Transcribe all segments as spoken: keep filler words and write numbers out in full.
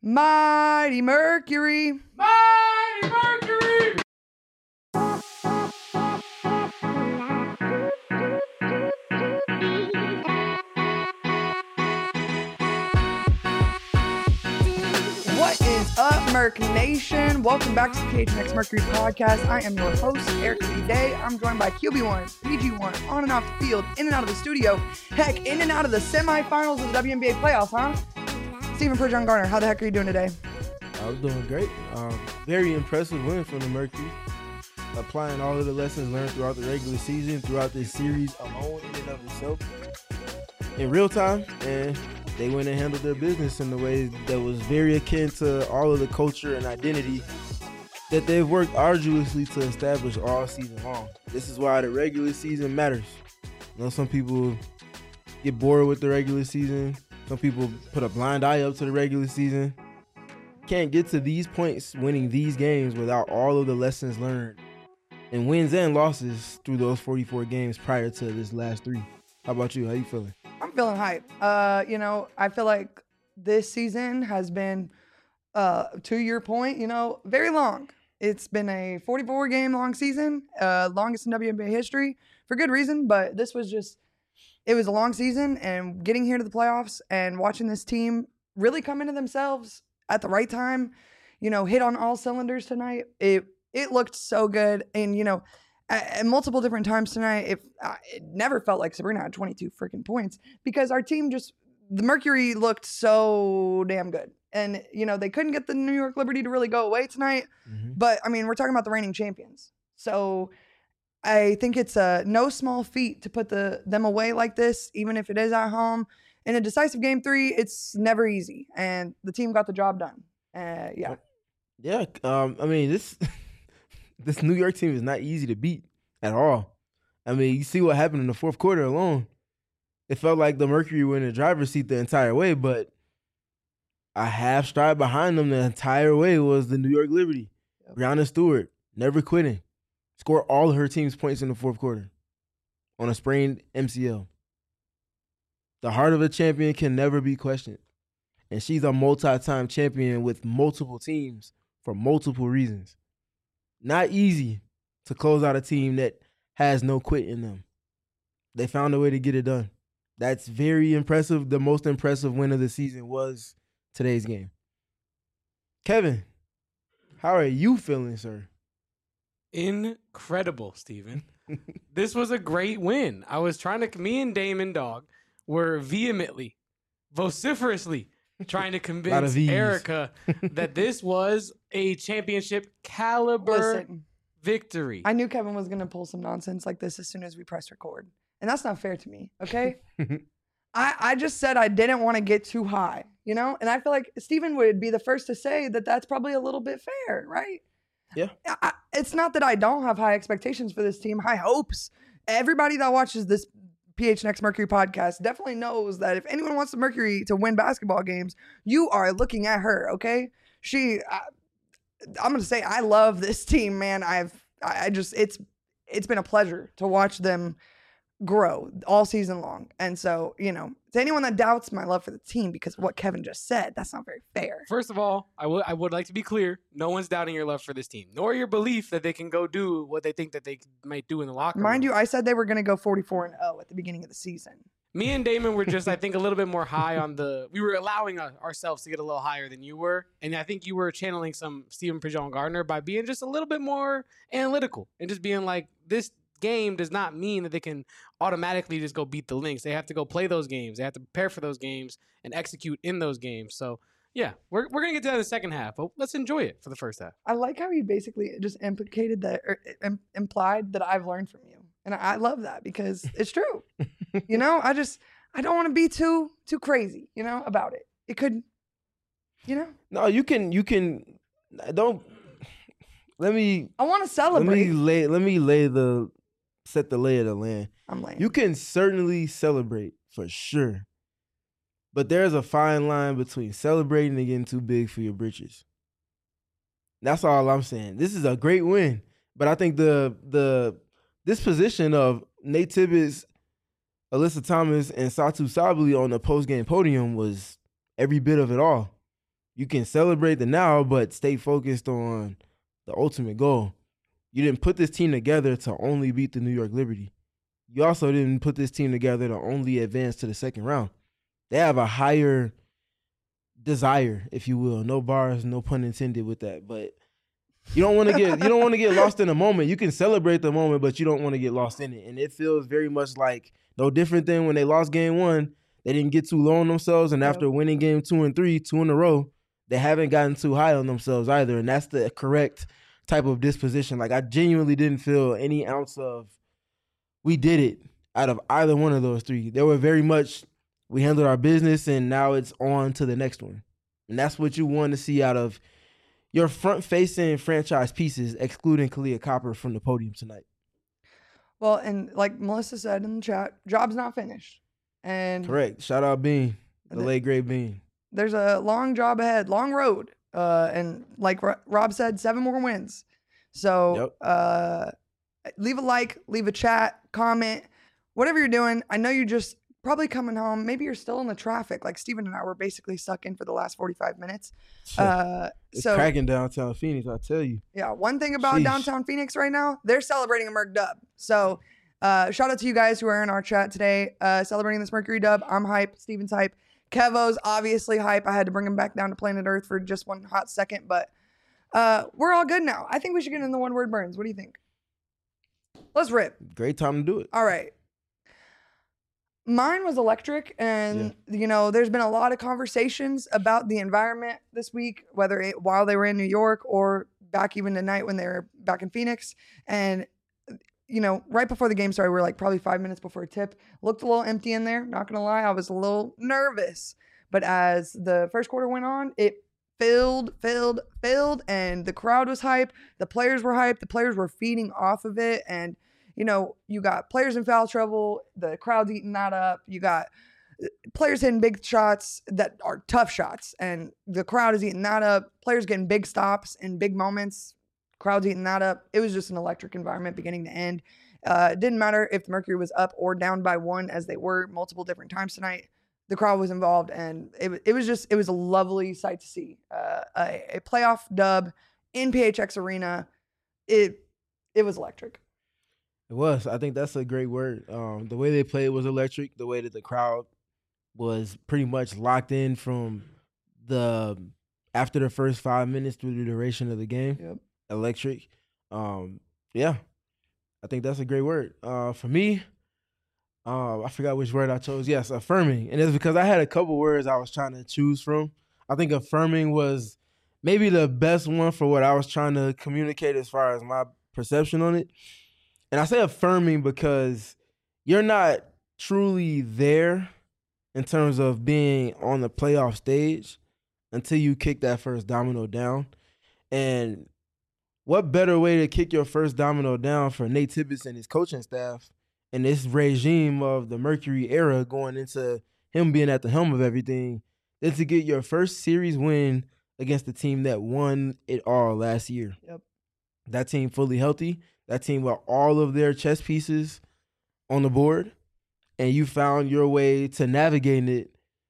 Mighty Mercury. Mighty Mercury! What is up, Merc Nation? Welcome back to the P H N X Mercury podcast. I am your host, Eric Today. I'm joined by Q B one, P G one, on and off the field, in and out of the studio, heck, in and out of the semifinals of the W N B A playoffs, huh? Stephen Pridgeon Garner, how the heck are you doing today? I'm doing great. Um, very impressive win from the Mercury. Applying all of the lessons learned throughout the regular season, throughout this series alone in and of itself, in real time, and they went and handled their business in a way that was very akin to all of the culture and identity that they've worked arduously to establish all season long. This is why the regular season matters. You know, some people get bored with the regular season. Some people put a blind eye up to the regular season. Can't get to these points winning these games without all of the lessons learned and wins and losses through those forty-four games prior to this last three. How about you? How you feeling? I'm feeling hype. Uh, you know, I feel like this season has been, uh, to your point, you know, very long. It's been a forty-four game long season, uh, longest in W N B A history for good reason, but this was just, it was a long season, and getting here to the playoffs and watching this team really come into themselves at the right time, you know, hit on all cylinders tonight. It, it looked so good. And, you know, at, at multiple different times tonight, if uh, it never felt like Sabrina had twenty-two freaking points because our team just, the Mercury looked so damn good. And, you know, they couldn't get the New York Liberty to really go away tonight. Mm-hmm. But, I mean, we're talking about the reigning champions. So I think it's a no small feat to put the them away like this, even if it is at home. In a decisive game three, it's never easy. And the team got the job done. Uh, yeah. Yeah, um, I mean, this this New York team is not easy to beat at all. I mean, you see what happened in the fourth quarter alone. It felt like the Mercury were in the driver's seat the entire way, but a half stride behind them the entire way was the New York Liberty. Yep. Breanna Stewart, never quitting. Scored all of her team's points in the fourth quarter on a sprained M C L. The heart of a champion can never be questioned. And she's a multi-time champion with multiple teams for multiple reasons. Not easy to close out a team that has no quit in them. They found a way to get it done. That's very impressive. The most impressive win of the season was today's game. Kevin, how are you feeling, sir? Incredible, Steven. This was a great win. I was trying to, me and Damon Dog were vehemently, vociferously trying to convince Erica that this was a championship caliber Listen, victory. I knew Kevin was going to pull some nonsense like this as soon as we press record. And that's not fair to me, okay? I, I just said I didn't want to get too high, you know? And I feel like Stephen would be the first to say that that's probably a little bit fair, right? Yeah. I, it's not that I don't have high expectations for this team, high hopes. Everybody that watches this P H N X Mercury podcast definitely knows that if anyone wants the Mercury to win basketball games, you are looking at her, okay? She, I, I'm going to say I love this team, man. I've, I just, it's, it's been a pleasure to watch them grow all season long. And so, you know, to anyone that doubts my love for the team because of what Kevin just said, that's not very fair. First of all, I would I would like to be clear. No one's doubting your love for this team, nor your belief that they can go do what they think that they might do in the locker room. Mind you, I said they were going to go forty-four and oh at the beginning of the season. Me and Damon were just, I think, a little bit more high on the, we were allowing uh, ourselves to get a little higher than you were. And I think you were channeling some Stephen Pridgeon Gardner by being just a little bit more analytical and just being like, this game does not mean that they can automatically just go beat the Lynx. They have to go play those games. They have to prepare for those games and execute in those games. So, yeah, we're we're going to get to that in the second half, but let's enjoy it for the first half. I like how you basically just implicated that or im- implied that I've learned from you. And I love that because it's true. You know, I just, I don't want to be too, too crazy, you know, about it. It could, you know. No, you can, you can, don't, let me. I want to celebrate. Let me lay, let me lay the, set the lay of the land. I'm laying. You can certainly celebrate for sure. But there's a fine line between celebrating and getting too big for your britches. That's all I'm saying. This is a great win. But I think the the this position of Nate Tibbetts, Alyssa Thomas, and Satu Sabally on the post-game podium was every bit of it all. You can celebrate the now, but stay focused on the ultimate goal. You didn't put this team together to only beat the New York Liberty. You also didn't put this team together to only advance to the second round. They have a higher desire, if you will. No bars, no pun intended with that. But you don't want to get you don't want to get lost in the moment. You can celebrate the moment, but you don't want to get lost in it. And it feels very much like no different than when they lost game one. They didn't get too low on themselves, and Yep. after winning game two and three, two in a row, they haven't gotten too high on themselves either. And that's the correct type of disposition. Like, I genuinely didn't feel any ounce of we did it out of either one of those three. They were very much we handled our business, and now it's on to the next one. And that's what you want to see out of your front-facing franchise pieces, excluding Kalia Copper from the podium tonight. Well, and like Melissa said in the chat, job's not finished. And Correct. Shout out Bean, the The- late great Bean. there's a long job ahead, long road. Uh, and like Ro- Rob said, seven more wins. So Yep. uh, leave a like, leave a chat, comment, whatever you're doing. I know you're just probably coming home. Maybe you're still in the traffic. Like Steven and I were basically stuck in for the last forty-five minutes. Uh, It's so cracking downtown Phoenix, I tell you. yeah, one thing about Sheesh. downtown Phoenix right now, they're celebrating a Merc dub. So uh, shout out to you guys who are in our chat today, uh, celebrating this Mercury dub. I'm hype. Steven's hype. Kevo's obviously hype. I had to bring him back down to planet Earth for just one hot second, but uh, we're all good now. I think we should get in the one word burns. What do you think? Let's rip. Great time to do it. All right. Mine was electric, and you know, there's been a lot of conversations about the environment this week, whether it, while they were in New York or back even tonight when they were back in Phoenix. And you know, right before the game started, we were like probably five minutes before tip. Looked a little empty in there. Not gonna lie, I was a little nervous. But as the first quarter went on, it filled, filled, filled, and the crowd was hype. The players were hyped. The players were feeding off of it, and you know, you got players in foul trouble. The crowd's eating that up. You got players hitting big shots that are tough shots, and the crowd is eating that up. Players getting big stops in big moments. Crowd's eating that up. It was just an electric environment beginning to end. Uh, it didn't matter if the Mercury was up or down by one, as they were multiple different times tonight. The crowd was involved, and it, wa- it was just, it was a lovely sight to see. Uh, a, a playoff dub in P H X Arena. It, it was electric. It was. I think that's a great word. Um, the way they played was electric. The way that the crowd was pretty much locked in from the after the first five minutes through the duration of the game. Yep. Electric. Um, yeah, I think that's a great word. Uh, for me, uh, I forgot which word I chose. Yes, affirming, and it's because I had a couple words I was trying to choose from. I think affirming was maybe the best one for what I was trying to communicate as far as my perception on it. And I say affirming because you're not truly there in terms of being on the playoff stage until you kick that first domino down. And what better way to kick your first domino down for Nate Tibbetts and his coaching staff and this regime of the Mercury era going into him being at the helm of everything than to get your first series win against the team that won it all last year. Yep. That team fully healthy. That team with all of their chess pieces on the board, and you found your way to navigating it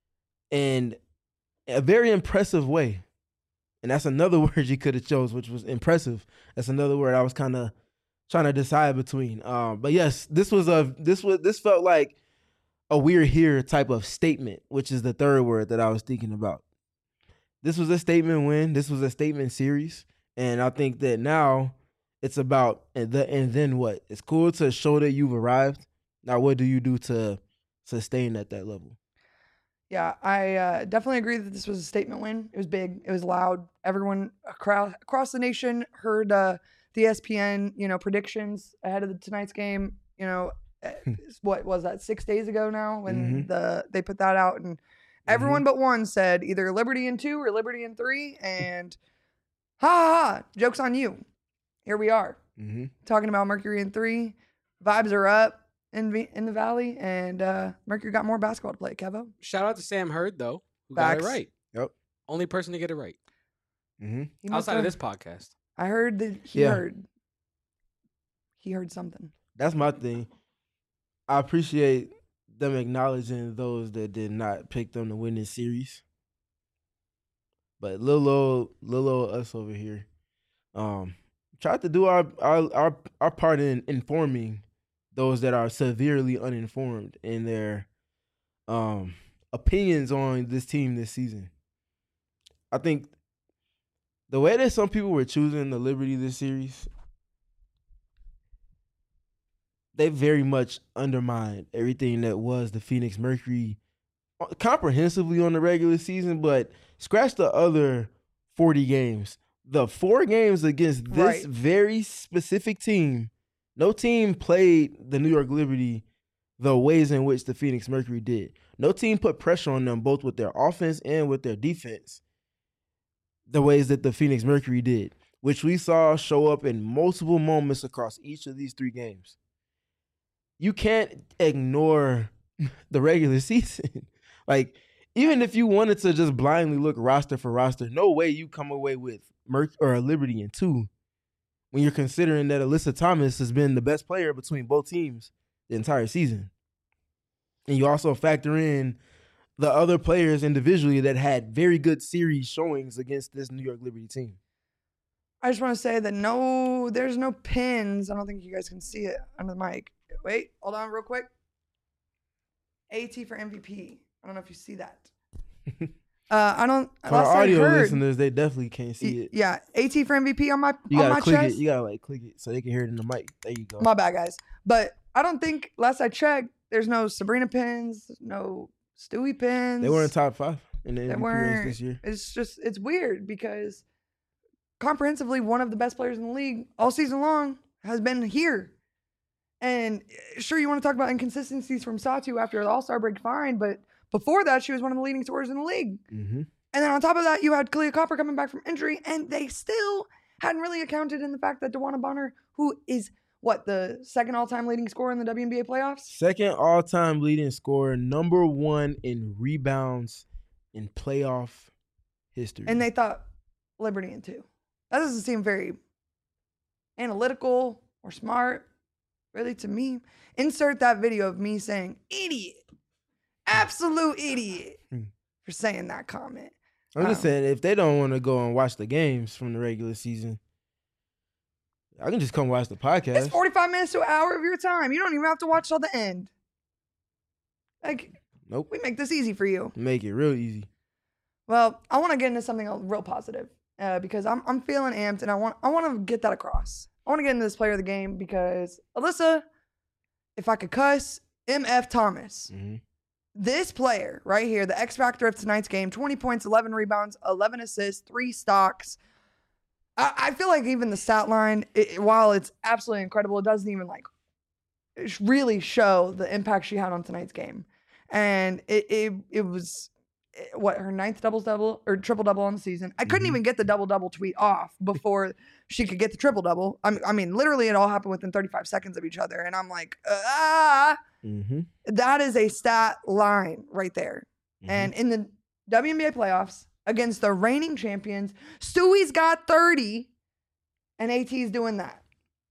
in a very impressive way. And that's another word you could have chose, which was impressive. That's another word I was kind of trying to decide between. Um, but yes, this was a this was this felt like a we're here type of statement, which is the third word that I was thinking about. This was a statement win. This was a statement series, and I think that now it's about and the and then what? It's cool to show that you've arrived. Now, what do you do to sustain at that level? Yeah, I uh, definitely agree that this was a statement win. It was big. It was loud. Everyone across across the nation heard uh, the E S P N, you know, predictions ahead of the, tonight's game. You know, eh, what was that? Six days ago now when Mhm. the they put that out, and everyone but one said either Liberty in two or Liberty in three, and ha ha ha, joke's on you. Here we are Mm-hmm. talking about Mercury in three. Vibes are up in V- in the Valley, and uh, Mercury got more basketball to play. Kevo. Shout out to Sam Hurd though, who Facts. got it right. Yep. Only person to get it right Mm-hmm. He must outside of have- this podcast. I heard that he Yeah. heard. He heard something. That's my thing. I appreciate them acknowledging those that did not pick them to win this series. But little old, little old us over here, um, tried to do our our our, our part in informing those that are severely uninformed in their um opinions on this team this season. I think the way that some people were choosing the Liberty this series, they very much undermined everything that was the Phoenix Mercury comprehensively on the regular season, but scratch the other forty games. The four games against this Right. very specific team, no team played the New York Liberty the ways in which the Phoenix Mercury did. No team put pressure on them both with their offense and with their defense the ways that the Phoenix Mercury did, which we saw show up in multiple moments across each of these three games. You can't ignore the regular season. Like, even if you wanted to just blindly look roster for roster, no way you come away with Merc or a Liberty in two when you're considering that Alyssa Thomas has been the best player between both teams the entire season. And you also factor in the other players individually that had very good series showings against this New York Liberty team. I just want to say that no, there's no pins. I don't think you guys can see it under the mic. Wait, hold on real quick. AT for M V P. I don't know if you see that. Uh, I don't. For last our I audio heard, listeners, they definitely can't see y- it. Yeah, AT for M V P on my You on gotta my click chest. it. You gotta like click it so they can hear it in the mic. There you go. My bad, guys. But I don't think last I checked, there's no Sabrina pins, no Stewie pins. They were in top five in the They M V P race weren't. this year. It's just it's weird because comprehensively one of the best players in the league all season long has been here. And uh, sure, you want to talk about inconsistencies from Satu after the All-Star break, fine. But before that, she was one of the leading scorers in the league. Mm-hmm. And then on top of that, you had Kalia Copper coming back from injury, and they still hadn't really accounted in the fact that DeWanna Bonner, who is what, the second all-time leading scorer in the W N B A playoffs? Second all-time leading scorer, number one in rebounds in playoff history. And they thought Liberty in two. That doesn't seem very analytical or smart, really, to me. Insert that video of me saying, idiot, absolute idiot, Hmm. for saying that comment. I'm just Um, saying, if they don't want to go and watch the games from the regular season, I can just come watch the podcast. It's forty-five minutes to an hour of your time. You don't even have to watch till the end. Like, Nope. we make this easy for you. Make it real easy. Well, I want to get into something real positive uh, because I'm I'm feeling amped and I want I want to get that across. I want to get into this player of the game because Alyssa, if I could cuss, M F Thomas. Mm-hmm. This player right here, the X factor of tonight's game, twenty points, eleven rebounds, eleven assists, three stocks. I, I feel like even the stat line, it, while it's absolutely incredible, it doesn't even like really show the impact she had on tonight's game. And it it, it was eh, what, her ninth double double or triple double on the season. I couldn't Mhm. even get the double double tweet off before she could get the triple double. I mean, I mean, literally, it all happened within thirty-five seconds of each other, and I'm like, ah. Mm-hmm. That is a stat line right there. Mm-hmm. And in the W N B A playoffs against the reigning champions, Stewie's got thirty and AT's doing that.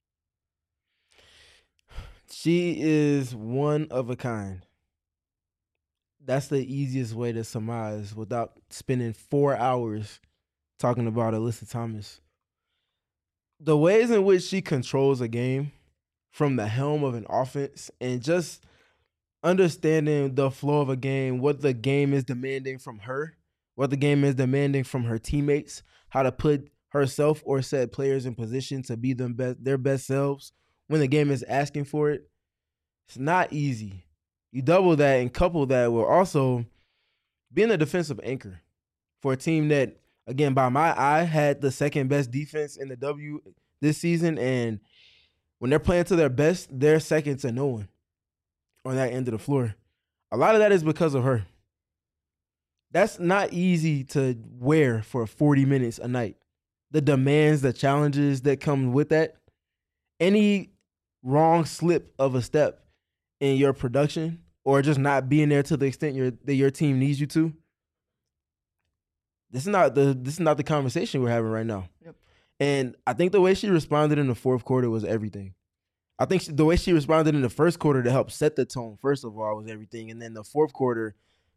She is one of a kind. That's the easiest way to surmise without spending four hours talking about Alyssa Thomas. The ways in which she controls a game from the helm of an offense and just understanding the flow of a game, what the game is demanding from her, what the game is demanding from her teammates, how to put herself or said players in position to be them best, their best selves when the game is asking for it. It's not easy. You double that and couple that with also being a defensive anchor for a team that, again, by my eye, had the second best defense in the W this season. And when they're playing to their best, they're second to no one on that end of the floor. A lot of that is because of her. That's not easy to wear for forty minutes a night. The demands, the challenges that come with that. Any wrong slip of a step in your production or just not being there to the extent your, that your team needs you to, this is not the this is not the conversation we're having right now. Yep. And I think the way she responded in the fourth quarter was everything. I think she, the way she responded in the first quarter to help set the tone, first of all, was everything. And then the fourth quarter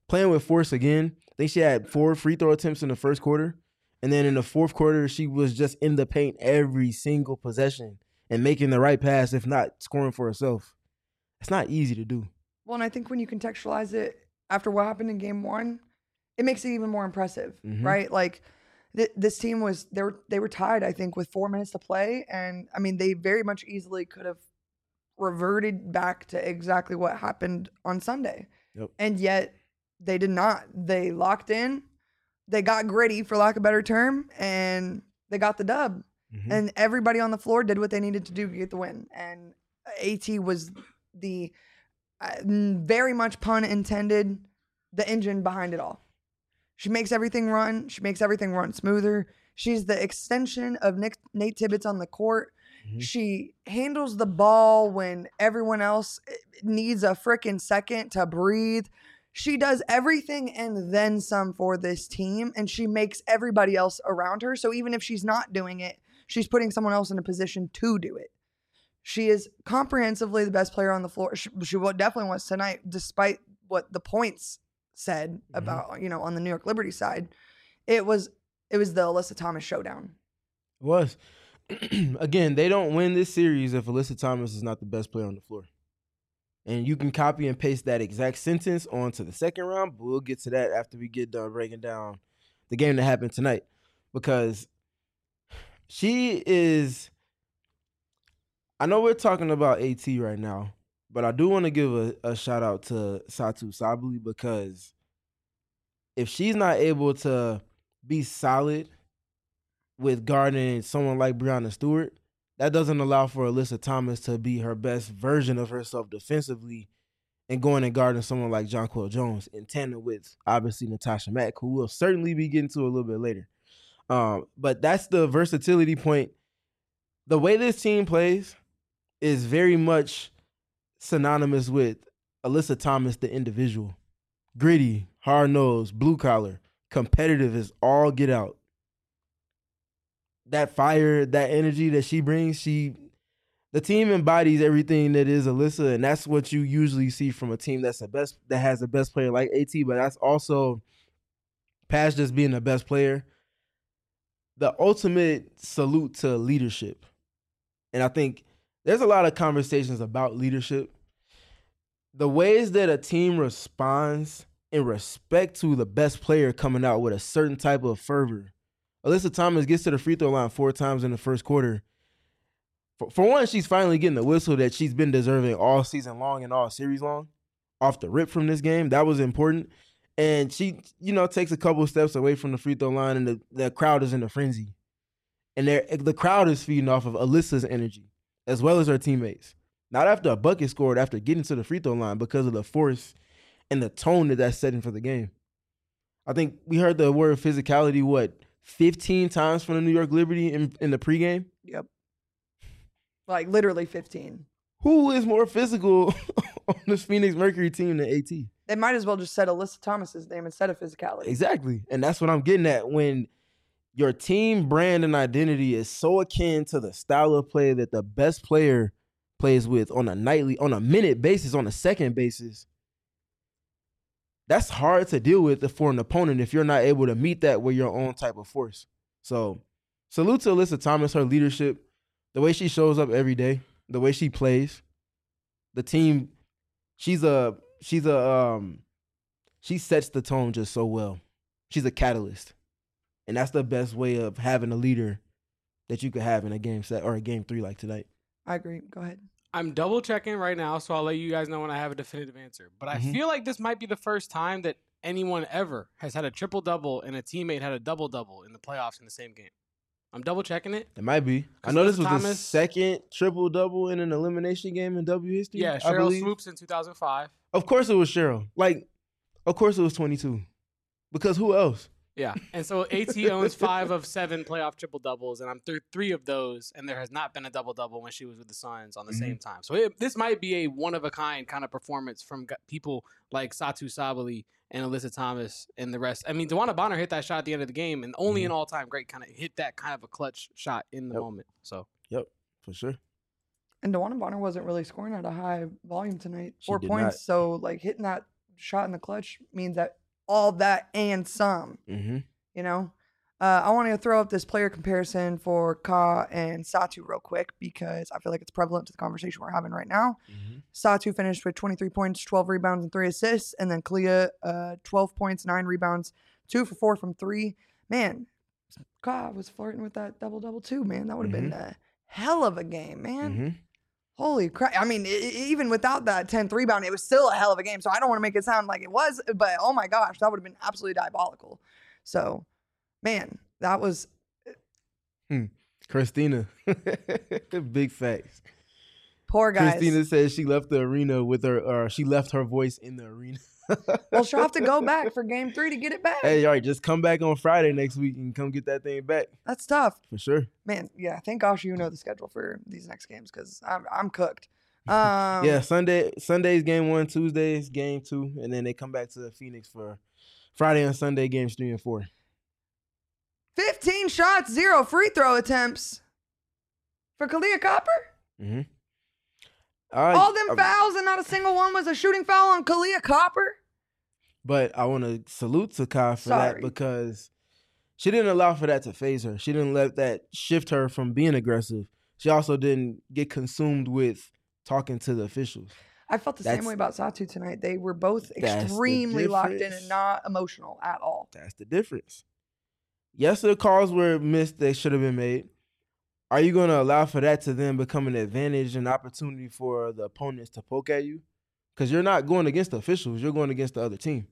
playing with force again. I think she had four free throw attempts in the first quarter. And then in the fourth quarter, she was just in the paint every single possession and making the right pass, if not scoring for herself. It's not easy to do. Well, and I think when you contextualize it after what happened in game one, it makes it even more impressive, Mhm. right? Like th- this team was, they were, they were tied, I think, with four minutes to play. And I mean, they very much easily could have reverted back to exactly what happened on Sunday. Yep. And yet they did not. They locked in. They got gritty, for lack of a better term, and they got the dub. Mhm. And everybody on the floor did what they needed to do to get the win. And AT was the uh, very much pun intended, the engine behind it all. She makes everything run. She makes everything run smoother. She's the extension of Nick, Nate Tibbetts on the court. Mhm. She handles the ball when everyone else needs a freaking second to breathe. She does everything and then some for this team, and she makes everybody else around her. So even if she's not doing it, she's putting someone else in a position to do it. She is comprehensively the best player on the floor. She, she definitely was tonight, despite what the points said Mm-hmm. about, you know, on the New York Liberty side. It was it was the Alyssa Thomas showdown. It was. Again, they don't win this series if Alyssa Thomas is not the best player on the floor. And you can copy and paste that exact sentence onto the second round, but we'll get to that after we get done breaking down the game that happened tonight. Because she is, I know we're talking about AT right now, but I do want to give a, a shout out to Satou Sabally, because if she's not able to be solid with guarding someone like Breanna Stewart, that doesn't allow for Alyssa Thomas to be her best version of herself defensively and going and guarding someone like Jonquel Jones in tandem with, obviously, Natasha Mack, who we'll certainly be getting to a little bit later. Um, but that's the versatility point. The way this team plays is very much synonymous with Alyssa Thomas, the individual. Gritty, hard-nosed, blue-collar, competitive as all get out. That fire, that energy that she brings, she, the team embodies everything that is Alyssa, and that's what you usually see from a team that's the best, that has the best player like AT. But that's also past just being the best player, the ultimate salute to leadership. And I think there's a lot of conversations about leadership. The ways that a team responds in respect to the best player coming out with a certain type of fervor. Alyssa Thomas gets to the free throw line four times in the first quarter. For, for one, she's finally getting the whistle that she's been deserving all season long and all series long. Off the rip from this game, that was important. And she, you know, takes a couple steps away from the free throw line, and the, the crowd is in a frenzy. And the crowd is feeding off of Alyssa's energy, as well as her teammates. Not after a bucket scored, after getting to the free throw line, because of the force and the tone that that's setting for the game. I think we heard the word physicality, what, fifteen times from the New York Liberty in, in the pregame? Yep. Like literally fifteen. Who is more physical on this Phoenix Mercury team than AT? They might as well just said Alyssa Thomas's name instead of physicality. Exactly. And that's what I'm getting at. When your team brand and identity is so akin to the style of play that the best player plays with on a nightly, on a minute basis, on a second basis, that's hard to deal with for an opponent if you're not able to meet that with your own type of force. So salute to Alyssa Thomas, her leadership, the way she shows up every day, the way she plays. The team, she's a, she's a, um, she sets the tone just so well. She's a catalyst. And that's the best way of having a leader that you could have in a game set or a game three like tonight. I agree. Go ahead. I'm double checking right now, so I'll let you guys know when I have a definitive answer. But I Mhm. feel like this might be the first time that anyone ever has had a triple double and a teammate had a double double in the playoffs in the same game. I'm double checking it. It might be. I 'Cause know this Alyssa was the Thomas- second triple double in an elimination game in W history. Yeah, I Cheryl believe. Swoops in two thousand five. Of course it was Cheryl. Like, of course it was twenty-two. Because who else? Yeah, and so AT owns five of seven playoff triple doubles, and I'm through three of those, and there has not been a double double when she was with the Suns on the Mhm. same time. So it, this might be a one of a kind kind of performance from g- people like Satou Sabally and Alyssa Thomas and the rest. I mean, DeWanna Bonner hit that shot at the end of the game, and only Mhm. an all time great kind of hit that kind of a clutch shot in the Yep. moment. So Yep, for sure. And DeWanna Bonner wasn't really scoring at a high volume tonight. She Four did points. not. So like hitting that shot in the clutch means that all that and some. Mm-hmm. You know, uh, I want to throw up this player comparison for Ka and Satu real quick because I feel like it's prevalent to the conversation we're having right now. Mm-hmm. Satu finished with twenty-three points, twelve rebounds, and three assists, and then Kalia, uh, twelve points, nine rebounds, two for four from three. Man, Ka was flirting with that double double too. Man, that would have Mm-hmm. been a hell of a game, man. Mm-hmm. Holy crap. I mean, I- I- even without that tenth rebound, it was still a hell of a game. So I don't want to make it sound like it was, but oh my gosh, that would have been absolutely diabolical. So, man, that was Christina. Big facts. poor guys. Christina says she left the arena with her, or she left her voice in the arena. Well, she'll have to go back for game three to get it back. Hey, all right, just come back on Friday next week and come get that thing back That's tough. for sure. Man, yeah, thank gosh you know the schedule for these next games because I'm, I'm cooked. Um, Yeah, Sunday, Sunday's game one, Tuesday's game two, and then they come back to Phoenix for Friday and Sunday games three and four. fifteen shots, zero free throw attempts for Kalia Copper. Mm-hmm. All them fouls and not a single one was a shooting foul on Kalia Copper. But I want to salute to Kai for Sorry. that because she didn't allow for that to phase her. She didn't let that shift her from being aggressive. She also didn't get consumed with talking to the officials. I felt the That's- same way about Satu tonight. They were both That's the extremely locked in difference. and not emotional at all. That's the difference. Yes, the calls were missed. They should have been made. Are you going to allow for that to then become an advantage and opportunity for the opponents to poke at you? Because you're not going against the officials. You're going against the other team.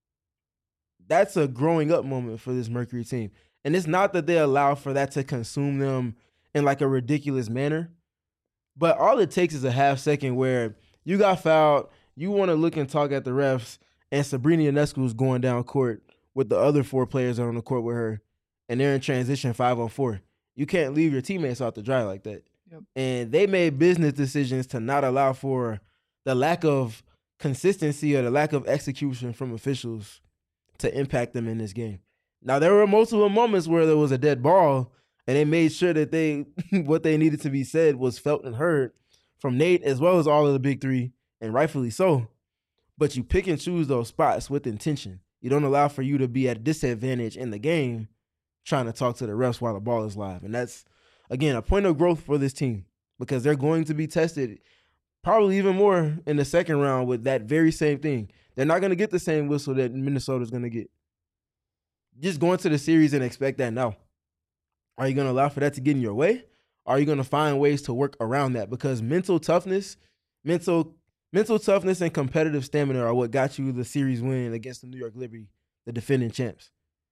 That's a growing up moment for this Mercury team. And it's not that they allow for that to consume them in like a ridiculous manner. But all it takes is a half second where you got fouled, you want to look and talk at the refs, and Sabrina Ionescu is going down court with the other four players that are on the court with her, and they're in transition five on four. You can't leave your teammates out to dry like that. Yep. And they made business decisions to not allow for the lack of consistency or the lack of execution from officials to impact them in this game. Now, there were multiple moments where there was a dead ball, and they made sure that they what they needed to be said was felt and heard from Nate as well as all of the big three, and rightfully so. But you pick and choose those spots with intention. You don't allow for you to be at a disadvantage in the game trying to talk to the refs while the ball is live. And that's, again, a point of growth for this team because they're going to be tested probably even more in the second round with that very same thing. They're not going to get the same whistle that Minnesota's going to get. Just go into the series and expect that now. Are you going to allow for that to get in your way? Or are you going to find ways to work around that? Because mental toughness, mental mental toughness and competitive stamina are what got you the series win against the New York Liberty, the defending champs.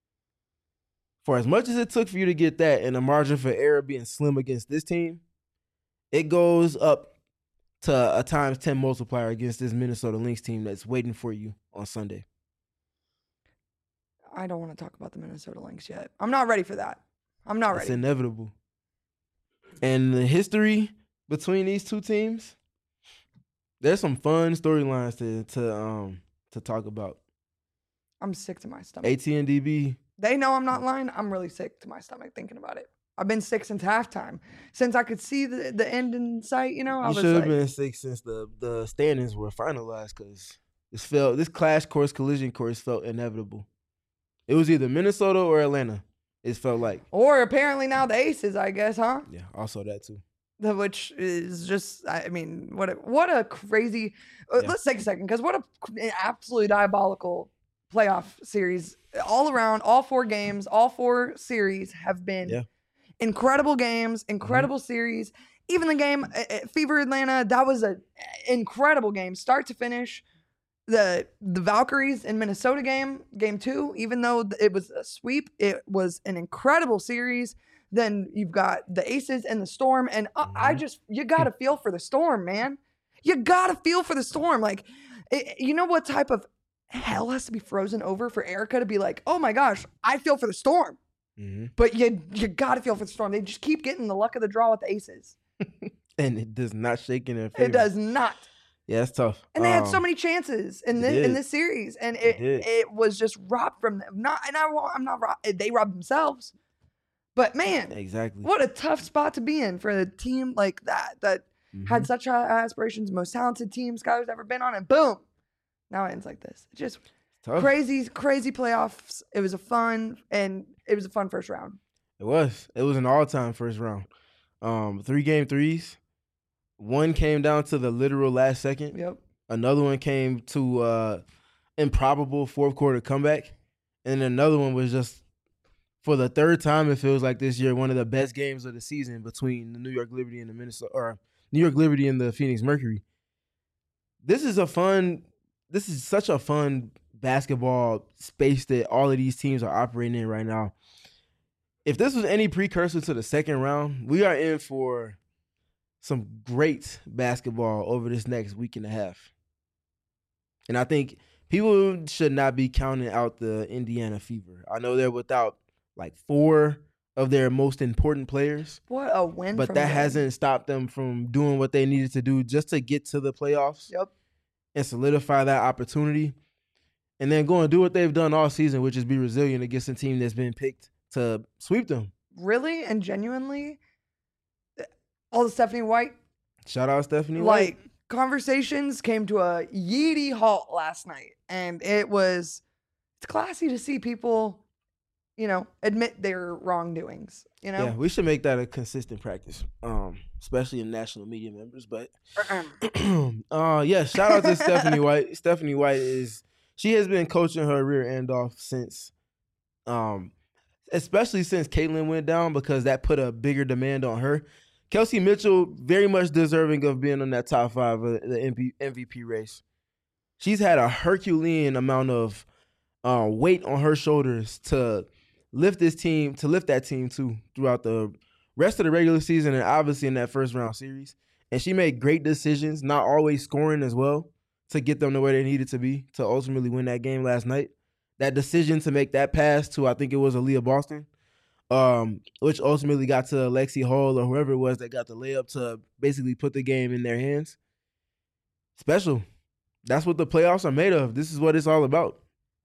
For as much as it took for you to get that and the margin for error being slim against this team, it goes up to a times ten multiplier against this Minnesota Lynx team that's waiting for you on Sunday. I don't want to talk about the Minnesota Lynx yet. I'm not ready for that. I'm not It's ready. inevitable. And the history between these two teams, there's some fun storylines to to um to talk about. I'm sick to my stomach. A T and D B. They know I'm not lying. I'm really sick to my stomach thinking about it. I've been sick since halftime. Since I could see the, the end in sight, you know, I You was should have like, been sick since the the standings were finalized because this felt this clash course collision course felt inevitable. It was either Minnesota or Atlanta. It felt like. or apparently now the Aces, I guess, huh? Yeah, also that too. The, which is just, I mean, what a, what a crazy. uh, Yeah. Let's take a second because what a an absolutely diabolical playoff series all around. All four games, all four series have been Yeah. incredible games, incredible series. Even the game uh, uh, Fever Atlanta, that was a incredible game, start to finish. The the Valkyries in Minnesota game, game two, even though it was a sweep, it was an incredible series. Then you've got the Aces and the Storm, and I, I Mhm. just you gotta feel for the Storm, man. You gotta feel for the Storm. Like, it, you know what type of hell has to be frozen over for Erica to be like, oh my gosh, I feel for the Storm. Mm-hmm. But you you gotta feel for the Storm. They just keep getting the luck of the draw with the Aces. And it does not shake in their favor. It does not. Yeah, it's tough. And they had Um, so many chances in they this in did. this series, and They it did. it was just robbed from them. Not, and I won't- I'm not rob- they robbed themselves, but man, Exactly. what a tough spot to be in for a team like that that Mhm. had such high aspirations, most talented team Skyler's ever been on, and boom, now it ends like this. It just Tough. Crazy, crazy playoffs. It was a fun and it was a fun first round. It was. It was an all-time first round. Um, three game threes. One came down to the literal last second. Yep. Another one came to uh, improbable fourth quarter comeback, and another one was just for the third time. It feels like this year one of the best games of the season between the New York Liberty and the Minnesota or New York Liberty and the Phoenix Mercury. This is a fun. This is such a fun basketball space that all of these teams are operating in right now. If this was any precursor to the second round, we are in for some great basketball over this next week and a half. And I think people should not be counting out the Indiana Fever. I know they're without like four of their most important players. What a win. But from that them. hasn't stopped them from doing what they needed to do just to get to the playoffs. Yep. And solidify that opportunity. And then go and do what they've done all season, which is be resilient against a team that's been picked to sweep them. Really and genuinely, all the Stephanie White, Shout out Stephanie like, White. conversations came to a yeety halt last night. And it was, it's classy to see people, you know, admit their wrongdoings, you know? Yeah, we should make that a consistent practice, um, especially in national media members. But, uh, yeah, shout out to Stephanie White. Stephanie White is, she has been coaching her rear end off since, um, especially since Caitlin went down, because that put a bigger demand on her. Kelsey Mitchell, very much deserving of being on that top five of the M V P race. She's had a Herculean amount of uh, weight on her shoulders to lift this team, to lift that team too throughout the rest of the regular season and obviously in that first round series. And she made great decisions, not always scoring as well, to get them to where they needed to be to ultimately win that game last night. That decision to make that pass to, I think it was Aaliyah Boston, um, which ultimately got to Lexi Hall or whoever it was that got the layup to basically put the game in their hands. Special. That's what the playoffs are made of. This is what it's all about.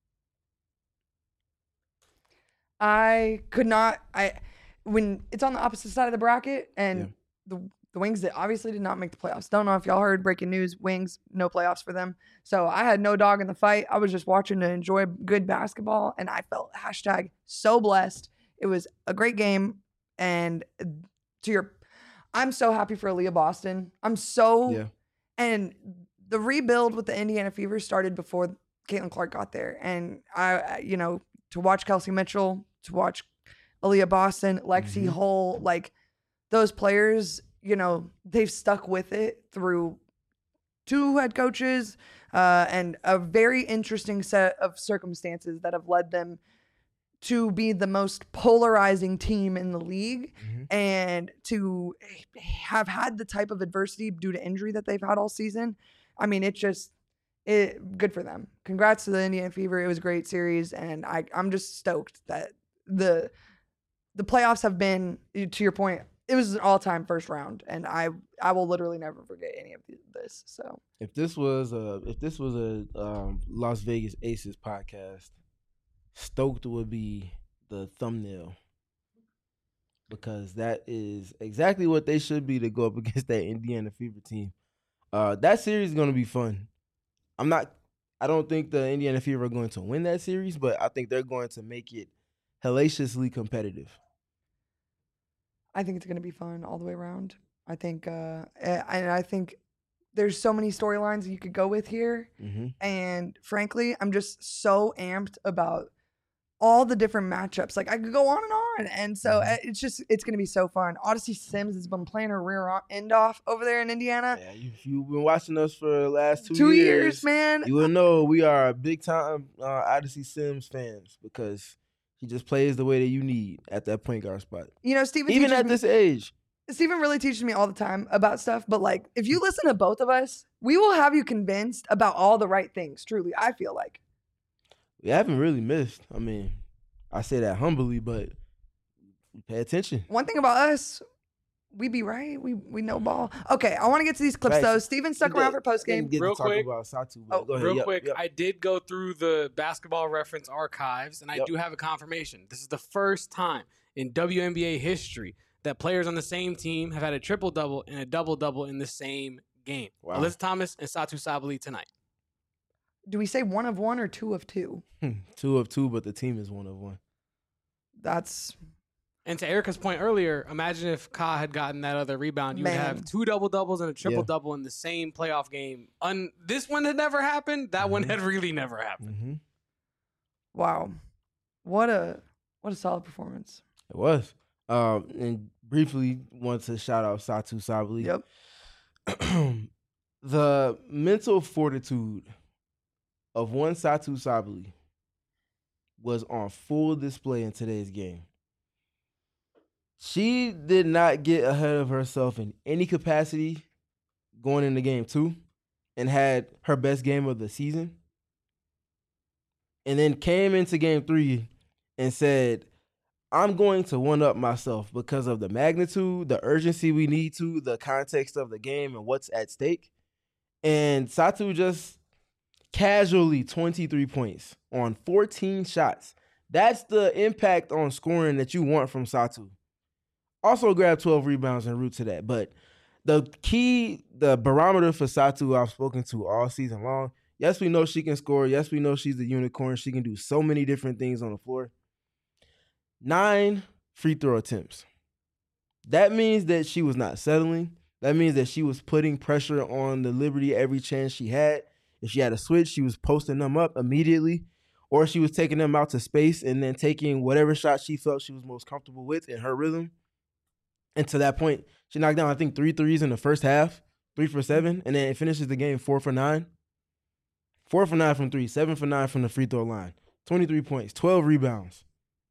I could not, I, when it's on the opposite side of the bracket and Yeah. the the Wings that obviously did not make the playoffs. Don't know if y'all heard breaking news, Wings, no playoffs for them. So I had no dog in the fight. I was just watching to enjoy good basketball, and I felt hashtag so blessed. It was a great game. And to your, I'm so happy for Aaliyah Boston. I'm so, Yeah. and the rebuild with the Indiana Fever started before Caitlin Clark got there. And I, you know, to watch Kelsey Mitchell, to watch Aaliyah Boston, Lexi Mhm. Hull, like those players, you know, they've stuck with it through two head coaches uh, and a very interesting set of circumstances that have led them to be the most polarizing team in the league Mhm. and to have had the type of adversity due to injury that they've had all season. I mean, it just, it good for them. Congrats to the Indiana Fever. It was a great series, and I, I'm just stoked that the the playoffs have been, to your point, it was an all-time first round, and I I will literally never forget any of this. So If this was a if this was a um, Las Vegas Aces podcast, stoked would be the thumbnail, because that is exactly what they should be to go up against that Indiana Fever team. Uh, that series is going to be fun. I'm not. I don't think the Indiana Fever are going to win that series, but I think they're going to make it hellaciously competitive. I think it's going to be fun all the way around. I think, uh, and I think there's so many storylines you could go with here. Mm-hmm. And frankly, I'm just so amped about all the different matchups. Like I could go on and on. And so Mhm. it's just, it's going to be so fun. Odyssey Sims has been playing her rear o- end off over there in Indiana. Yeah, you, you've been watching us for the last two, Two years, years, man. You will know we are big time uh, Odyssey Sims fans, because he just plays the way that you need at that point guard spot. You know, Steven Even teaches at me- this age. Steven really teaches me all the time about stuff, but like if you listen to both of us, we will have you convinced about all the right things. Truly, I feel like. We haven't really missed. I mean, I say that humbly, but pay attention. One thing about us, we be right. We we know ball. Okay, I want to get to these clips Facts. though. Steven stuck We around did- for post game. didn't get Real to talk quick. about Satu, but Oh, go ahead. Real Yep, quick, yep. I did go through the Basketball Reference archives, and I Yep. do have a confirmation. This is the first time in W N B A history that players on the same team have had a triple-double and a double-double in the same game. Wow. Alyssa Thomas and Satu Sabali tonight. do we say one of one or two of two? Two of two, but the team is one of one. That's And to Erica's point earlier, imagine if Ka had gotten that other rebound. You would Man. have two double doubles and a triple double in the same playoff game. Un- this one had never happened. That one Mhm. had really never happened. Mm-hmm. wow. What a what a solid performance. It was. Um, and briefly, want to shout out Satu Sabali. Yep. The mental fortitude of one Satu Sabali was on full display in today's game. She did not get ahead of herself in any capacity going into game two and had her best game of the season. And then came into game three and said, I'm going to one-up myself because of the magnitude, the urgency we need to, the context of the game and what's at stake. And Satu just casually twenty-three points on fourteen shots. That's the impact on scoring that you want from Satu. Also grabbed twelve rebounds en route to that. But the key, the barometer for Satu I've spoken to all season long, yes, we know she can score. Yes, we know she's a unicorn. She can do so many different things on the floor. Nine free throw attempts. That means that she was not settling. That means that she was putting pressure on the Liberty every chance she had. If she had a switch, she was posting them up immediately, or she was taking them out to space and then taking whatever shot she felt she was most comfortable with in her rhythm. And to that point, she knocked down, I think, three threes in the first half, three for seven, and then it finishes the game four for nine. Four for nine from three, seven for nine from the free throw line, twenty-three points, twelve rebounds,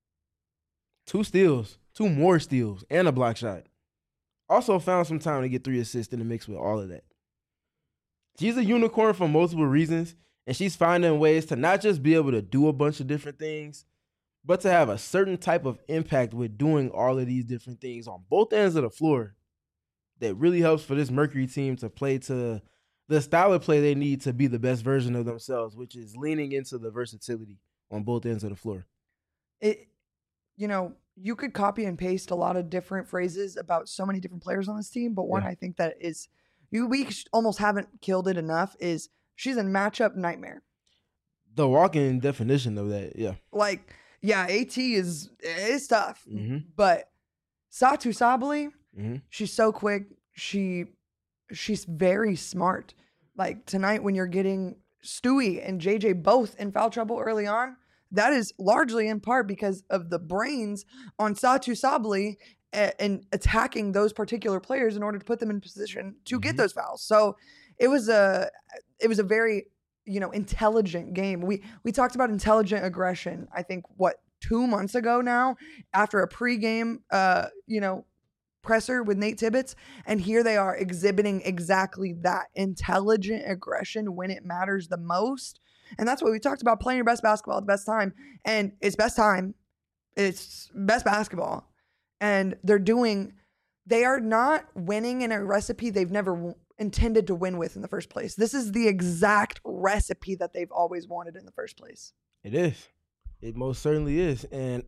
two steals, two more steals, and a block shot. Also found some time to get three assists in the mix with all of that. She's a unicorn for multiple reasons, and she's finding ways to not just be able to do a bunch of different things, but to have a certain type of impact with doing all of these different things on both ends of the floor that really helps for this Mercury team to play to the style of play they need to be the best version of themselves, which is leaning into the versatility on both ends of the floor. It, you know, you could copy and paste a lot of different phrases about so many different players on this team, but one Yeah. I think that is you we almost haven't killed it enough is she's a matchup nightmare. The walking definition of that, yeah. Like, yeah, AT is is tough, Mm-hmm. but Satu Sabali, Mm-hmm. she's so quick. She she's very smart. Like tonight when you're getting Stewie and J J both in foul trouble early on, that is largely in part because of the brains on Satu Sabali and, and attacking those particular players in order to put them in position to get Mhm. those fouls. So it was a it was a very, you know, intelligent game. We we talked about intelligent aggression, I think, what, two months ago now, after a pregame uh, you know, presser with Nate Tibbetts, and here they are exhibiting exactly that intelligent aggression when it matters the most. And that's what we talked about, playing your best basketball at the best time. And it's best time. It's best basketball. And they're doing, they are not winning in a recipe they've never w- intended to win with in the first place. This is the exact recipe that they've always wanted in the first place. It is. It most certainly is. And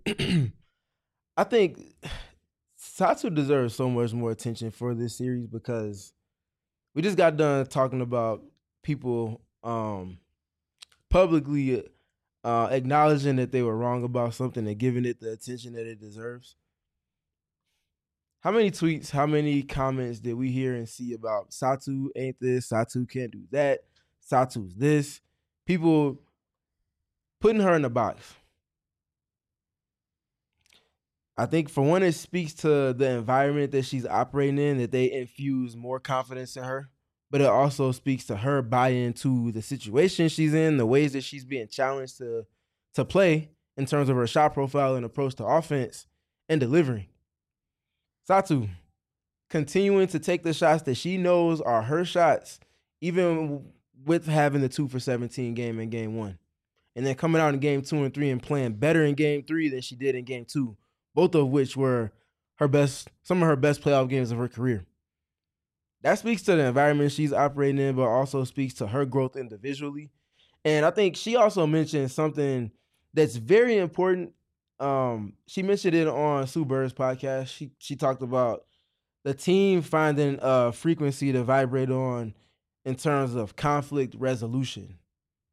I think Satu deserves so much more attention for this series because we just got done talking about people um, publicly uh, acknowledging that they were wrong about something and giving it the attention that it deserves. How many tweets, how many comments did we hear and see about Satu ain't this, Satu can't do that, Satu's this? People putting her in a box. I think for one, it speaks to the environment that she's operating in, that they infuse more confidence in her. But it also speaks to her buy-in to the situation she's in, the ways that she's being challenged to, to play in terms of her shot profile and approach to offense and delivering. Satu, continuing to take the shots that she knows are her shots, even with having the two for seventeen game in game one. And then coming out in game two and three and playing better in game three than she did in game two, both of which were her best, some of her best playoff games of her career. That speaks to the environment she's operating in, but also speaks to her growth individually. And I think she also mentioned something that's very important. Um, she mentioned it on Sue Bird's podcast. She she talked about the team finding a frequency to vibrate on in terms of conflict resolution.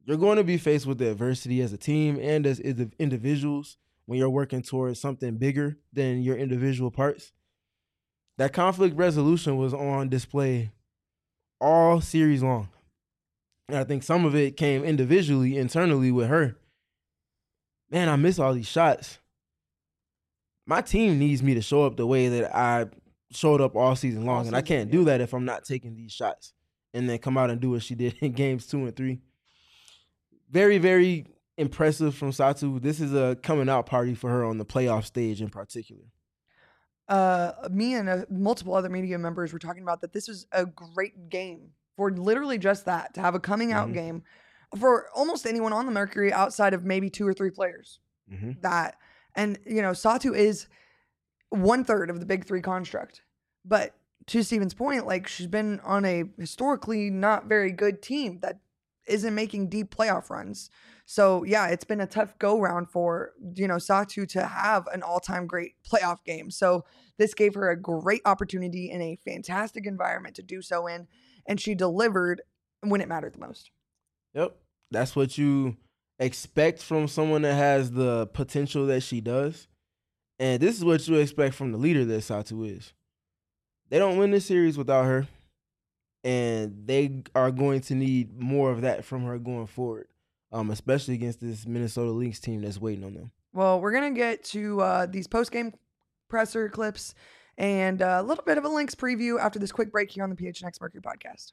you're going to be faced with the adversity as a team and as indi- individuals when you're working towards something bigger than your individual parts. That conflict resolution was on display all series long. And I think some of it came individually, internally with her. Man, I miss all these shots. My team needs me to show up the way that I showed up all season long, all and season, I can't yeah. do that if I'm not taking these shots and then come out and do what she did in games two and three. Very, very impressive from Satou. This is a coming out party for her on the playoff stage in particular. Uh, me and uh, multiple other media members were talking about that this was a great game for literally just that, to have a coming out mm-hmm. game for almost anyone on the Mercury outside of maybe two or three players. Mm-hmm. That, and you know, Satou is one third of the big three construct. But to Steven's point, like, she's been on a historically not very good team that isn't making deep playoff runs. So yeah, it's been a tough go round for, you know, Satou to have an all-time great playoff game. So this gave her a great opportunity in a fantastic environment to do so in, and she delivered when it mattered the most. Yep. That's what you expect from someone that has the potential that she does. And this is what you expect from the leader that Satou is. They don't win this series without her, and they are going to need more of that from her going forward, um, especially against this Minnesota Lynx team that's waiting on them. Well, we're going to get to uh, these post-game presser clips and uh, a little bit of a Lynx preview after this quick break here on the P H N X Mercury podcast.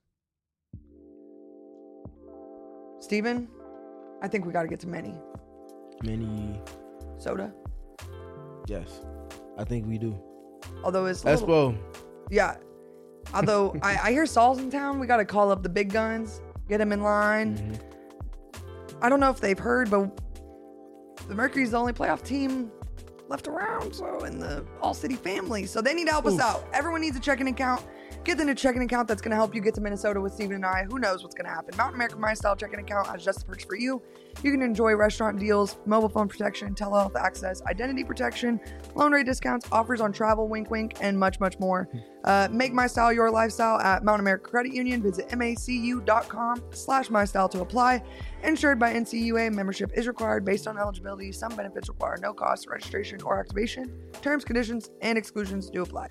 Steven, I think we got to get to Many. Many. Soda? Yes, I think we do. Although it's a Espo. Little, yeah. Although I, I hear Saul's in town, we got to call up the big guns, get them in line. Mm-hmm. I don't know if they've heard, but the Mercury's the only playoff team left around, so in the All-City family. So they need to help Oof. us out. Everyone needs a checking account. Get them a checking account that's going to help you get to Minnesota with Steven and I. Who knows what's going to happen? Mountain America My Style checking account has just the perks for you. You can enjoy restaurant deals, mobile phone protection, telehealth access, identity protection, loan rate discounts, offers on travel, wink wink, and much, much more. Uh, make My Style your lifestyle at Mountain America Credit Union. Visit macu.com slash My Style to apply. Insured by N C U A, membership is required based on eligibility. Some benefits require no cost, registration, or activation. Terms, conditions, and exclusions do apply.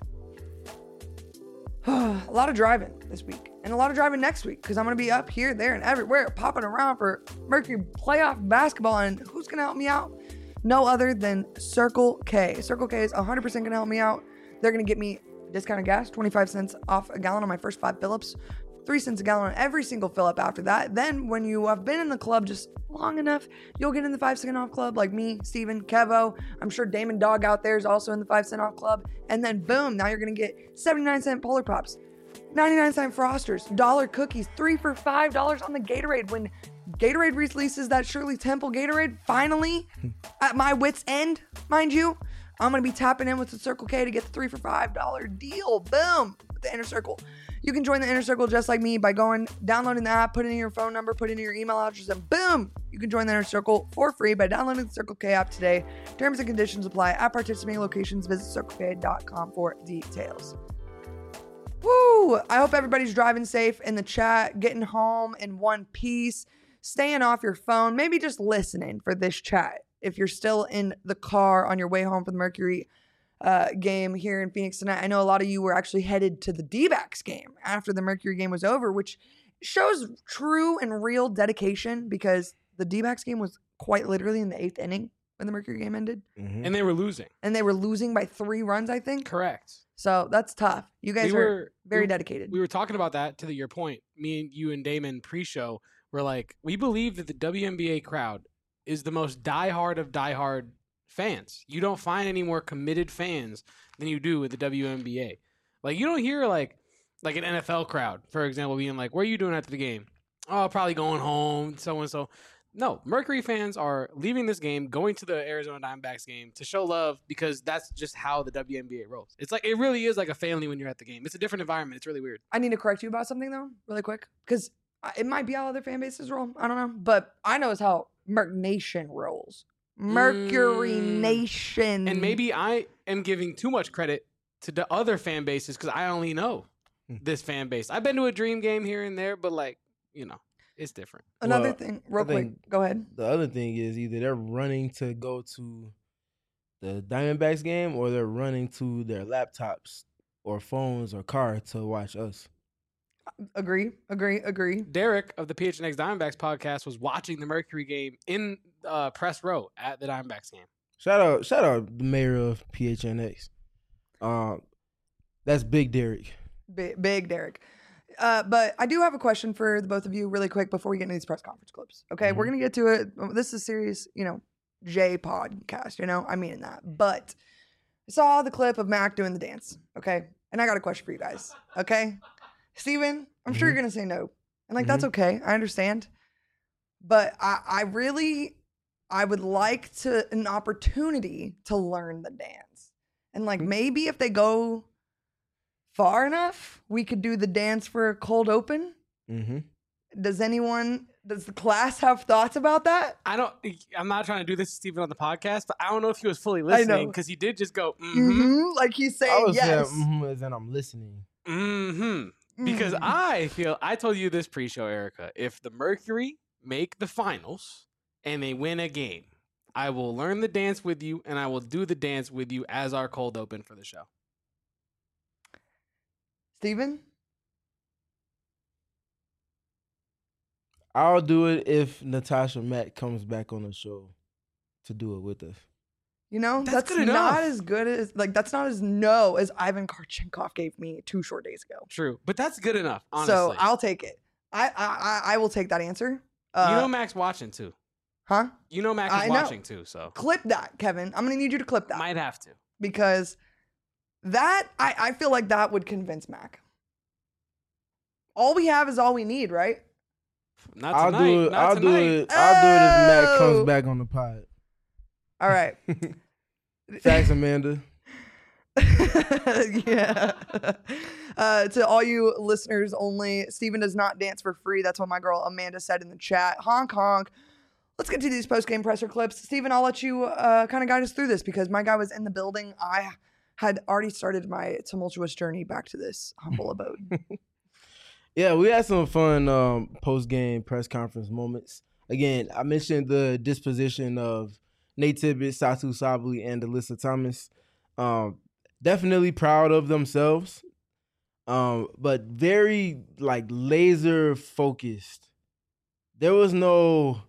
A lot of driving this week and a lot of driving next week because I'm going to be up here, there, and everywhere popping around for Mercury playoff basketball. And who's going to help me out? No other than Circle K. Circle K is one hundred percent going to help me out. They're going to get me discounted gas, twenty-five cents off a gallon on my first five fill-ups, three cents a gallon on every single fill-up after that. Then when you have been in the club just long enough, you'll get in the five cent off club like me, Steven, Kevo. I'm sure Damon Dog out there is also in the five cent off club. And then boom, now you're going to get seventy-nine cent Polar Pops, ninety-nine cent Frosters, dollar cookies, three for five dollars on the Gatorade. When Gatorade releases that Shirley Temple Gatorade, finally, at my wit's end, mind you, I'm going to be tapping in with the Circle K to get the three for five dollar deal. Boom, with the Inner Circle. You can join the Inner Circle just like me by going, downloading the app, putting in your phone number, putting in your email address, and boom, you can join the Inner Circle for free by downloading the Circle K app today. Terms and conditions apply at participating locations. Visit circle k dot com for details. Woo! I hope everybody's driving safe in the chat, getting home in one piece, staying off your phone, maybe just listening for this chat. If you're still in the car on your way home from the Mercury uh, game here in Phoenix tonight, I know a lot of you were actually headed to the D-backs game after the Mercury game was over, which shows true and real dedication because the D-backs game was quite literally in the eighth inning when the Mercury game ended. Mm-hmm. And they were losing. And they were losing by three runs, I think. Correct. So that's tough. You guys we were, were very we, dedicated. We were talking about that to the, your point. Me and you and Damon pre-show were like, we believe that the W N B A crowd is the most diehard of diehard fans. You don't find any more committed fans than you do with the W N B A. Like, you don't hear like like an N F L crowd, for example, being like, what are you doing after the game? Oh, probably going home, so and so. No, Mercury fans are leaving this game, going to the Arizona Diamondbacks game to show love because that's just how the W N B A rolls. It's like, it really is like a family when you're at the game. It's a different environment. It's really weird. I need to correct you about something though, really quick, because it might be how other fan bases roll. I don't know, but I know it's how Merc Nation rolls. Mercury mm. Nation. And maybe I am giving too much credit to the other fan bases because I only know this fan base. I've been to a Dream game here and there, but like, you know. It's different. Another Well, thing, real I quick. think Go ahead. The other thing is either they're running to go to the Diamondbacks game or they're running to their laptops or phones or car to watch us. Agree, agree, agree. Derek of the P H N X Diamondbacks podcast was watching the Mercury game in uh, press row at the Diamondbacks game. Shout out, shout out the mayor of P H N X. Um, that's Big Derek. Big, big Derek. Uh, but I do have a question for the both of you really quick before we get into these press conference clips. Okay, we're Mhm. going to get to it. This is serious, you know, J podcast, you know, I mean that. But I saw the clip of Mac doing the dance, okay? And I got a question for you guys, okay? Steven, I'm sure Mhm. you're going to say no. And like, that's okay. I understand. But I, I really, I would like to, an opportunity to learn the dance. And like, maybe if they go far enough, we could do the dance for a cold open. Mm-hmm. Does anyone, does the class have thoughts about that? I don't. I'm not trying to do this to Steven on the podcast, but I don't know if he was fully know. listening because he did just go mm-hmm, Mm-hmm. Like he's I saying was yes. saying, mm-hmm, as in I'm listening. mm-hmm. Because Mm. I feel I told you this pre-show, Erica. If the Mercury make the finals and they win a game, I will learn the dance with you and I will do the dance with you as our cold open for the show. Steven? I'll do it if Natasha Mack comes back on the show to do it with us. You know, That's that's, good not enough. as good as, like, that's not as no as Ivan Karchenkov gave me two short days ago. True, but that's good enough. Honestly, So I'll take it. I, I, I, I will take that answer. Uh, you know Mac's watching too. huh? You know Mac I is know. watching too, so Clip that, Kevin. I'm going to need you to clip that. might have to. Because that, I, I feel like that would convince Mac. All we have is all we need, right? Not I'll tonight. do it. Not I'll tonight. do it. I'll do it if Mac Oh. comes back on the pod. All right. Thanks, Amanda. yeah. Uh, to all you listeners only, Steven does not dance for free. That's what my girl Amanda said in the chat. Honk, honk. Let's get to these post-game presser clips. Steven, I'll let you uh, kind of guide us through this because my guy was in the building. I had already started my tumultuous journey back to this humble abode. Yeah, we had some fun um, post-game press conference moments. Again, I mentioned the disposition of Nate Tibbet, Satu Sabli, and Alyssa Thomas. Um, definitely proud of themselves, um, but very like laser focused. There was no,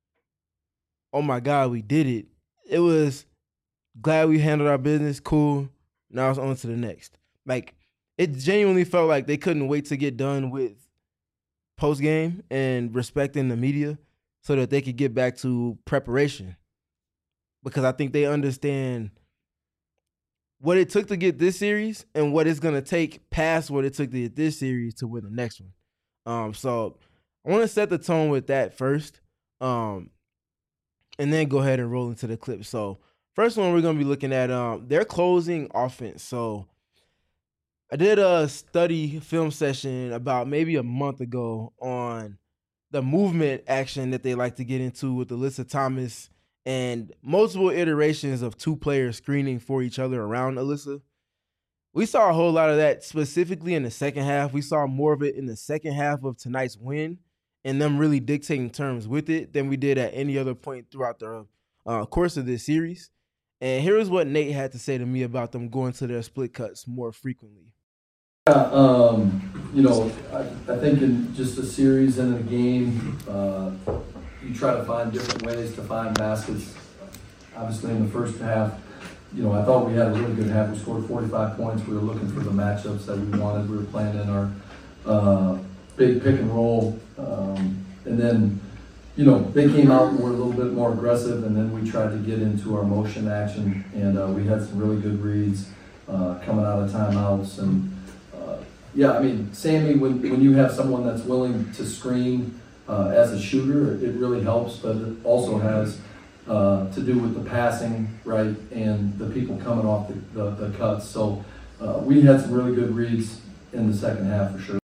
oh my God, we did it. It was glad we handled our business. Cool. Now it's on to the next. Like, it genuinely felt like they couldn't wait to get done with post game and respecting the media so that they could get back to preparation. Because I think they understand what it took to get this series and what it's going to take past what it took to get this series to win the next one. Um, so I want to set the tone with that first, um, and then go ahead and roll into the clip. So first one we're going to be looking at um, their closing offense. So I did a study film session about maybe a month ago on the movement action that they like to get into with Alyssa Thomas and multiple iterations of two players screening for each other around Alyssa. We saw a whole lot of that specifically in the second half. We saw more of it in the second half of tonight's win and them really dictating terms with it than we did at any other point throughout the uh, course of this series. And here is what Nate had to say to me about them going to their split cuts more frequently. Yeah, um, you know, I, I think in just a series and a game, uh, you try to find different ways to find baskets. Obviously, in the first half, you know, I thought we had a really good half. We scored forty-five points. We were looking for the matchups that we wanted. We were playing in our uh, big pick and roll. Um, and then, you know, they came out and were a little bit more aggressive, and then we tried to get into our motion action, and uh, we had some really good reads uh, coming out of timeouts. And Yeah, I mean, Sammy, when, when you have someone that's willing to screen uh, as a shooter, it really helps, but it also has uh, to do with the passing, right, and the people coming off the, the, the cuts. So uh, we had some really good reads in the second half for sure.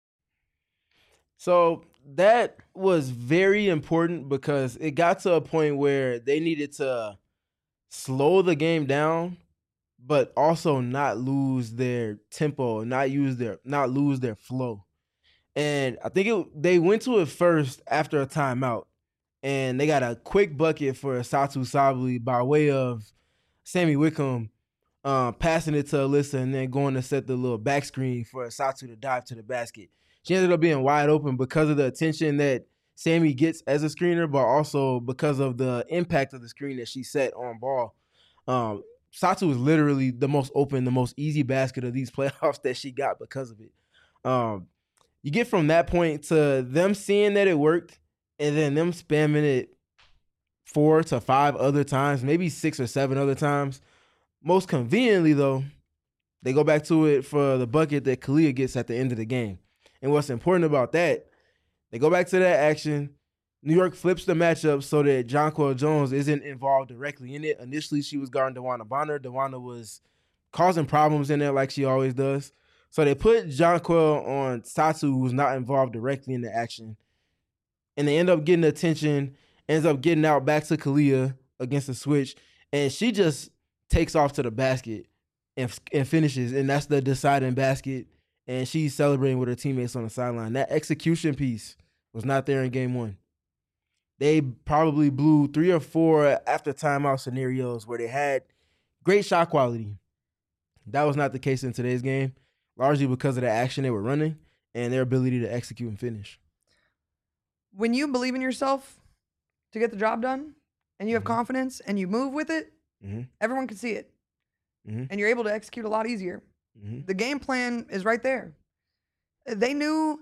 So that was very important because it got to a point where they needed to slow the game down, but also not lose their tempo, not use their, not lose their flow. And I think it, they went to it first after a timeout. And they got a quick bucket for Satu Sabally by way of Sammy Wickham um, passing it to Alyssa and then going to set the little back screen for Satu to dive to the basket. She ended up being wide open because of the attention that Sammy gets as a screener, but also because of the impact of the screen that she set on ball. Um, Satu was literally the most open, the most easy basket of these playoffs that she got because of it. Um, you get from that point to them seeing that it worked and then them spamming it four to five other times, maybe six or seven other times. Most conveniently, though, they go back to it for the bucket that Kalia gets at the end of the game. And what's important about that, they go back to that action. New York flips the matchup so that Jonquel Jones isn't involved directly in it. Initially, she was guarding DeWanna Bonner. DeWanna was causing problems in there like she always does. So they put Jonquel on Satu, who's not involved directly in the action. And they end up getting attention, ends up getting out back to Kalia against the switch. And she just takes off to the basket and, and finishes. And that's the deciding basket. And she's celebrating with her teammates on the sideline. That execution piece was not there in game one. They probably blew three or four after timeout scenarios where they had great shot quality. That was not the case in today's game, largely because of the action they were running and their ability to execute and finish. When you believe in yourself to get the job done and you have mm-hmm. confidence and you move with it, mm-hmm. everyone can see it. Mm-hmm. And you're able to execute a lot easier. Mm-hmm. The game plan is right there. They knew,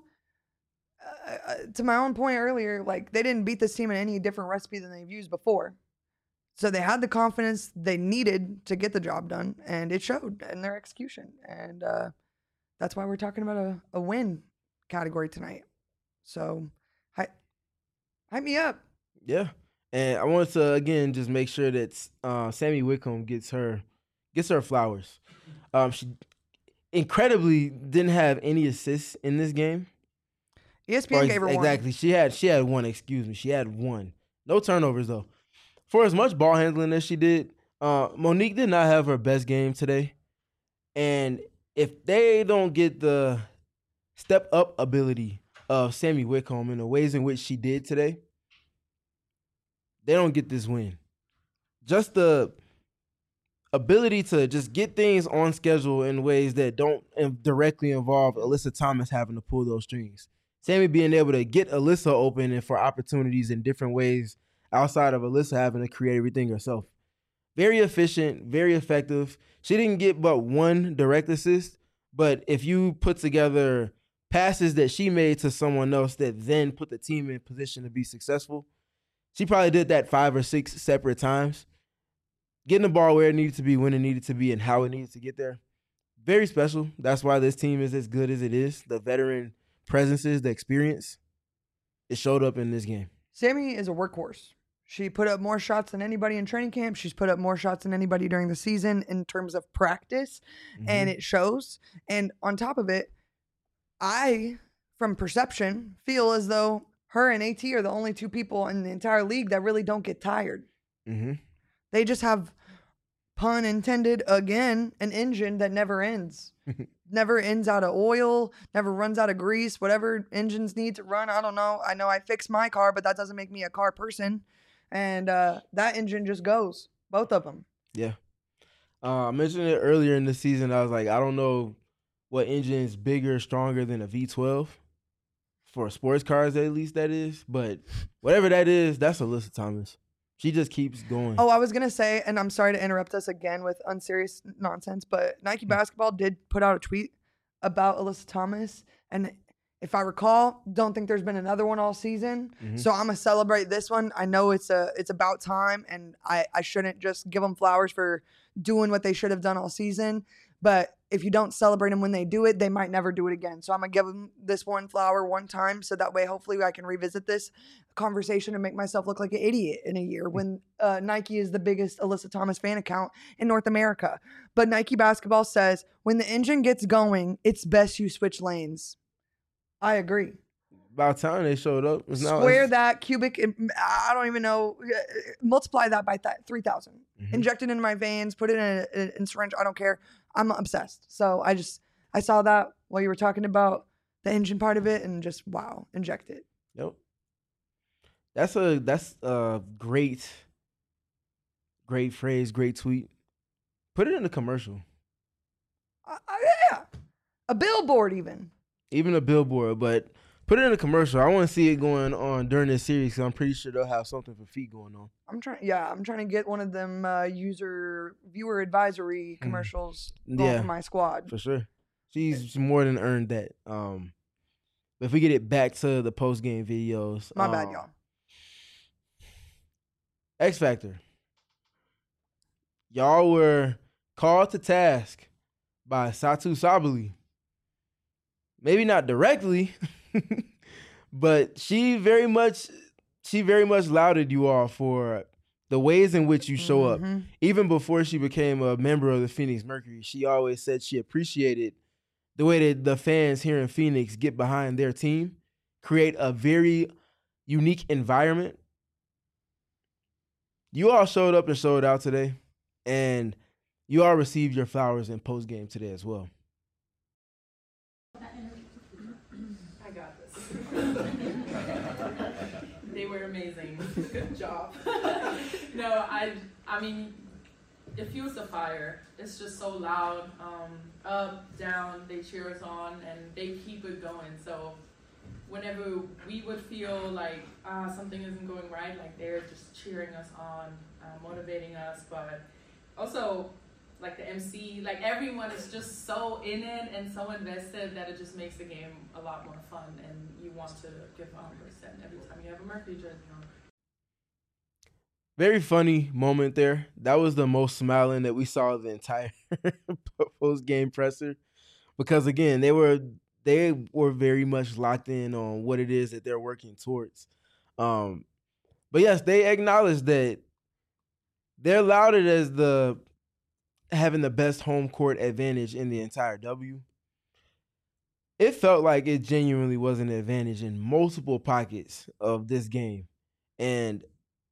uh, to my own point earlier, like they didn't beat this team in any different recipe than they've used before. So they had the confidence they needed to get the job done, and it showed in their execution. And uh, that's why we're talking about a, a win category tonight. So hype, hype me up. Yeah. And I wanted to, again, just make sure that uh, Sammy Wickham gets her gets her flowers. Um, she incredibly didn't have any assists in this game. E S P N or gave her exactly. one. Exactly. She had she had one, excuse me. She had one. No turnovers, though. For as much ball handling as she did, uh, Monique did not have her best game today. And if they don't get the step-up ability of Sammy Wickham in the ways in which she did today, they don't get this win. Just the ability to just get things on schedule in ways that don't directly involve Alyssa Thomas having to pull those strings. Sammy being able to get Alyssa open and for opportunities in different ways outside of Alyssa having to create everything herself. Very efficient, very effective. She didn't get but one direct assist, but if you put together passes that she made to someone else that then put the team in position to be successful, she probably did that five or six separate times. Getting the ball where it needed to be, when it needed to be, and how it needed to get there. Very special. That's why this team is as good as it is. The veteran presences, the experience, it showed up in this game. Sammy is a workhorse. She put up more shots than anybody in training camp. She's put up more shots than anybody during the season in terms of practice, mm-hmm. and it shows. And on top of it, I, from perception, feel as though her and AT are the only two people in the entire league that really don't get tired. Mm-hmm. They just have, pun intended, again, an engine that never ends. Never ends out of oil, never runs out of grease, whatever engines need to run. I don't know. I know I fix my car, but that doesn't make me a car person. And uh, that engine just goes, both of them. Yeah. Uh, I mentioned it earlier in the season. I was like, I don't know what engine is bigger, stronger than a V twelve. For sports cars, at least that is. But whatever that is, that's Alyssa Thomas. She just keeps going. Oh, I was going to say, and I'm sorry to interrupt us again with unserious nonsense, but Nike Basketball did put out a tweet about Alyssa Thomas. And if I recall, don't think there's been another one all season. Mm-hmm. So I'm going to celebrate this one. I know it's a it's about time, and I, I shouldn't just give them flowers for doing what they should have done all season. But if you don't celebrate them when they do it, they might never do it again. So I'm going to give them this one flower one time. So that way, hopefully I can revisit this conversation and make myself look like an idiot in a year when uh, Nike is the biggest Alyssa Thomas fan account in North America. But Nike Basketball says, when the engine gets going, it's best you switch lanes. I agree. About time they showed up. It's Square not, that, cubic, I don't even know. Multiply that by that three thousand. Mm-hmm. Inject it into my veins, put it in a, in a syringe. I don't care. I'm obsessed. So I just, I saw that while you were talking about the engine part of it and just wow, inject it. Yep. That's a that's a great, great phrase, great tweet. Put it in a commercial. Uh, uh, yeah, a billboard even. Even a billboard, but put it in a commercial. I want to see it going on during this series because I'm pretty sure they'll have something for feet going on. I'm trying. Yeah, I'm trying to get one of them uh, user viewer advisory commercials Mm. going Yeah. for my squad. For sure. She's more than earned that. Um, but if we get it back to the post game videos. My bad, um, y'all. X Factor. Y'all were called to task by Satu Sabali. Maybe not directly, but she very much she very much lauded you all for the ways in which you show up. Mhm. Even before she became a member of the Phoenix Mercury, she always said she appreciated the way that the fans here in Phoenix get behind their team, create a very unique environment. You all showed up and showed out today, and you all received your flowers in post game today as well. I got this. They were amazing. Good job. No, I I mean, it fuels the fire. It's just so loud. Um, up, down, they cheer us on and they keep it going. So whenever we would feel like ah something isn't going right, like they're just cheering us on, uh, motivating us, but also like the M C, like everyone is just so in it and so invested that it just makes the game a lot more fun and you want to give one hundred percent every time you have a Mercury jersey on. Very funny moment there. That was the most smiling that we saw the entire post game presser, because again, they were they were very much locked in on what it is that they're working towards. Um, but yes, they acknowledged that they're lauded as the having the best home court advantage in the entire W. It felt like it genuinely was an advantage in multiple pockets of this game. And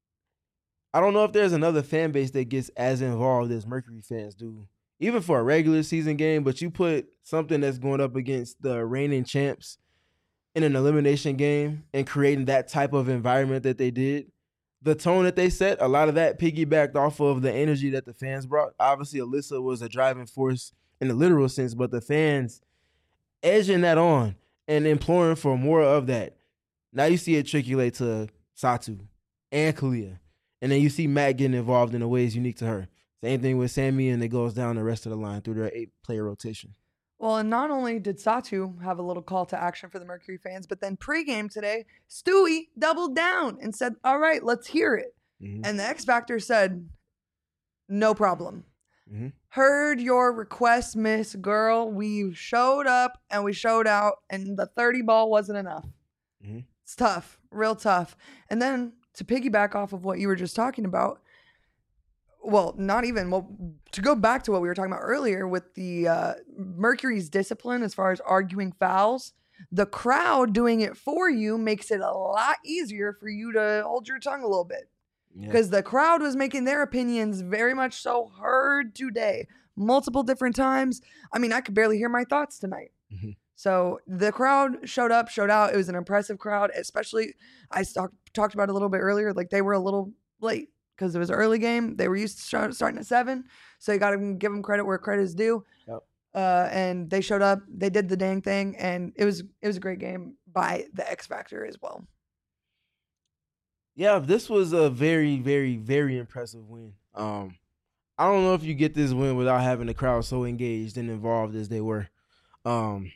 I don't know if there's another fan base that gets as involved as Mercury fans do, even for a regular season game, but you put something that's going up against the reigning champs in an elimination game and creating that type of environment that they did. The tone that they set, a lot of that piggybacked off of the energy that the fans brought. Obviously, Alyssa was a driving force in the literal sense, but the fans edging that on and imploring for more of that. Now you see it triculate to Satu and Kalia. And then you see Matt getting involved in the ways unique to her. Same thing with Sammy, and it goes down the rest of the line through their eight-player rotation. Well, and not only did Satu have a little call to action for the Mercury fans, but then pregame today, Stewie doubled down and said, all right, let's hear it. Mm-hmm. And the X Factor said, no problem. Mm-hmm. Heard your request, Miss Girl. We showed up and we showed out, and the thirty ball wasn't enough. Mm-hmm. It's tough, real tough. And then to piggyback off of what you were just talking about, well, not even, well, to go back to what we were talking about earlier with the uh, Mercury's discipline as far as arguing fouls, the crowd doing it for you makes it a lot easier for you to hold your tongue a little bit. Because yeah. the crowd was making their opinions very much so heard today, multiple different times. I mean, I could barely hear my thoughts tonight. Mm-hmm. So the crowd showed up, showed out. It was an impressive crowd, especially I talk, talked about it a little bit earlier. Like they were a little late because it was an early game. They were used to start, starting at seven. So you got to give them credit where credit is due. Yep. Uh, and they showed up. They did the dang thing. And it was it was a great game by the X Factor as well. Yeah, this was a very, very, very impressive win. Um, I don't know if you get this win without having the crowd so engaged and involved as they were. Um,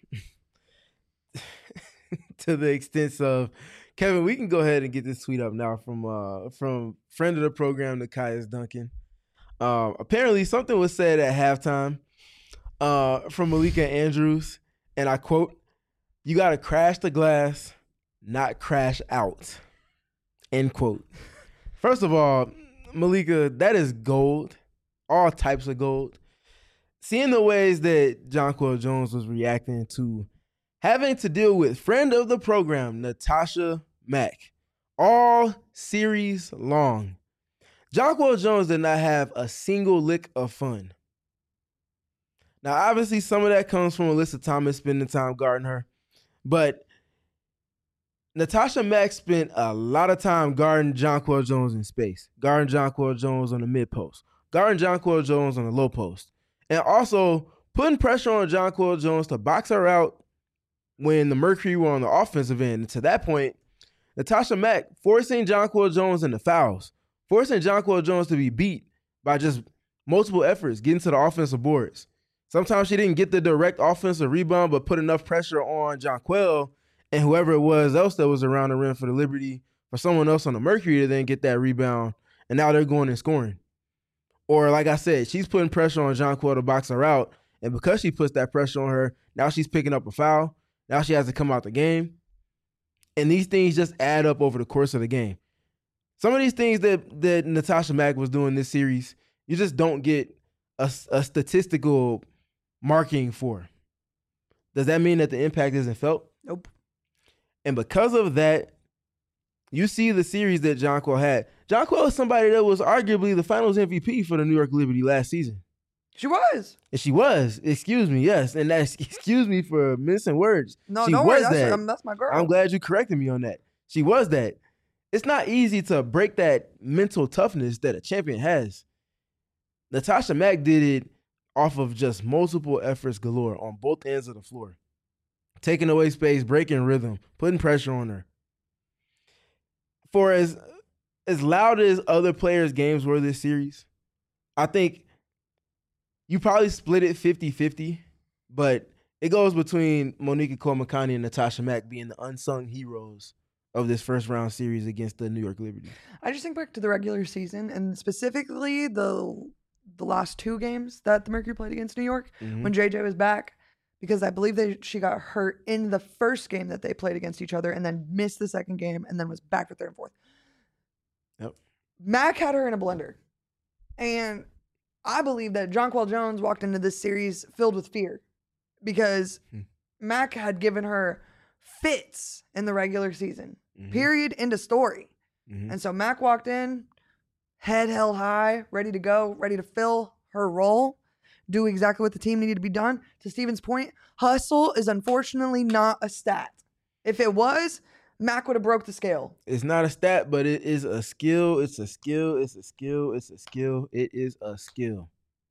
to the extent of, Kevin, we can go ahead and get this tweet up now from uh, from friend of the program, Nikias Duncan. Uh, apparently something was said at halftime uh, from Malika Andrews, and I quote, "You got to crash the glass, not crash out." End quote. First of all, Malika, that is gold. All types of gold. Seeing the ways that Jonquel Jones was reacting to having to deal with friend of the program, Natasha Mack, all series long. Jonquel Jones did not have a single lick of fun. Now, obviously, some of that comes from Alyssa Thomas spending time guarding her. But Natasha Mack spent a lot of time guarding Jonquel Jones in space, guarding Jonquel Jones on the mid post, guarding Jonquel Jones on the low post, and also putting pressure on Jonquel Jones to box her out when the Mercury were on the offensive end. And to that point, Natasha Mack forcing Jonquel Jones into fouls, forcing Jonquel Jones to be beat by just multiple efforts, getting to the offensive boards. Sometimes she didn't get the direct offensive rebound, but put enough pressure on Jonquel and whoever it was else that was around the rim for the Liberty, for someone else on the Mercury to then get that rebound, and now they're going and scoring. Or like I said, she's putting pressure on Jonquel to box her out, and because she puts that pressure on her, now she's picking up a foul. Now she has to come out the game. And these things just add up over the course of the game. Some of these things that, that Natasha Mack was doing this series, you just don't get a, a statistical marking for. Does that mean that the impact isn't felt? Nope. And because of that, you see the series that Jonquel had. Jonquel is somebody that was arguably the finals M V P for the New York Liberty last season. She was. And she was. Excuse me, yes. And that's excuse me for missing words. No, she don't was worry. That's, that. um, that's my girl. I'm glad you corrected me on that. She was that. It's not easy to break that mental toughness that a champion has. Natasha Mack did it off of just multiple efforts galore on both ends of the floor. Taking away space, breaking rhythm, putting pressure on her. For as as loud as other players' games were this series, I think you probably split it fifty-fifty, but it goes between Monica Komakani and Natasha Mack being the unsung heroes of this first round series against the New York Liberty. I just think back to the regular season and specifically the the last two games that the Mercury played against New York Mm-hmm. when J J was back, because I believe they she got hurt in the first game that they played against each other and then missed the second game and then was back for third and fourth. Yep. Mack had her in a blender. And I believe that Jonquel Jones walked into this series filled with fear because Hmm. Mack had given her fits in the regular season. Mhm. Period. End of story. Mhm. And so Mack walked in, head held high, ready to go, ready to fill her role, do exactly what the team needed to be done. To Steven's point, hustle is unfortunately not a stat. If it was, Mack would have broke the scale. It's not a stat, but it is a skill. It's a skill. It's a skill. It's a skill. It is a skill.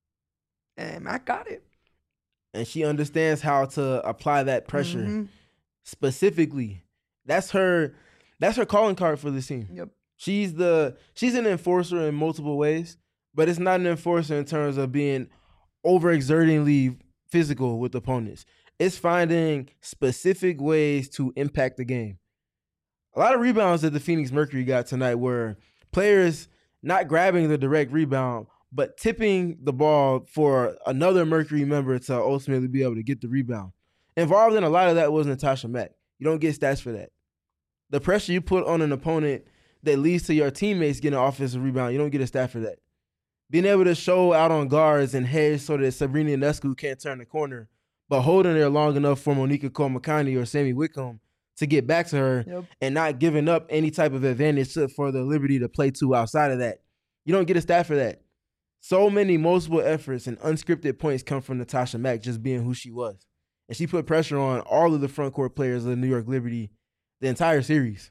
And Mack got it. And she understands how to apply that pressure Mhm. specifically. That's her that's her calling card for this team. Yep. She's the she's an enforcer in multiple ways, but it's not an enforcer in terms of being overexertingly physical with opponents. It's finding specific ways to impact the game. A lot of rebounds that the Phoenix Mercury got tonight were players not grabbing the direct rebound, but tipping the ball for another Mercury member to ultimately be able to get the rebound. Involved in a lot of that was Natasha Mack. You don't get stats for that. The pressure you put on an opponent that leads to your teammates getting an offensive rebound, you don't get a stat for that. Being able to show out on guards and heads so that Sabrina Ionescu can't turn the corner, but holding there long enough for Monica Komakani or Sammy Whitcomb to get back to her Yep. and not giving up any type of advantage to, for the Liberty to play to outside of that. You don't get a stat for that. So many multiple efforts and unscripted points come from Natasha Mack just being who she was. And she put pressure on all of the front court players of the New York Liberty the entire series.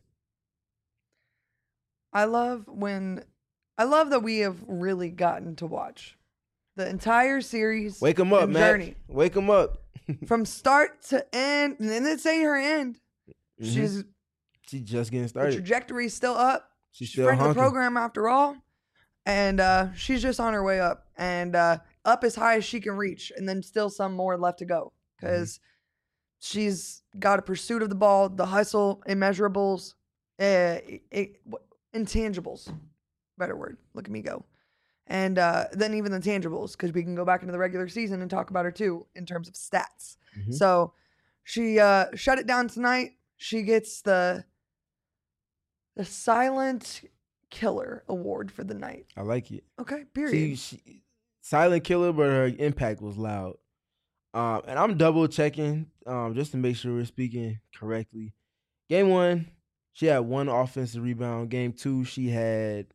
I love when I love that we have really gotten to watch the entire series. Wake them up, and Matt. journey Wake them up. from start to end, and then it's ain't her end. Mhm. She's She's just getting the started. trajectory is still up. She's She's still friend of the honking. program after all, and uh, she's just on her way up, and uh, up as high as she can reach, and then still some more left to go because she's got a pursuit of the ball, the hustle, immeasurables, uh, it, intangibles. Better word. Look at me go. And uh, then even the tangibles, because we can go back into the regular season and talk about her too in terms of stats. Mhm. So she uh, shut it down tonight. She gets the the Silent Killer Award for the night. I like it. Okay, She, period. she, silent killer, but her impact was loud. Um, and I'm double checking um, just to make sure we're speaking correctly. Game one, she had one offensive rebound. Game two, she had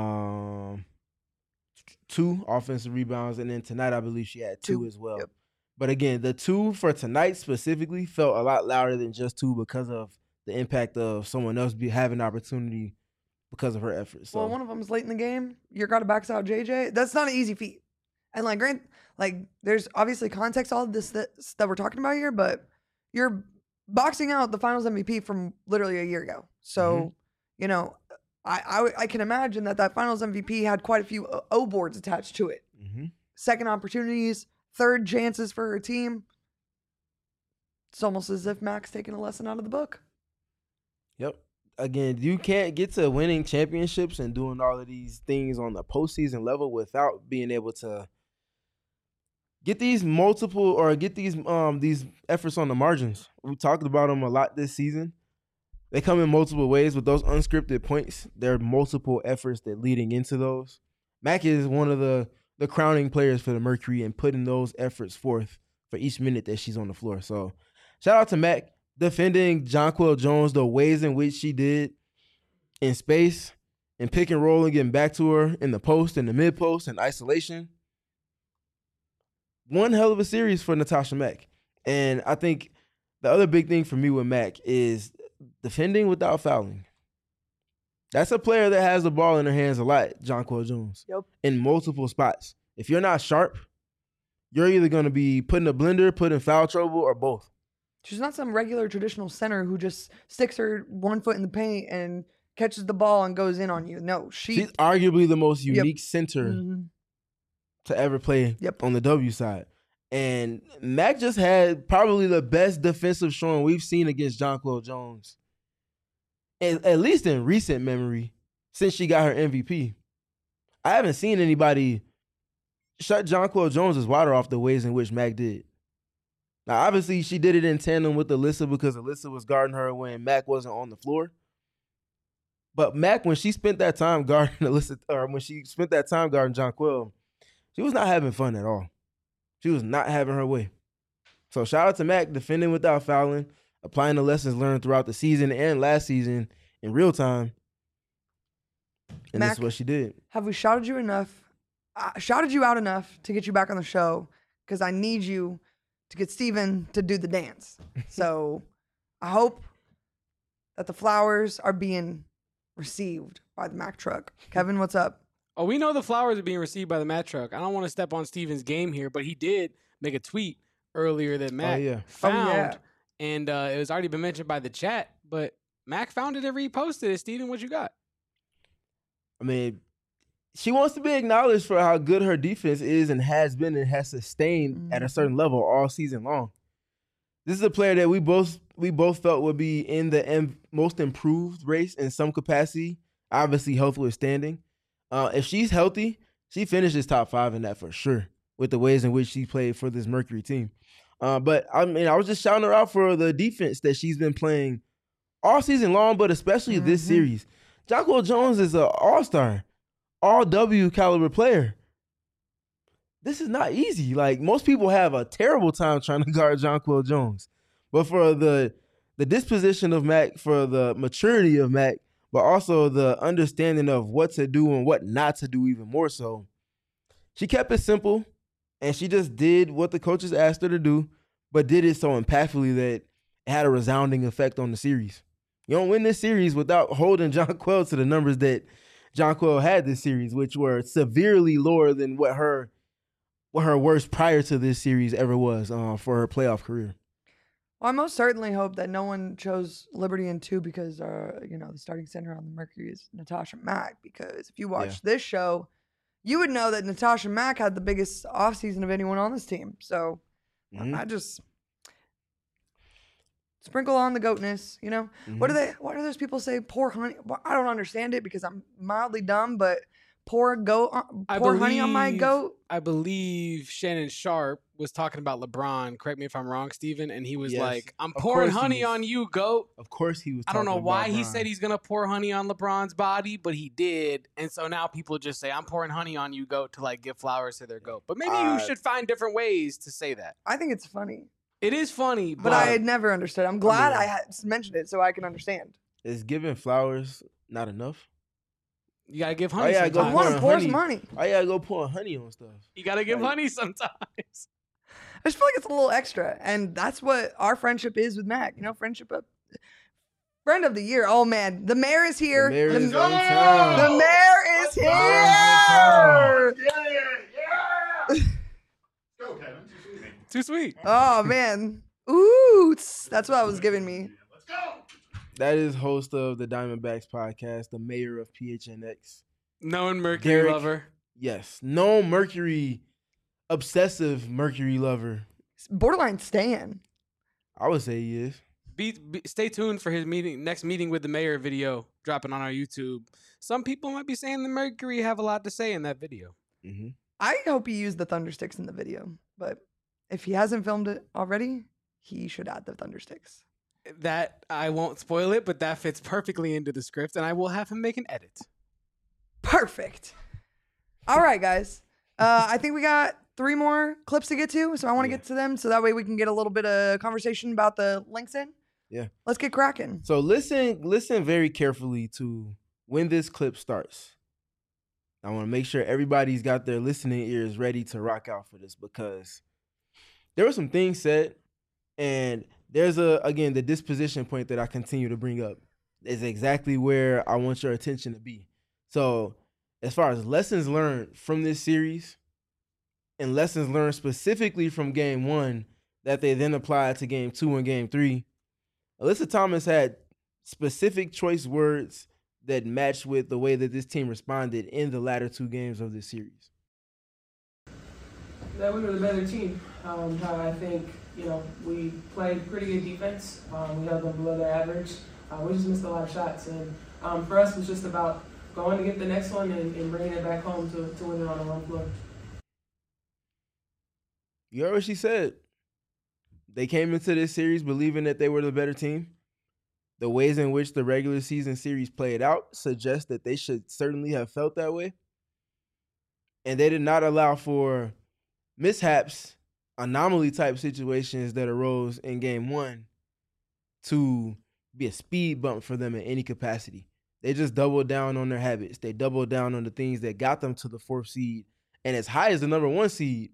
um two offensive rebounds, and then tonight I believe she had two, Two, as well. yep. But again, the two for tonight specifically felt a lot louder than just two because of the impact of someone else be having opportunity because of her efforts. So. Well, one of them is late in the game. You're got to backs out J J. That's not an easy feat. And like, grant, like, there's obviously context all of this that, that we're talking about here, but you're boxing out the Finals M V P from literally a year ago. So, Mhm. you know, I, I I can imagine that that Finals M V P had quite a few O- O boards attached to it. Mm-hmm. Second opportunities, third chances for her team. It's almost as if Mac's taking a lesson out of the book. Yep. Again, you can't get to winning championships and doing all of these things on the postseason level without being able to get these multiple or get these um these efforts on the margins. We talked about them a lot this season. They come in multiple ways with those unscripted points. There are multiple efforts that leading into those. Mac is one of the the crowning players for the Mercury and putting those efforts forth for each minute that she's on the floor. So shout out to Mac defending Jonquel Jones the ways in which she did in space and pick and roll and getting back to her in the post and the mid post and isolation. One hell of a series for Natasha Mack. And I think the other big thing for me with Mac is defending without fouling. That's a player that has the ball in her hands a lot, Jonquel Jones. Yep. In multiple spots. If you're not sharp, you're either going to be put in a blender, put in foul trouble, or both. She's not some regular traditional center who just sticks her one foot in the paint and catches the ball and goes in on you. No, she, She's arguably the most Yep. unique center Mhm. to ever play Yep. on the W side. And Mac just had probably the best defensive showing we've seen against Jonquel Jones, at, at least in recent memory, since she got her M V P. I haven't seen anybody shut Jonquel Jones' water off the ways in which Mac did. Now, obviously, she did it in tandem with Alyssa because Alyssa was guarding her when Mac wasn't on the floor. But Mac, when she spent that time guarding Alyssa, or when she spent that time guarding Jonquel, she was not having fun at all. She was not having her way. So shout out to Mac defending without fouling, applying the lessons learned throughout the season and last season in real time. And Mac, this is what she did. Have we shouted you enough? Uh, shouted you out enough to get you back on the show because I need you to get Steven to do the dance. So I hope that the flowers are being received by the Mac truck. Kevin, what's up? Oh, we know the flowers are being received by the Mac truck. I don't want to step on Steven's game here, but he did make a tweet earlier that Mac yeah. found, Oh, yeah. and uh, it was already been mentioned by the chat. But Mac found it and reposted it. Steven, what you got? I mean, she wants to be acknowledged for how good her defense is and has been and has sustained mm-hmm. at a certain level all season long. This is a player that we both we both felt would be in the M- most improved race in some capacity. Obviously, health withstanding. Uh, if she's healthy, she finishes top five in that for sure with the ways in which she played for this Mercury team. Uh, but I mean, I was just shouting her out for the defense that she's been playing all season long, but especially mm-hmm. this series. Jonquel Jones is an all-star, all-W caliber player. This is not easy. Like, most people have a terrible time trying to guard Jonquel Jones. But for the the disposition of Mac, for the maturity of Mac, but also the understanding of what to do and what not to do even more so, she kept it simple, and she just did what the coaches asked her to do, but did it so impactfully that it had a resounding effect on the series. You don't win this series without holding Jonquel to the numbers that Jonquel had this series, which were severely lower than what her what her worst prior to this series ever was uh, for her playoff career. Well, I most certainly hope that no one chose Liberty in two because, uh, you know, the starting center on the Mercury is Natasha Mack. Because if you watch yeah. this show, you would know that Natasha Mack had the biggest offseason of anyone on this team. So mm-hmm. I just sprinkle on the goatness, you know. Mm-hmm. What do they? What do those people say? Pour honey. Well, I don't understand it because I'm mildly dumb, but pour goat, uh, pour believe, honey on my goat. I believe Shannon Sharp was talking about LeBron. Correct me if I'm wrong, Steven. And he was yes. like, "I'm of pouring honey was, on you, goat." Of course he was. I don't know why LeBron. he said he's gonna pour honey on LeBron's body, but he did. And so now people just say, "I'm pouring honey on you, goat," to like give flowers to their goat. But maybe uh, you should find different ways to say that. I think it's funny. It is funny, but, but I had never understood. I'm glad I, mean, I had mentioned it so I can understand. Is giving flowers not enough? You gotta give honey. Oh, yeah, sometimes. I want to pour some honey. I gotta go pour honey on stuff. You gotta give like, honey sometimes. I just feel like it's a little extra, and that's what our friendship is with Mac. You know, friendship of friend of the year. Oh man, the mayor is here. The mayor the, is in the town. mayor is here. Yeah, yeah. Go, Kevin. Too sweet. Too sweet. Oh man, ooh, that's what I was giving me. Let's go. That is host of the Diamondbacks podcast, the mayor of P H N X. Known Mercury Derek. lover. Yes, no Mercury, obsessive Mercury lover. Borderline Stan. I would say he is. Be, be, stay tuned for his meeting next meeting with the mayor video dropping on our YouTube. Some people might be saying the Mercury have a lot to say in that video. Mm-hmm. I hope he used the thunder sticks in the video, but if he hasn't filmed it already, he should add the thunder sticks. That I won't spoil it, but that fits perfectly into the script, and I will have him make an edit. Perfect. All right, guys. Uh, I think we got three more clips to get to, so I want to Yeah. get to them so that way we can get a little bit of conversation about the links in. Yeah. Let's get cracking. So listen, listen very carefully to when this clip starts. I want to make sure everybody's got their listening ears ready to rock out for this because there were some things said, and there's a again the disposition point that I continue to bring up is exactly where I want your attention to be. So as far as lessons learned from this series and lessons learned specifically from game one that they then applied to game two and game three, Alyssa Thomas had specific choice words that matched with the way that this team responded in the latter two games of this series. That we were the better team. Um, I think, you know, we played pretty good defense. Um, we held them below their average. Uh, we just missed a lot of shots. And um, for us, it was just about going to get the next one and, and bringing it back home to, to win it on our own floor. You heard what she said. They came into this series believing that they were the better team. The ways in which the regular season series played out suggest that they should certainly have felt that way. And they did not allow for mishaps, anomaly type situations that arose in game one to be a speed bump for them in any capacity. They just doubled down on their habits. They doubled down on the things that got them to the fourth seed and as high as the number one seed,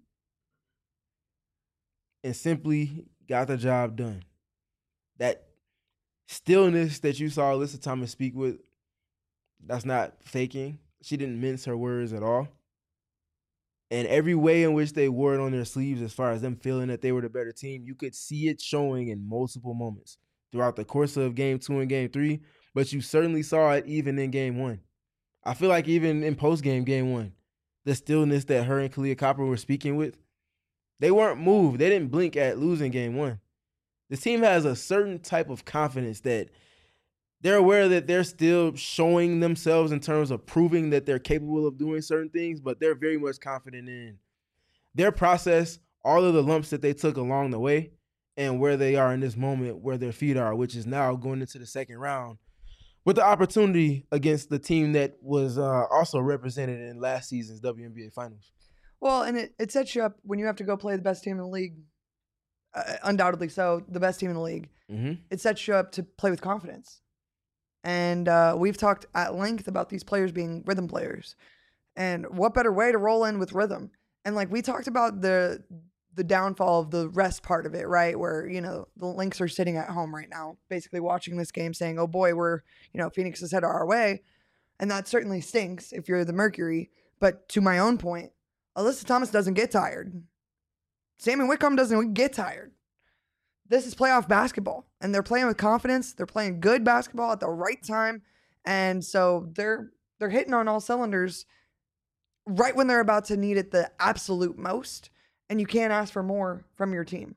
and simply got the job done. That stillness that you saw Alyssa Thomas speak with, that's not faking. She didn't mince her words at all. And every way in which they wore it on their sleeves as far as them feeling that they were the better team, you could see it showing in multiple moments throughout the course of game two and game three, but you certainly saw it even in game one. I feel like even in post-game game one, the stillness that her and Kalia Copper were speaking with, they weren't moved. They didn't blink at losing game one. This team has a certain type of confidence that they're aware that they're still showing themselves in terms of proving that they're capable of doing certain things, but they're very much confident in their process, all of the lumps that they took along the way, and where they are in this moment, where their feet are, which is now going into the second round with the opportunity against the team that was uh, also represented in last season's W N B A Finals. Well, and it, it sets you up when you have to go play the best team in the league, uh, undoubtedly so, the best team in the league. Mm-hmm. It sets you up to play with confidence. And uh, we've talked at length about these players being rhythm players. And what better way to roll in with rhythm? And like we talked about the the downfall of the rest part of it, right? Where, you know, the Lynx are sitting at home right now, basically watching this game saying, oh boy, we're, you know, Phoenix is headed our way. And that certainly stinks if you're the Mercury. But to my own point, Alyssa Thomas doesn't get tired. Sammy Whitcomb doesn't get tired. This is playoff basketball, and they're playing with confidence. They're playing good basketball at the right time, and so they're they're hitting on all cylinders right when they're about to need it the absolute most, and you can't ask for more from your team.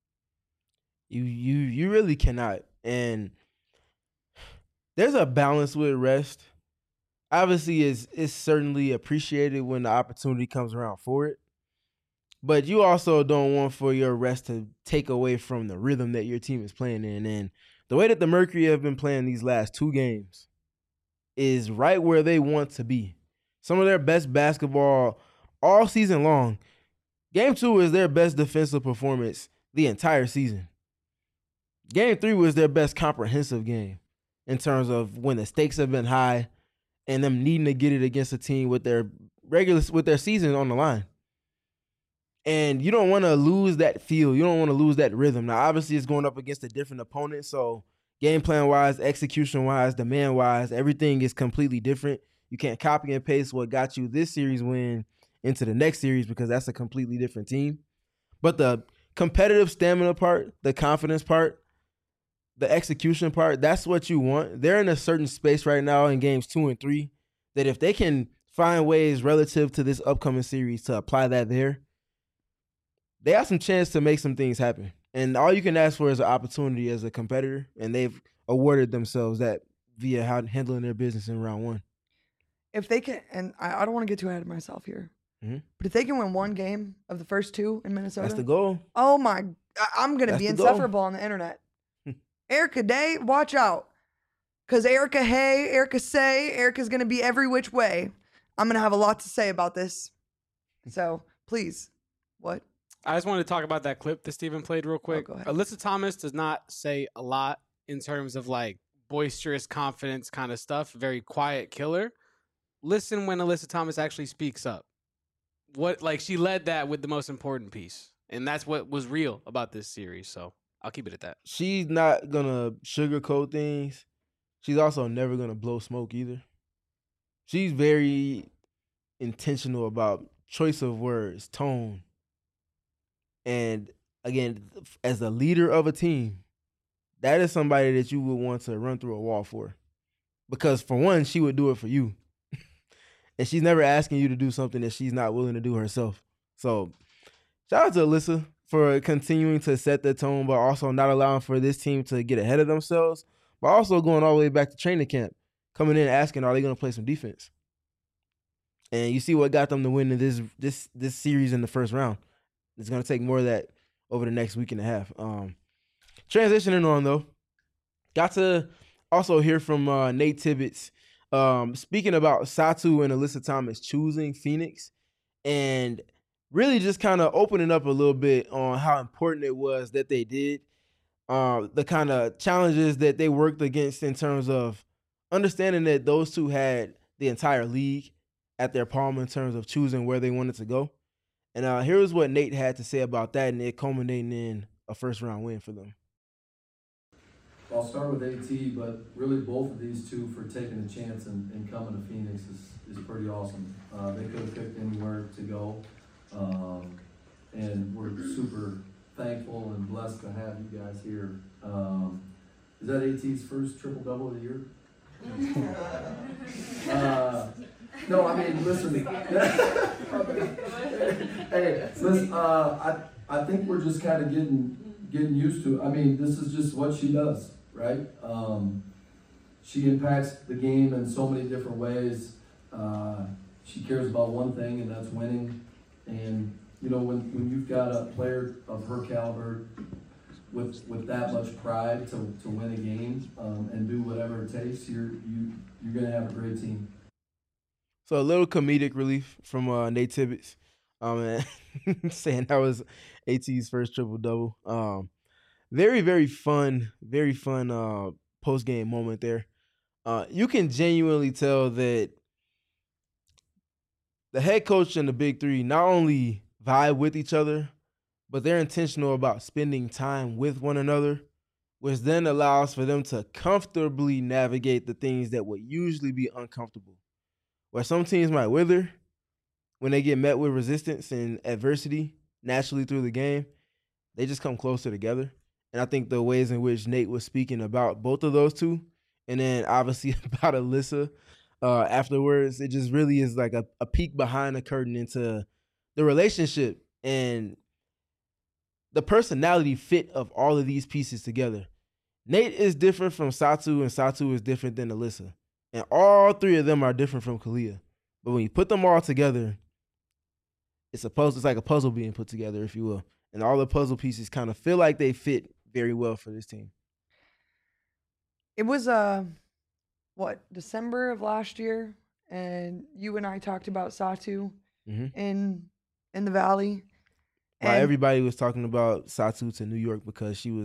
You you you really cannot. And there's a balance with rest. Obviously, it's, it's certainly appreciated when the opportunity comes around for it. But you also don't want for your rest to take away from the rhythm that your team is playing in. And the way that the Mercury have been playing these last two games is right where they want to be. Some of their best basketball all season long. Game two is their best defensive performance the entire season. Game three was their best comprehensive game in terms of when the stakes have been high and them needing to get it against a team with their regular with their season on the line. And you don't want to lose that feel. You don't want to lose that rhythm. Now, obviously, it's going up against a different opponent. So game plan wise, execution wise, demand wise, everything is completely different. You can't copy and paste what got you this series win into the next series because that's a completely different team. But the competitive stamina part, the confidence part, the execution part, that's what you want. They're in a certain space right now in games two and three that if they can find ways relative to this upcoming series to apply that there, they have some chance to make some things happen. And all you can ask for is an opportunity as a competitor, and they've awarded themselves that via how handling their business in round one. If they can, and I, I don't want to get too ahead of myself here, mm-hmm. but if they can win one game of the first two in Minnesota, that's the goal. Oh my, I, I'm going to be insufferable goal. on the internet. Erica Day, watch out. Because Erica Hay, Erica Say, Erica's going to be every which way. I'm going to have a lot to say about this. So please, what? I just wanted to talk about that clip that Steven played real quick. Oh, go ahead. Alyssa Thomas does not say a lot in terms of like boisterous confidence kind of stuff. Very quiet killer. Listen when Alyssa Thomas actually speaks up. What like she led that with the most important piece. And that's what was real about this series. So I'll keep it at that. She's not going to sugarcoat things. She's also never going to blow smoke either. She's very intentional about choice of words, tone. And again, as a leader of a team, that is somebody that you would want to run through a wall for. Because for one, she would do it for you. And she's never asking you to do something that she's not willing to do herself. So shout out to Alyssa for continuing to set the tone, but also not allowing for this team to get ahead of themselves, but also going all the way back to training camp, coming in asking, are they going to play some defense? And you see what got them to win in this this this series in the first round. It's going to take more of that over the next week and a half. Um, transitioning on, though, got to also hear from uh, Nate Tibbetts um, speaking about Satou and Alyssa Thomas choosing Phoenix and really just kind of opening up a little bit on how important it was that they did, uh, the kind of challenges that they worked against in terms of understanding that those two had the entire league at their palm in terms of choosing where they wanted to go. And uh, here's what Nate had to say about that and it culminating in a first-round win for them. I'll start with AT, but really both of these two for taking a chance and, and coming to Phoenix is, is pretty awesome. Uh, they could have picked anywhere to go. Um, and we're super thankful and blessed to have you guys here. Um, is that AT's first triple-double of the year? uh, no, I mean, listen. hey, listen, uh, I, I think we're just kind of getting getting used to it. I mean, this is just what she does, right? Um, she impacts the game in so many different ways. Uh, she cares about one thing, and that's winning. And, you know, when, when you've got a player of her caliber with with that much pride to, to win a game um, and do whatever it takes, you're, you, you're going to have a great team. So a little comedic relief from uh, Nate Tibbetts um, saying that was AT's first triple-double. Um, very, very fun, very fun uh, post-game moment there. Uh, you can genuinely tell that the head coach and the big three not only vibe with each other, but they're intentional about spending time with one another, which then allows for them to comfortably navigate the things that would usually be uncomfortable. Where some teams might wither when they get met with resistance and adversity naturally through the game, they just come closer together. And I think the ways in which Nate was speaking about both of those two, and then obviously about Alyssa uh, afterwards, it just really is like a, a peek behind the curtain into the relationship and the personality fit of all of these pieces together. Nate is different from Satou, and Satou is different than Alyssa. And all three of them are different from Kalia. But when you put them all together, it's a puzzle, it's like a puzzle being put together, if you will. And all the puzzle pieces kind of feel like they fit very well for this team. It was, uh, what, December of last year? And you and I talked about Satou Mm-hmm. in in the Valley. While And everybody was talking about Satou to New York because she was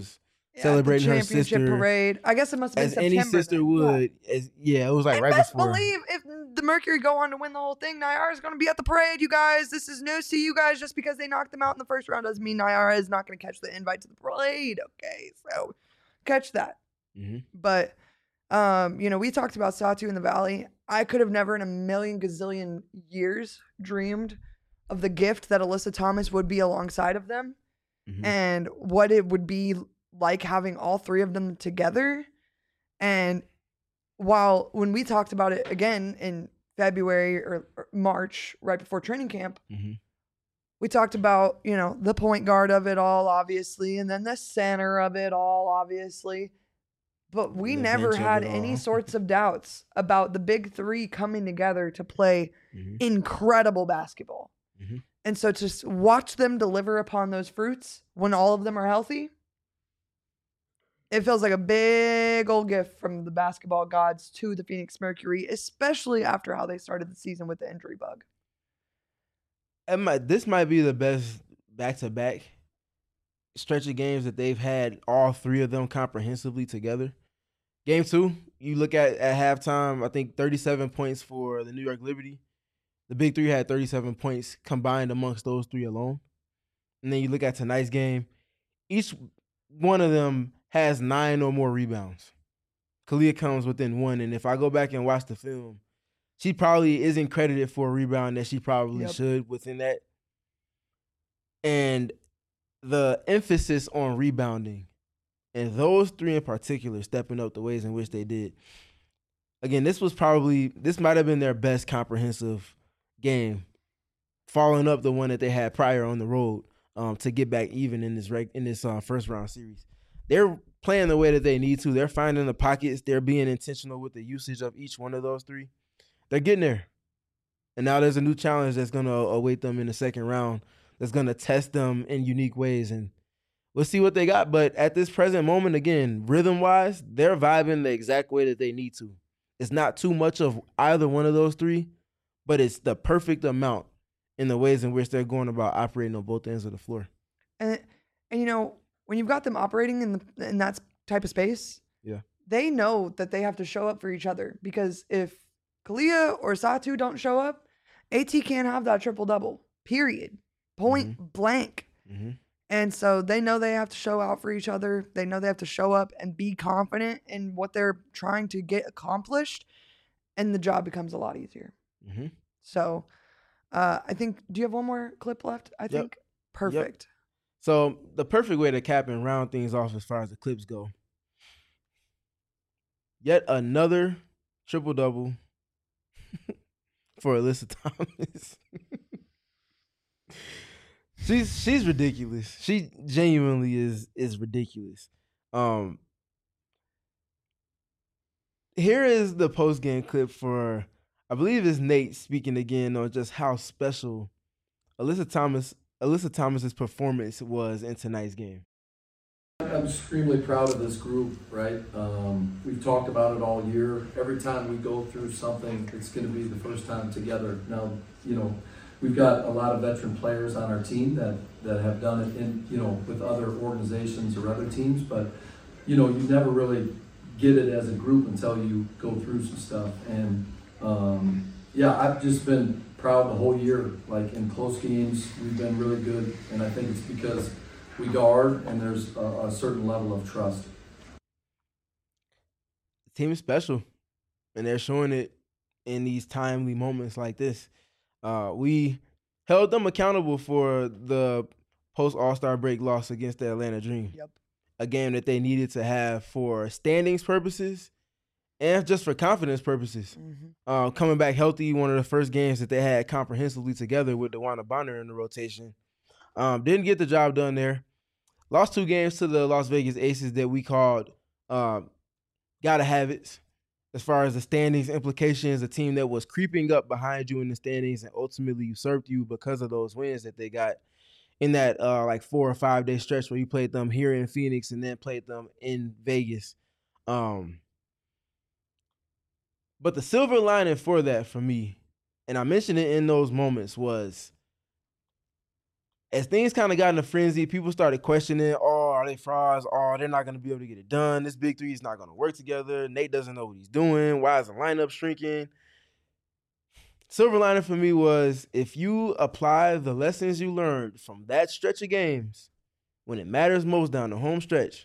Yeah, celebrating the her championship sister parade. I guess it must have as been any September sister then. would. As yeah, it was like And right best before. believe if the Mercury go on to win the whole thing, Nyara is going to be at the parade, you guys. This is news to you guys. Just because they knocked them out in the first round doesn't mean Nyara is not going to catch the invite to the parade. Okay, so catch that. Mm-hmm. But, um, you know, we talked about Satu in the Valley. I could have never in a million gazillion years dreamed of the gift that Alyssa Thomas would be alongside of them Mm-hmm. and what it would be like having all three of them together. And while when we talked about it again in February or, or March, right before training camp, Mm-hmm. we talked about, you know, the point guard of it all, obviously, and then the center of it all, obviously. But we The never bench of had it any all. sorts of doubts about the big three coming together to play Mm-hmm. incredible basketball. Mm-hmm. And so to s- watch them deliver upon those fruits when all of them are healthy, it feels like a big old gift from the basketball gods to the Phoenix Mercury, especially after how they started the season with the injury bug. It might, this might be the best back-to-back stretch of games that they've had, all three of them comprehensively together. Game two, you look at at halftime, I think thirty-seven points for the New York Liberty. The big three had thirty-seven points combined amongst those three alone. And then you look at tonight's game, each one of them has nine or more rebounds. Kalia comes within one, and if I go back and watch the film, she probably isn't credited for a rebound that she probably Yep. should within that. And the emphasis on rebounding, and those three in particular stepping up the ways in which they did. Again, this was probably, this might have been their best comprehensive game, following up the one that they had prior on the road um, to get back even in this reg- in this uh, first round series. They're playing the way that they need to. They're finding the pockets. They're being intentional with the usage of each one of those three. They're getting there. And now there's a new challenge that's going to await them in the second round that's going to test them in unique ways. And we'll see what they got. But at this present moment, again, rhythm-wise, they're vibing the exact way that they need to. It's not too much of either one of those three, but it's the perfect amount in the ways in which they're going about operating on both ends of the floor. And and you know, when you've got them operating in the in that type of space, Yeah. they know that they have to show up for each other, because if Kalia or Satu don't show up, AT can't have that triple double. Period. Point blank. Mm-hmm. And so they know they have to show out for each other. They know they have to show up and be confident in what they're trying to get accomplished, and the job becomes a lot easier. Mm-hmm. So uh, I think, do you have one more clip left? I think. Perfect. So the perfect way to cap and round things off as far as the clips go. Yet another triple double for Alyssa Thomas. she's she's ridiculous. She genuinely is is ridiculous. Um, here is the post game clip for, I believe it's Nate speaking again on just how special Alyssa Thomas Alyssa Thomas's performance was in tonight's game. I'm extremely proud of this group, right? Um, we've talked about it all year. Every time we go through something, it's going to be the first time together. Now, you know, we've got a lot of veteran players on our team that, that have done it in, you know, with other organizations or other teams, but, you know, you never really get it as a group until you go through some stuff. And, um, yeah, I've just been proud the whole year. Like, in close games, we've been really good, and I think it's because we guard, and there's a, a certain level of trust. The team is special, and they're showing it in these timely moments like this. Uh, we held them accountable for the post-All-Star break loss against the Atlanta Dream. Yep. A game that they needed to have for standings purposes and just for confidence purposes. Mm-hmm. Uh, coming back healthy, one of the first games that they had comprehensively together with DeWanna Bonner in the rotation. Um, didn't get the job done there. Lost two games to the Las Vegas Aces that we called um, gotta have it. As far as the standings implications, a team that was creeping up behind you in the standings and ultimately usurped you because of those wins that they got in that uh, like four or five day stretch where you played them here in Phoenix and then played them in Vegas. Um, but the silver lining for that for me, and I mentioned it in those moments, was as things kind of got in a frenzy, people started questioning, oh, oh, they frauds. Oh, they're not going to be able to get it done. This big three is not going to work together. Nate doesn't know what he's doing. Why is the lineup shrinking? Silver lining for me was if you apply the lessons you learned from that stretch of games, when it matters most down the home stretch,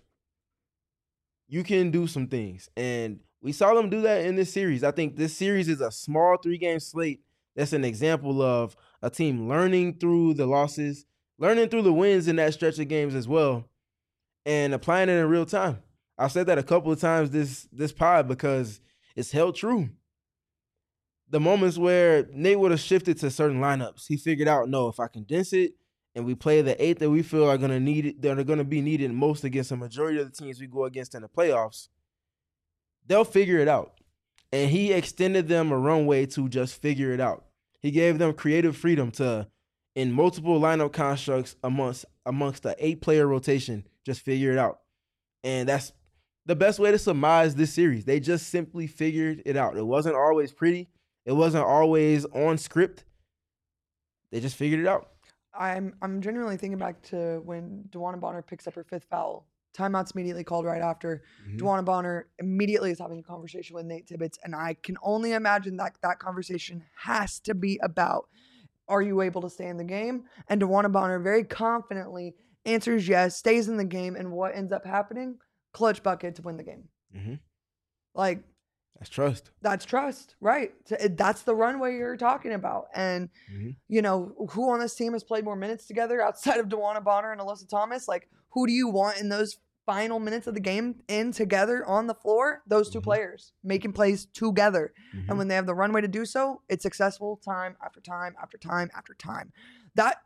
you can do some things. And we saw them do that in this series. I think this series is a small three-game slate that's an example of a team learning through the losses, learning through the wins in that stretch of games as well, and applying it in real time. I've said that a couple of times this this pod because it's held true. The moments where Nate would have shifted to certain lineups, he figured out, no, if I condense it and we play the eight that we feel are gonna need it, that are gonna be needed most against the majority of the teams we go against in the playoffs, they'll figure it out. And he extended them a runway to just figure it out. He gave them creative freedom to, in multiple lineup constructs amongst amongst the eight-player rotation, just figure it out. And that's the best way to surmise this series. They just simply figured it out. It wasn't always pretty. It wasn't always on script. They just figured it out. I'm I'm genuinely thinking back to when DeWanna Bonner picks up her fifth foul. Timeout's immediately called right after. Mm-hmm. DeWanna Bonner immediately is having a conversation with Nate Tibbetts, and I can only imagine that that conversation has to be about, are you able to stay in the game? And DeWanna Bonner very confidently answers yes, stays in the game, and what ends up happening? Clutch bucket to win the game. Mm-hmm. Like, that's trust. That's trust, right? That's the runway you're talking about. And, mm-hmm. you know, who on this team has played more minutes together outside of DeWanna Bonner and Alyssa Thomas? Like, who do you want in those final minutes of the game in together on the floor? Those two mm-hmm. players making plays together. Mm-hmm. And when they have the runway to do so, it's successful time after time after time after time. That,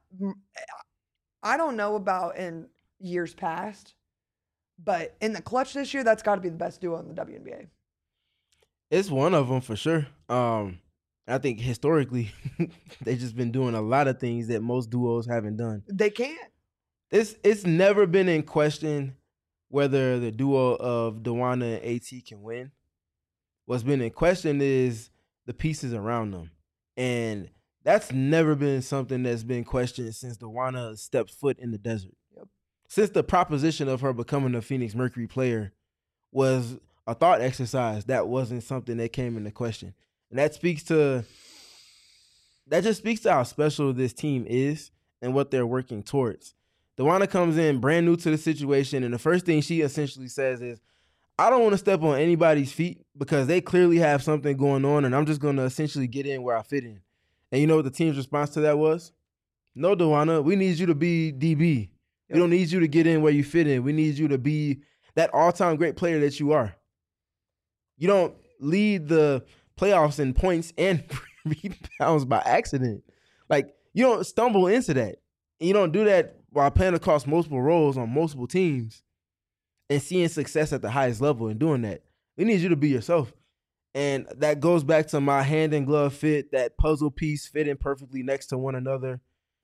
I don't know about in years past, but in the clutch this year, that's got to be the best duo in the W N B A. It's one of them for sure. Um, I think historically, they've just been doing a lot of things that most duos haven't done. They can't. It's it's never been in question whether the duo of DeWanna and AT can win. What's been in question is the pieces around them. And that's never been something that's been questioned since DeWanna stepped foot in the desert. Yep. Since the proposition of her becoming a Phoenix Mercury player was a thought exercise, that wasn't something that came into question. And that speaks to, that just speaks to how special this team is and what they're working towards. DeWanna comes in brand new to the situation, and the first thing she essentially says is, I don't want to step on anybody's feet because they clearly have something going on, and I'm just going to essentially get in where I fit in. And you know what the team's response to that was? No, DeWanna, we need you to be D B. Yep. We don't need you to get in where you fit in. We need you to be that all-time great player that you are. You don't lead the playoffs in points and rebounds by accident. Like, you don't stumble into that. And you don't do that while playing across multiple roles on multiple teams and seeing success at the highest level and doing that. We need you to be yourself. And that goes back to my hand and glove fit, that puzzle piece fitting perfectly next to one another.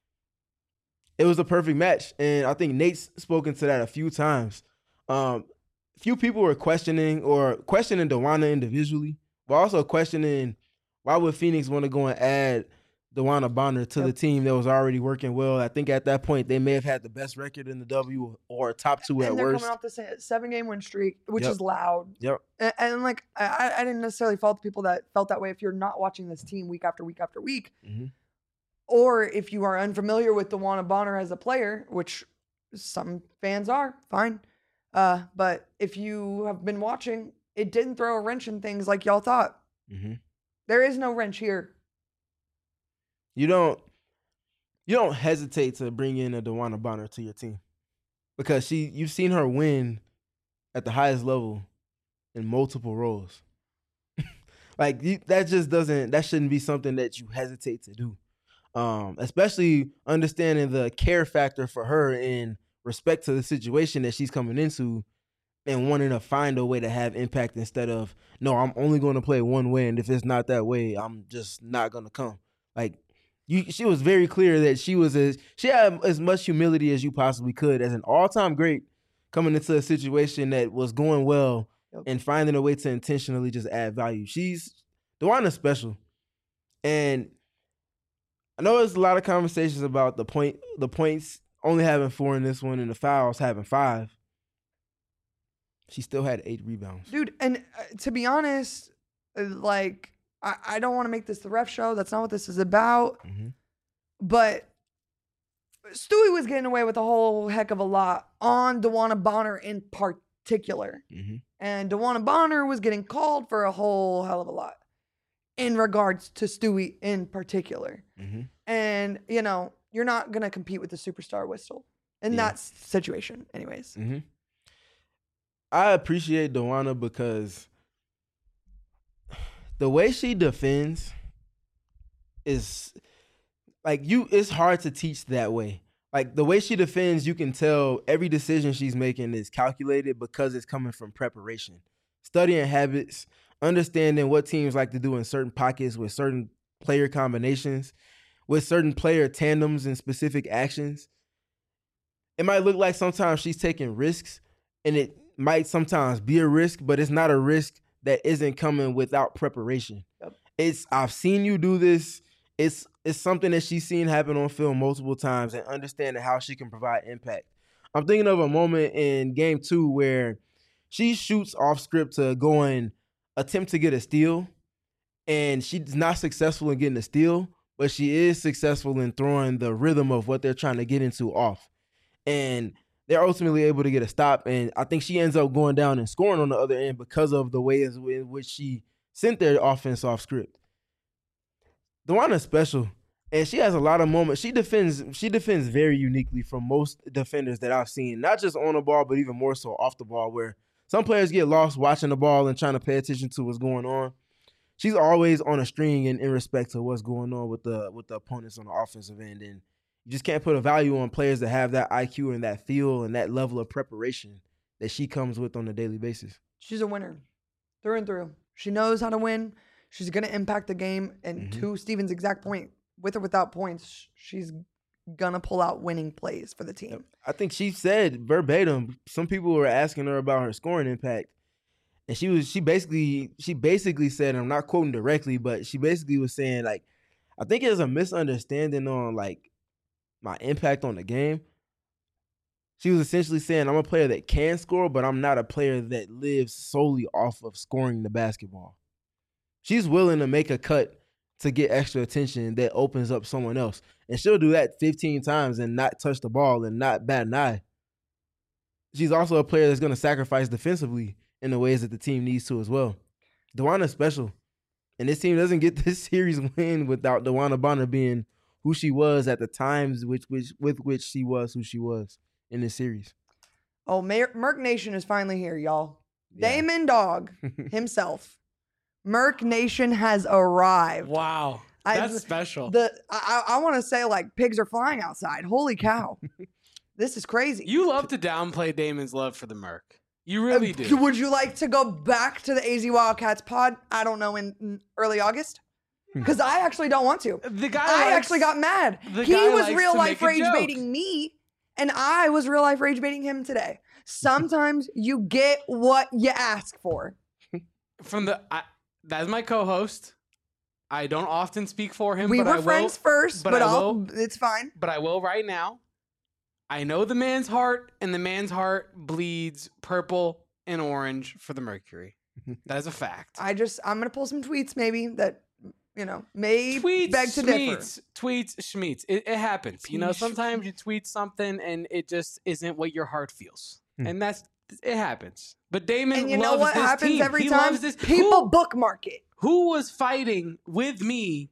It was a perfect match. And I think Nate's spoken to that a few times. Um, few people were questioning or questioning DeWanna individually, but also questioning why would Phoenix want to go and add DeWanna Bonner to yep. the team that was already working well. I think at that point they may have had the best record in the W or top two and at they're worst. Coming off the seven-game win streak, which yep. is loud. Yep. And, and like I, I didn't necessarily fault the people that felt that way if you're not watching this team week after week after week, mm-hmm. or if you are unfamiliar with DeWanna Bonner as a player, which some fans are, fine. Uh, but if you have been watching, it didn't throw a wrench in things like y'all thought. Mm-hmm. There is no wrench here. You don't, you don't hesitate to bring in a DeWanna Bonner to your team because she, you've seen her win at the highest level in multiple roles. Like you, that just doesn't, that shouldn't be something that you hesitate to do. Um, especially understanding the care factor for her in respect to the situation that she's coming into and wanting to find a way to have impact instead of, no, I'm only going to play one way. And if it's not that way, I'm just not going to come. Like you, she was very clear that she was as, she had as much humility as you possibly could as an all-time great coming into a situation that was going well yep. and finding a way to intentionally just add value. She's, DeWanna's special. And I know there's a lot of conversations about the point, the points only having four in this one and the fouls having five. She still had eight rebounds. Dude, and uh, to be honest, uh, like, I, I don't want to make this the ref show. That's not what this is about. Mhm. But Stewie was getting away with a whole heck of a lot on DeWanna Bonner in particular. Mhm. And DeWanna Bonner was getting called for a whole hell of a lot in regards to Stewie in particular. Mhm. And, you know, you're not going to compete with the superstar whistle in Yeah. that s- situation, anyways. Mhm. I appreciate DeWanna because the way she defends is like you. It's hard to teach that way. Like the way she defends, you can tell every decision she's making is calculated because it's coming from preparation, studying habits, understanding what teams like to do in certain pockets with certain player combinations, with certain player tandems and specific actions. It might look like sometimes she's taking risks, and it might sometimes be a risk, but it's not a risk that isn't coming without preparation. Yep. It's I've seen you do this. It's it's something that she's seen happen on film multiple times and understanding how she can provide impact. I'm thinking of a moment in game two where she shoots off script to go and attempt to get a steal, and she's not successful in getting a steal, but she is successful in throwing the rhythm of what they're trying to get into off. And they're ultimately able to get a stop, and I think she ends up going down and scoring on the other end because of the way in which she sent their offense off script. DeWanna's special, and she has a lot of moments. She defends she defends very uniquely from most defenders that I've seen, not just on the ball, but even more so off the ball, where some players get lost watching the ball and trying to pay attention to what's going on. She's always on a string in, in respect to what's going on with the with the opponents on the offensive end, and you just can't put a value on players that have that I Q and that feel and that level of preparation that she comes with on a daily basis. She's a winner through and through. She knows how to win. She's going to impact the game. And Mhm. to Steven's exact point, with or without points, she's going to pull out winning plays for the team. I think she said verbatim, some people were asking her about her scoring impact. And she was she basically she basically said, and I'm not quoting directly, but she basically was saying, like, I think there's a misunderstanding on like my impact on the game. She was essentially saying I'm a player that can score, but I'm not a player that lives solely off of scoring the basketball. She's willing to make a cut to get extra attention that opens up someone else. And she'll do that fifteen times and not touch the ball and not bat an eye. She's also a player that's going to sacrifice defensively in the ways that the team needs to as well. DeWanna's special. And this team doesn't get this series win without DeWanna Bonner being who she was at the times which, which, with which she was who she was in this series. Oh, Mer- Merc Nation is finally here, y'all. Yeah. Damon Dog himself. Merc Nation has arrived. Wow. I- That's special. The I, I want to say, like, pigs are flying outside. Holy cow. This is crazy. You love to downplay Damon's love for the Merc. You really Uh, do. Would you like to go back to the A Z Wildcats pod? I don't know, in, in early August? Because I actually don't want to. The guy I likes- actually got mad. the He guy was likes real to life make a rage joke. baiting me, and I was real life rage baiting him today. Sometimes you get what you ask for. From the I, that's my co-host. I don't often speak for him. We but were I will, friends first, but but, I I'll, will- it's fine. But I will right now. I know the man's heart, and the man's heart bleeds purple and orange for the Mercury. That is a fact. I just, I'm going to pull some tweets maybe that, you know, may Tweets, beg to differ. schmeats, tweets, schmeats. It, it happens. You know, Tweets, sometimes you tweet something and it just isn't what your heart feels, Hmm. and that's it happens. But Damon And you loves know what this happens team. every He time? loves this. People Who, bookmark it. who was fighting with me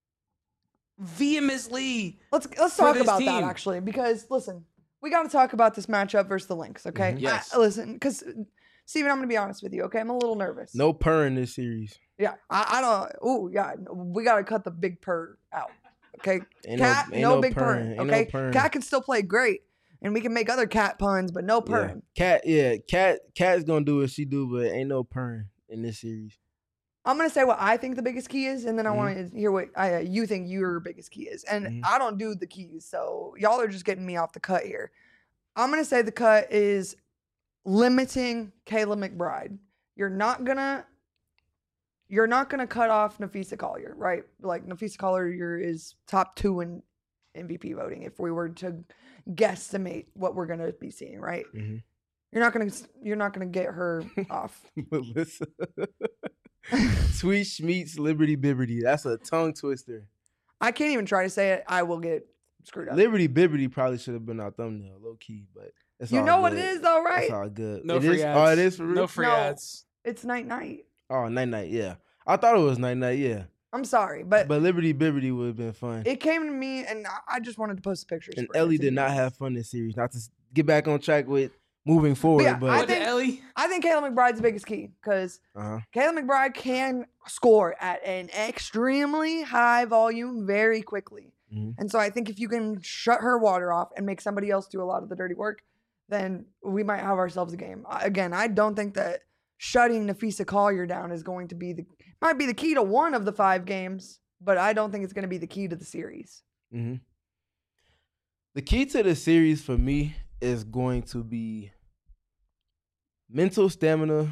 vehemently? Let's let's for talk this about that team. actually, because listen, we got to talk about this matchup versus the Lynx, okay? Mhm. Yes. I- listen, because Steven, I'm gonna be honest with you, okay? I'm a little nervous. No purr in this series. Yeah, I, I don't. Oh, yeah, we got to cut the big purr out, okay? Ain't Cat, ain't no, big purring. purring, Ain't okay? No purring. Cat can still play great, and we can make other cat puns, but no Yeah. purring. Cat, yeah, cat, cat's gonna do what she do, but ain't no purring in this series. I'm gonna say what I think the biggest key is, and then I Mhm. want to hear what I, uh, you think your biggest key is. And Mhm. I don't do the keys, so y'all are just getting me off the cut here. I'm gonna say the cut is limiting Kayla McBride. You're not gonna, you're not gonna cut off Nafisa Collier, right? Like Nafisa Collier is top two in M V P voting if we were to guesstimate what we're gonna be seeing, right? Mhm. You're not gonna you're not gonna get her off. Melissa. Sweet Schmeats Liberty Bibberty. That's a tongue twister. I can't even try to say it. I will get screwed up. Liberty Bibberty probably should have been our thumbnail, low key, but it's You all know what good. it is though, right? It's all good. No It free is- ads. Oh, it is for real? No free No. ads. It's night night. Oh, night night, yeah. I thought it was night night, yeah. I'm sorry, but, But Liberty Bibberty would have been fun. it came to me and I- I just wanted to post pictures. And for it Ellie to did be not honest. have fun this series. Not to s- get back on track with moving forward, yeah, but I What think- did Ellie? I think Kayla McBride's the biggest key because uh-huh. Kayla McBride can score at an extremely high volume very quickly. Mhm. And so I think if you can shut her water off and make somebody else do a lot of the dirty work, then we might have ourselves a game. I- Again, I don't think that shutting Nafisa Collier down is going to be the might be the key to one of the five games, but I don't think it's going to be the key to the series. hmm The key to the series for me is going to be mental stamina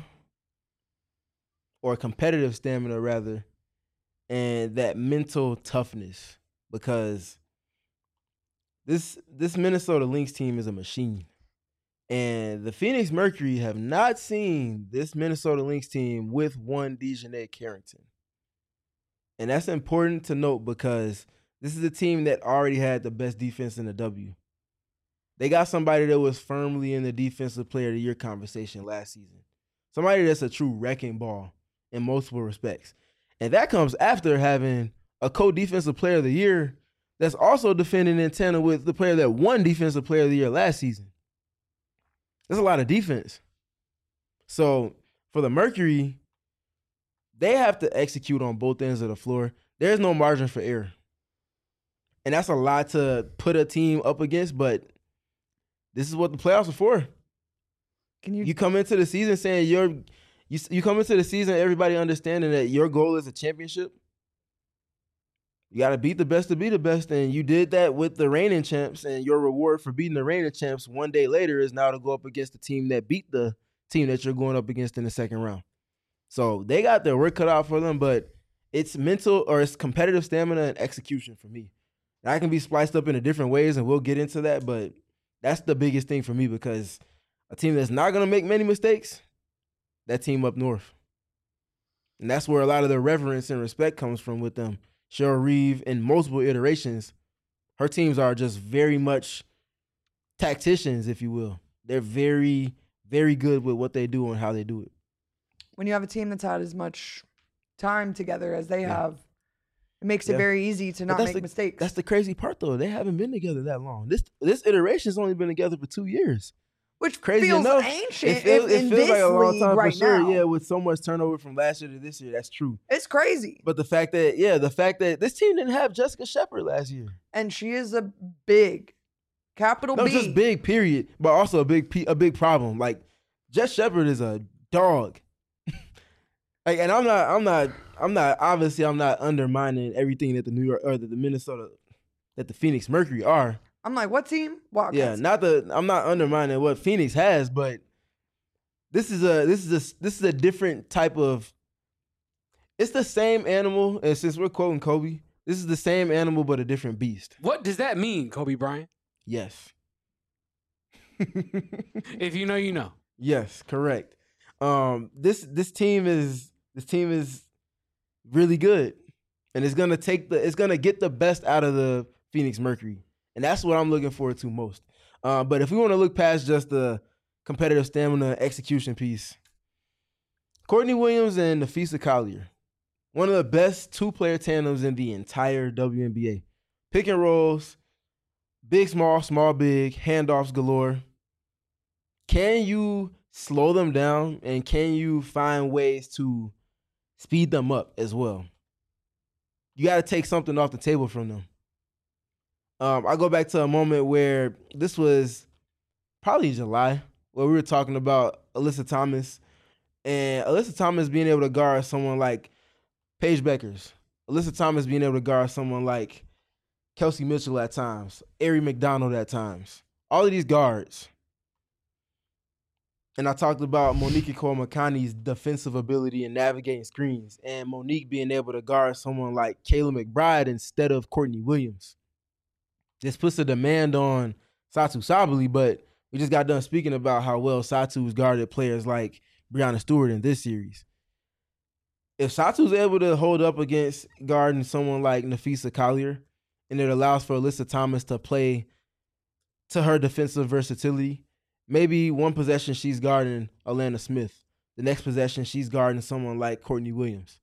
or competitive stamina rather, and that mental toughness because this this Minnesota Lynx team is a machine. And the Phoenix Mercury have not seen this Minnesota Lynx team with one Dejanay Carrington. And that's important to note because this is a team that already had the best defense in the W. They got somebody that was firmly in the defensive player of the year conversation last season. Somebody that's a true wrecking ball in multiple respects. And that comes after having a co-defensive player of the year that's also defending in tandem with the player that won defensive player of the year last season. There's a lot of defense. So for the Mercury, they have to execute on both ends of the floor. There's no margin for error. And that's a lot to put a team up against, but this is what the playoffs are for. Can you, You come into the season saying you're you, you come into the season everybody understanding that your goal is a championship. You got to beat the best to be the best, and you did that with the reigning champs, and your reward for beating the reigning champs one day later is now to go up against the team that beat the team that you're going up against in the second round. So they got their work cut out for them, but it's mental or it's competitive stamina and execution for me. That can be spliced up into different ways, and we'll get into that, but that's the biggest thing for me because a team that's not going to make many mistakes, that team up north. And that's where a lot of the reverence and respect comes from with them. Cheryl Reeve, in multiple iterations, her teams are just very much tacticians, if you will. They're very, very good with what they do and how they do it. when you have a team that's had as much time together as they Yeah. have, it makes Yeah. it very easy to But not that's make the- mistakes. That's the crazy part, though. They haven't been together that long. This this iteration's only been together for two years. Which Crazy feels enough, ancient It feels, if, it in feels this like a long league time right for sure. now. Yeah, with so much turnover from last year to this year, that's true. It's crazy. But the fact that, yeah, the fact that this team didn't have Jessica Shepard last year. And she is a big, capital No, B. just big, period. But also a big, P- a big problem. Like Jess Shepard is a dog. Like, and I'm not, I'm not, I'm not. Obviously, I'm not undermining everything that the New York or that the Minnesota, that the Phoenix Mercury are. I'm like, what team? Wildcats. Yeah, not the. I'm not undermining what Phoenix has, but this is a this is a this is a different type of. It's the same animal, and since we're quoting Kobe, this is the same animal but a different beast. What does that mean, Kobe Bryant? Yes. If you know, you know. Yes, correct. Um, this this team is this team is really good, and it's gonna take the it's gonna get the best out of the Phoenix Mercury, and that's what I'm looking forward to most. Uh, but if we want to look past just the competitive stamina execution piece, Courtney Williams and Nafisa Collier, one of the best two-player tandems in the entire W N B A. Pick and rolls, big, small, small, big, handoffs galore. Can you slow them down, and can you find ways to speed them up as well? You got to take something off the table from them. Um, I go back to a moment where this was probably July, where we were talking about Alyssa Thomas, and Alyssa Thomas being able to guard someone like Paige Beckers, Alyssa Thomas being able to guard someone like Kelsey Mitchell at times, Ari McDonald at times. All of these guards. And I talked about Monique Cole-McConaughey's defensive ability in navigating screens, and Monique being able to guard someone like Kayla McBride instead of Courtney Williams. This puts a demand on Satu Sabally, but We just got done speaking about how well Satu's guarded players like Breanna Stewart in this series. If Satu's able to hold up against guarding someone like Napheesa Collier, and it allows for Alyssa Thomas to play to her defensive versatility, maybe one possession she's guarding Alana Smith. The next possession she's guarding someone like Courtney Williams.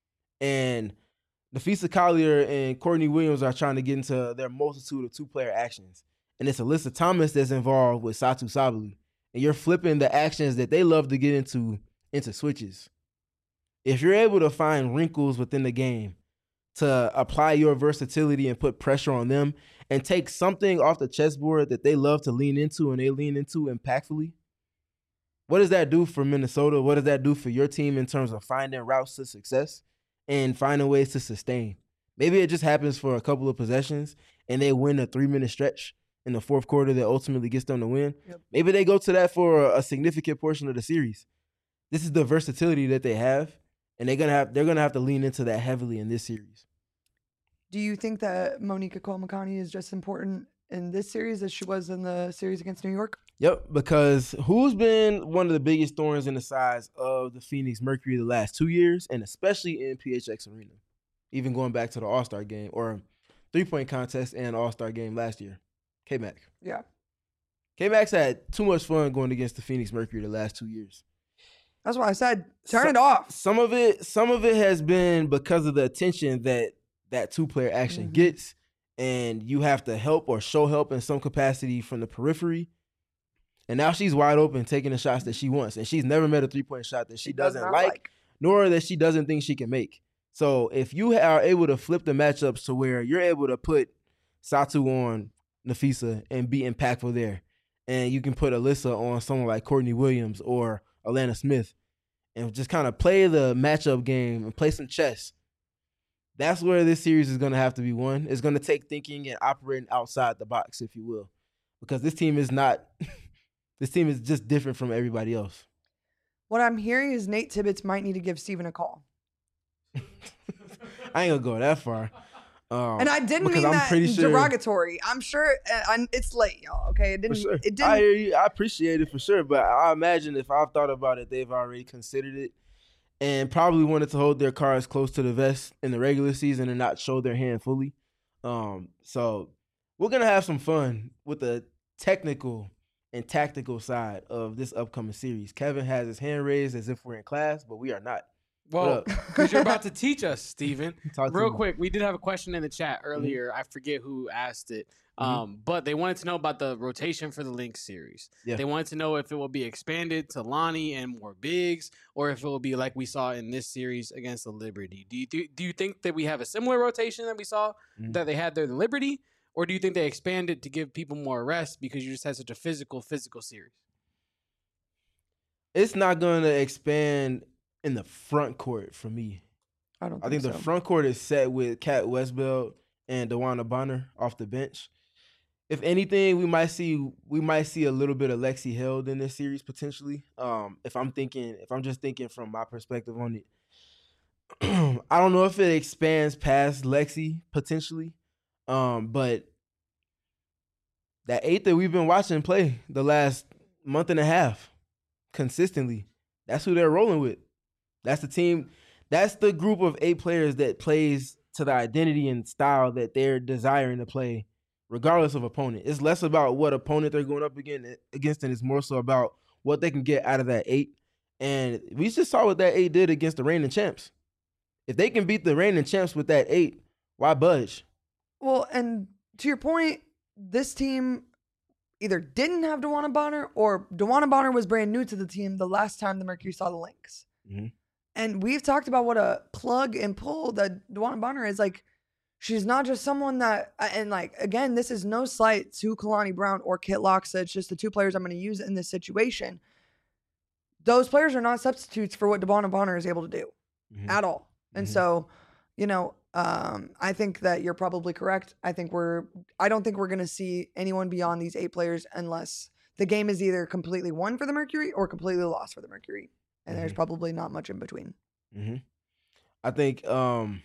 And Napheesa Collier and Courtney Williams are trying to get into their multitude of two-player actions. And it's Alyssa Thomas that's involved with Satu Sabally. And you're flipping the actions that they love to get into into switches. If you're able to find wrinkles within the game to apply your versatility and put pressure on them and take something off the chessboard that they love to lean into and they lean into impactfully, what does that do for Minnesota? What does that do for your team in terms of finding routes to success and finding ways to sustain? Maybe it just happens for a couple of possessions and they win a three-minute stretch in the fourth quarter that ultimately gets them to win. Yep. Maybe they go to that for a significant portion of the series. This is the versatility that they have, and they're gonna have they're gonna have to lean into that heavily in this series. Do you think that Monica Cole-Makani is just important in this series as she was in the series against New York? Yep, because who's been one of the biggest thorns in the sides of the Phoenix Mercury the last two years, and especially in P H X Arena, even going back to the All-Star game or three-point contest and All-Star game last year? K-Mac. Yeah. K-Mac's had too much fun going against the Phoenix Mercury the last two years. That's why I said turn so, it off. Some of it, some of it has been because of the attention that that two-player action mm-hmm. gets, and you have to help or show help in some capacity from the periphery. And now she's wide open, taking the shots that she wants, and she's never met a three-point shot that she, she doesn't does like, like, nor that she doesn't think she can make. So if you are able to flip the matchups to where you're able to put Satu on Napheesa and be impactful there, and you can put Alyssa on someone like Courtney Williams or Alana Smith and just kind of play the matchup game and play some chess, that's where this series is going to have to be won. It's going to take thinking and operating outside the box, if you will, because this team is not – this team is just different from everybody else. What I'm hearing is Nate Tibbetts might need to give Steven a call. I ain't going to go that far. Um, and I didn't mean I'm that pretty sure, derogatory. I'm sure uh, I'm, it's late, y'all. Okay, it didn't. Sure. It didn't. I hear you. I appreciate it for sure, but I imagine if I've thought about it, they've already considered it and probably wanted to hold their cards close to the vest in the regular season and not show their hand fully. Um, so we're gonna have some fun with the technical and tactical side of this upcoming series. Kevin has his hand raised as if we're in class, but we are not. Well, because you're about to teach us, Steven. Talk Real quick, we did have a question in the chat earlier. Mm-hmm. I forget who asked it. Um, mm-hmm. But they wanted to know about the rotation for the Lynx series. Yeah. They wanted to know if it will be expanded to Lonnie and more bigs, or if it will be like we saw in this series against the Liberty. Do you do, do you think that we have a similar rotation that we saw mm-hmm. that they had there, the Liberty, or do you think they expanded to give people more rest because you just had such a physical, physical series? It's not going to expand in the front court for me. I don't think I think so. the front court is set with Kat Westbeld and DeWanna Bonner off the bench. If anything, we might see we might see a little bit of Lexi Held in this series potentially. Um, if I'm thinking, if I'm just thinking from my perspective on it, I don't know if it expands past Lexi potentially, um, but that eight that we've been watching play the last month and a half consistently, that's who they're rolling with. That's the team. That's the group of eight players that plays to the identity and style that they're desiring to play, regardless of opponent. It's less about what opponent they're going up against, and it's more so about what they can get out of that eight. And we just saw what that eight did against the reigning champs. If they can beat the reigning champs with that eight, why budge? Well, and to your point, this team either didn't have DeWanna Bonner or DeWanna Bonner was brand new to the team the last time the Mercury saw the Lynx. Mm-hmm. And we've talked about what a plug and pull that DeWanna Bonner is. Like, she's not just someone that, and like, again, this is no slight to Kalani Brown or Kit Loxa. It's just the two players I'm going to use in this situation. Those players are not substitutes for what DeWanna Bonner is able to do mm-hmm. at all. And mm-hmm. so, you know, um, I think that you're probably correct. I think we're, I don't think we're going to see anyone beyond these eight players unless the game is either completely won for the Mercury or completely lost for the Mercury. And mm-hmm. there's probably not much in between. Mm-hmm. I think um,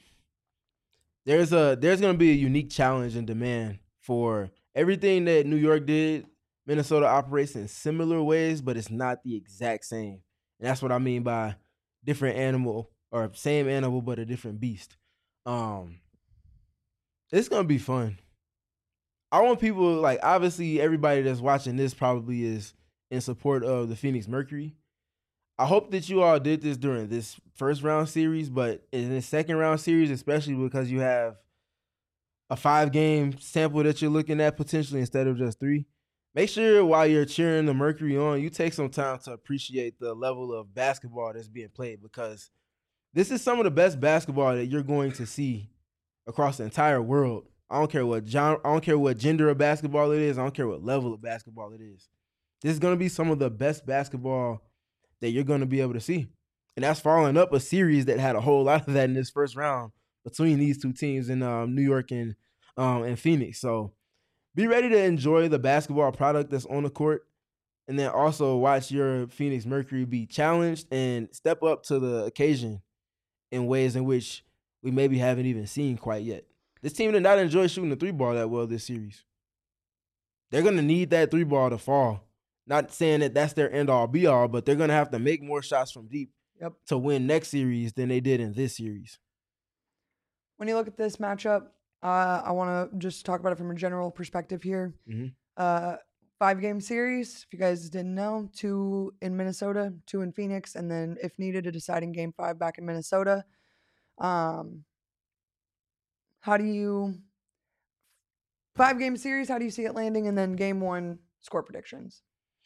there's a there's going to be a unique challenge and demand for everything that New York did Minnesota operates in similar ways, but it's not the exact same. And that's what I mean by different animal or same animal, but a different beast. Um, it's going to be fun. I want people, like, obviously everybody that's watching this probably is in support of the Phoenix Mercury. I hope that you all did this during this first round series, but in the second round series, especially because you have a five game sample that you're looking at potentially instead of just three, make sure while you're cheering the Mercury on, you take some time to appreciate the level of basketball that's being played, because this is some of the best basketball that you're going to see across the entire world. I don't care what genre, I don't care what gender of basketball it is. I don't care what level of basketball it is. This is going to be some of the best basketball that you're going to be able to see. And that's following up a series that had a whole lot of that in this first round between these two teams in um, New York and um, and Phoenix. So be ready to enjoy the basketball product that's on the court, and then also watch your Phoenix Mercury be challenged and step up to the occasion in ways in which we maybe haven't even seen quite yet. This team did not enjoy shooting the three ball that well this series. They're going to need that three ball to fall. Not saying that that's their end-all, be-all, but they're going to have to make more shots from deep Yep. to win next series than they did in this series. When you look at this matchup, uh, I want to just talk about it from a general perspective here. Mm-hmm. Uh, five-game series, if you guys didn't know, two in Minnesota, two in Phoenix, and then, if needed, a deciding game five back in Minnesota. Um, how do you – five-game series, how do you see it landing? And then game one, score predictions.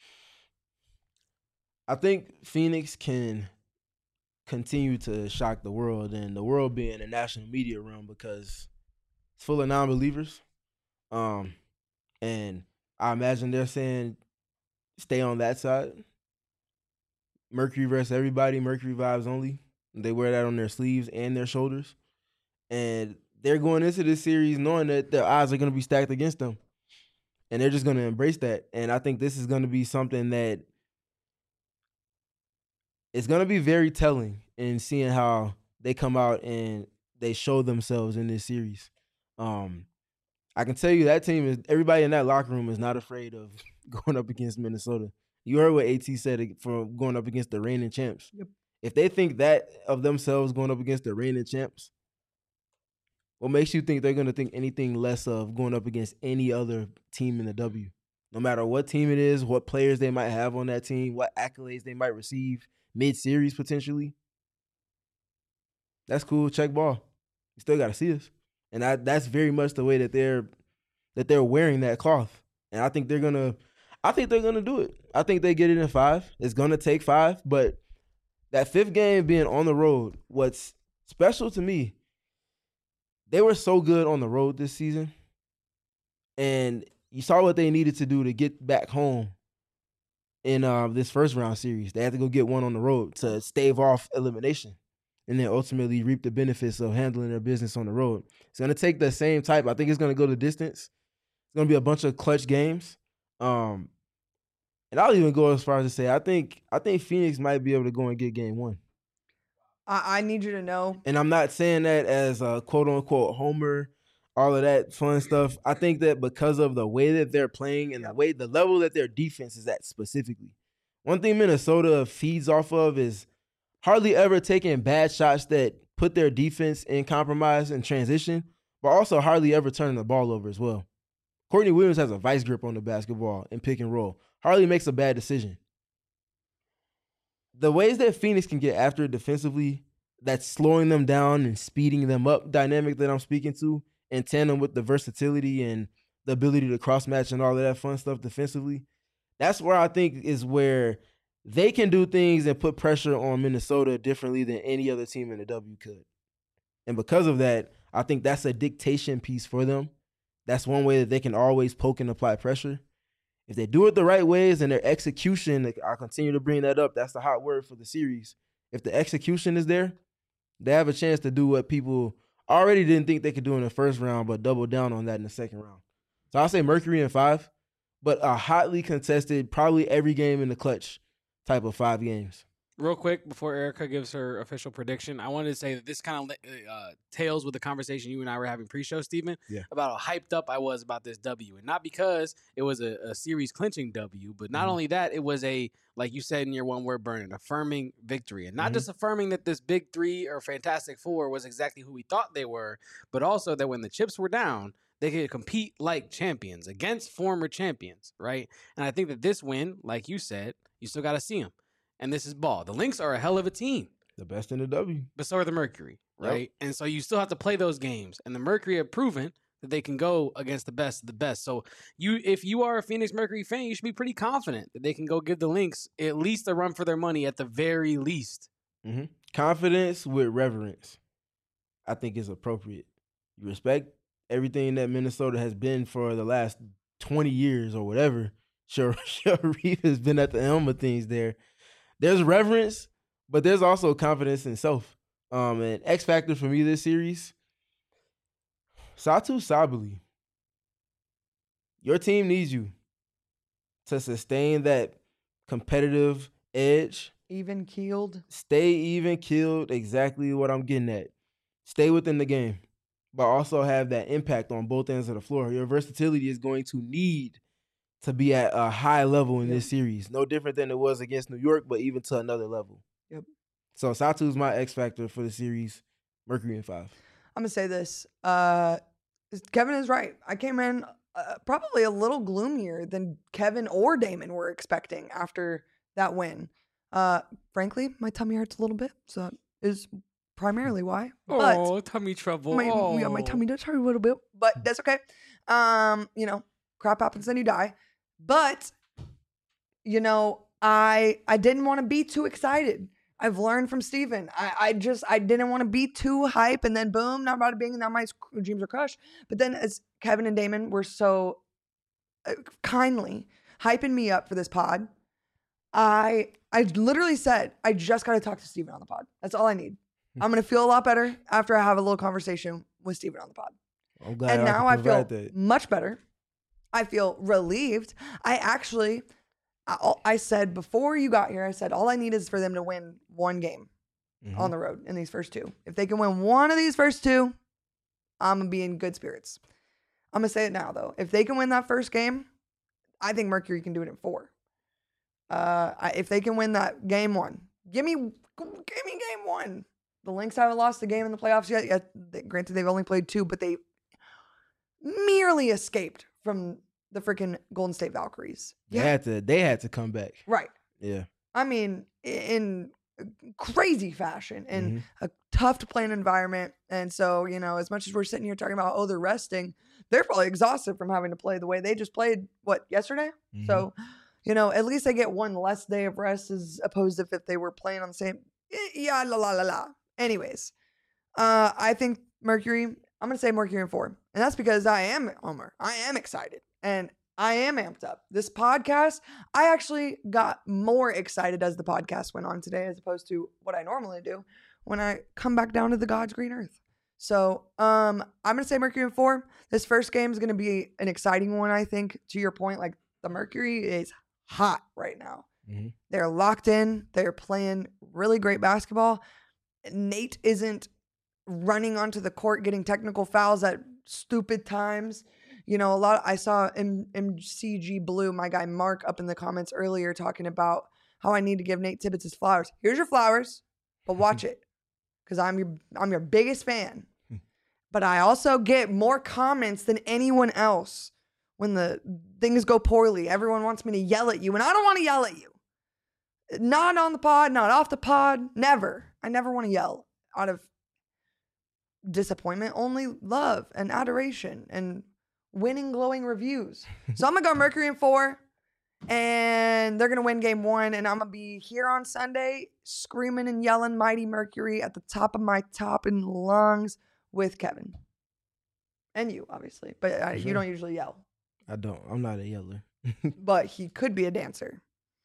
I think Phoenix can continue to shock the world, and the world being a national media realm, because it's full of non-believers. Um, and I imagine they're saying stay on that side. Mercury versus everybody, Mercury vibes only. They wear that on their sleeves and their shoulders. And they're going into this series knowing that their odds are going to be stacked against them. And they're just going to embrace that. And I think this is going to be something that it's going to be very telling in seeing how they come out and they show themselves in this series. Um, I can tell you that team is, everybody in that locker room is not afraid of going up against Minnesota. You heard what AT said for going up against the reigning champs. Yep. If they think that of themselves going up against the reigning champs, what makes you think they're going to think anything less of going up against any other team in the W? No matter what team it is, what players they might have on that team, what accolades they might receive mid-series potentially. That's cool. Check ball. You still got to see us. And I, that's very much the way that they're that they're wearing that cloth. And I think they're going to I think they're going to do it. I think they get it in five. It's going to take five, but that fifth game being on the road, what's special to me, they were so good on the road this season, and you saw what they needed to do to get back home in uh, this first round series. They had to go get one on the road to stave off elimination and then ultimately reap the benefits of handling their business on the road. It's going to take the same type. I think it's going to go the distance. It's going to be a bunch of clutch games. Um, and I'll even go as far as to say I think I think Phoenix might be able to go and get game one. I, I need you to know. And I'm not saying that as a quote-unquote homer, all of that fun stuff. I think that because of the way that they're playing and the way, the level that their defense is at specifically. One thing Minnesota feeds off of is hardly ever taking bad shots that put their defense in compromise and transition, but also hardly ever turning the ball over as well. Courtney Williams has a vice grip on the basketball and pick and roll. Hardly makes a bad decision. The ways that Phoenix can get after it defensively, that's slowing them down and speeding them up dynamic that I'm speaking to, in tandem with the versatility and the ability to cross-match and all of that fun stuff defensively, that's where I think is where they can do things and put pressure on Minnesota differently than any other team in the W could. And because of that, I think that's a dictation piece for them. That's one way that they can always poke and apply pressure. If they do it the right ways and their execution, I'll continue to bring that up. That's the hot word for the series. If the execution is there, they have a chance to do what people already didn't think they could do in the first round, but double down on that in the second round. So I'll say Mercury in five, but a hotly contested, probably every game in the clutch type of five games. Real quick, before Erica gives her official prediction, I wanted to say that this kind of uh, tails with the conversation you and I were having pre-show, Stephen, Yeah. about how hyped up I was about this W. And not because it was a, a series clinching W, but not Mhm. only that, it was a, like you said in your one word, Burn, an affirming victory. And not Mhm. just affirming that this big three or Fantastic Four was exactly who we thought they were, but also that when the chips were down, they could compete like champions against former champions, right? And I think that this win, like you said, you still got to see them. And this is ball. The Lynx are a hell of a team, The best in the W. but so are the Mercury, Yep. right? And so you still have to play those games. And the Mercury have proven that they can go against the best of the best. So you, if you are a Phoenix Mercury fan, you should be pretty confident that they can go give the Lynx at least a run for their money at the very least. Mm-hmm. Confidence with reverence, I think, is appropriate. You respect everything that Minnesota has been for the last twenty years or whatever. Sure, Sharif has been at the helm of things there. There's reverence, but there's also confidence in self. Um, and X factor for me this series, Satu Sabali. Your team needs you to sustain that competitive edge. Even keeled. Stay even keeled, exactly what I'm getting at. Stay within the game, but also have that impact on both ends of the floor. Your versatility is going to need to be at a high level in Yep. this series. No different than it was against New York, but even to another level. Yep. So Satu's my X factor for the series. Mercury in five. I'm gonna say this. Uh, Kevin is right. I came in uh, probably a little gloomier than Kevin or Damon were expecting after that win. Uh, frankly, my tummy hurts a little bit, so that is primarily why. But oh, tummy trouble. my, oh. yeah, my tummy does hurt a little bit, but that's okay. Um, you know, crap happens, then you die. But you know, I I didn't want to be too excited. I've learned from Steven. I, I just I didn't want to be too hype, and then boom, not about it being, now my dreams are crushed. But then as Kevin and Damon were so uh, kindly hyping me up for this pod, I I literally said, I just got to talk to Steven on the pod. That's all I need. I'm gonna feel a lot better after I have a little conversation with Steven on the pod. I'm glad And I now can I feel provide that. much better. I feel relieved. I actually, I, I said before you got here, I said all I need is for them to win one game Mhm. on the road in these first two. If they can win one of these first two, I'm gonna be in good spirits. I'm gonna say it now though. If they can win that first game, I think Mercury can do it in four. Uh, I, if they can win that game one, give me, give me game one. The Lynx haven't lost a game in the playoffs yet. Yet, they- granted, they've only played two, but they merely escaped from the freaking Golden State Valkyries. They had to. They had to come back. Right. Yeah. I mean, in crazy fashion, in Mhm. a tough to play in environment. And so, you know, as much as we're sitting here talking about, oh, they're resting, they're probably exhausted from having to play the way they just played, what, yesterday? Mhm. So, you know, at least they get one less day of rest as opposed to if they were playing on the same, eh, yeah, la la la la. Anyways, uh, I think Mercury, I'm going to say Mercury in four. And that's because I am Homer. I am excited. And I am amped up. This podcast, I actually got more excited as the podcast went on today as opposed to what I normally do when I come back down to the God's green earth. So um, I'm going to say Mercury in four. This first game is going to be an exciting one, I think. To your point, like the Mercury is hot right now. Mhm. They're locked in. They're playing really great basketball. Nate isn't running onto the court getting technical fouls at stupid times. You know, a lot. I saw M- MCG Blue, my guy Mark, up in the comments earlier talking about how I need to give Nate Tibbetts his flowers. Here's your flowers, but watch it, because I'm your I'm your biggest fan. But I also get more comments than anyone else when the things go poorly. Everyone wants me to yell at you, and I don't want to yell at you. Not on the pod, not off the pod, never. I never want to yell out of disappointment. Only love and adoration and winning glowing reviews. So I'm gonna go Mercury in four, and they're gonna win game one, and I'm gonna be here on Sunday screaming and yelling Mighty Mercury at the top of my top and lungs with Kevin and you, obviously, but uh, you Sure. don't usually yell. I don't. I'm not a yeller. But he could be a dancer.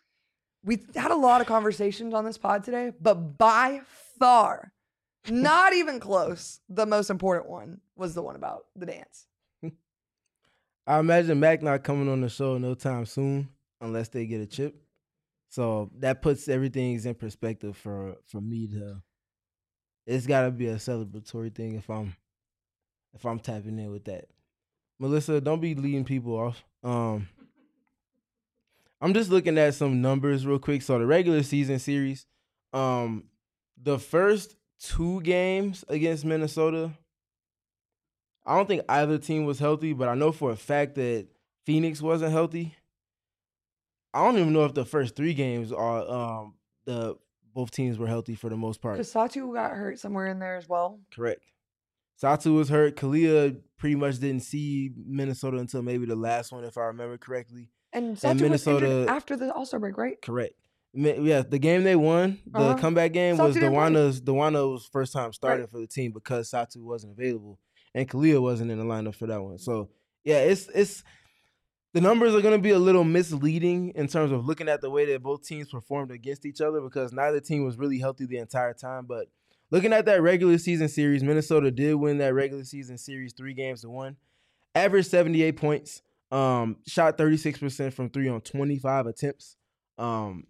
We had a lot of conversations on this pod today, but by far, not even close, the most important one was the one about the dance. I imagine Mac not coming on the show no time soon unless they get a chip. So that puts everything in perspective for for me to. It's got to be a celebratory thing if I'm if I'm tapping in with that. Melissa, don't be leading people off. Um, I'm just looking at some numbers real quick. So the regular season series, um, the first two games against Minnesota, I don't think either team was healthy, but I know for a fact that Phoenix wasn't healthy. I don't even know if the first three games are um, the both teams were healthy for the most part. Because Satu got hurt somewhere in there as well. Correct. Satu was hurt. Kalia pretty much didn't see Minnesota until maybe the last one, if I remember correctly. And Satu Minnesota- was injured after the All-Star break, right? Correct. Mi- Yeah, the game they won, the Uh-huh. comeback game, Satu was didn't play. Dewana's Dewana's first time starting Right. for the team because Satu wasn't available and Kalia wasn't in the lineup for that one. So yeah, it's it's the numbers are going to be a little misleading in terms of looking at the way that both teams performed against each other because neither team was really healthy the entire time. But looking at that regular season series, Minnesota did win that regular season series three games to one. Averaged seventy-eight points. Um, shot thirty-six percent from three on twenty-five attempts. Um,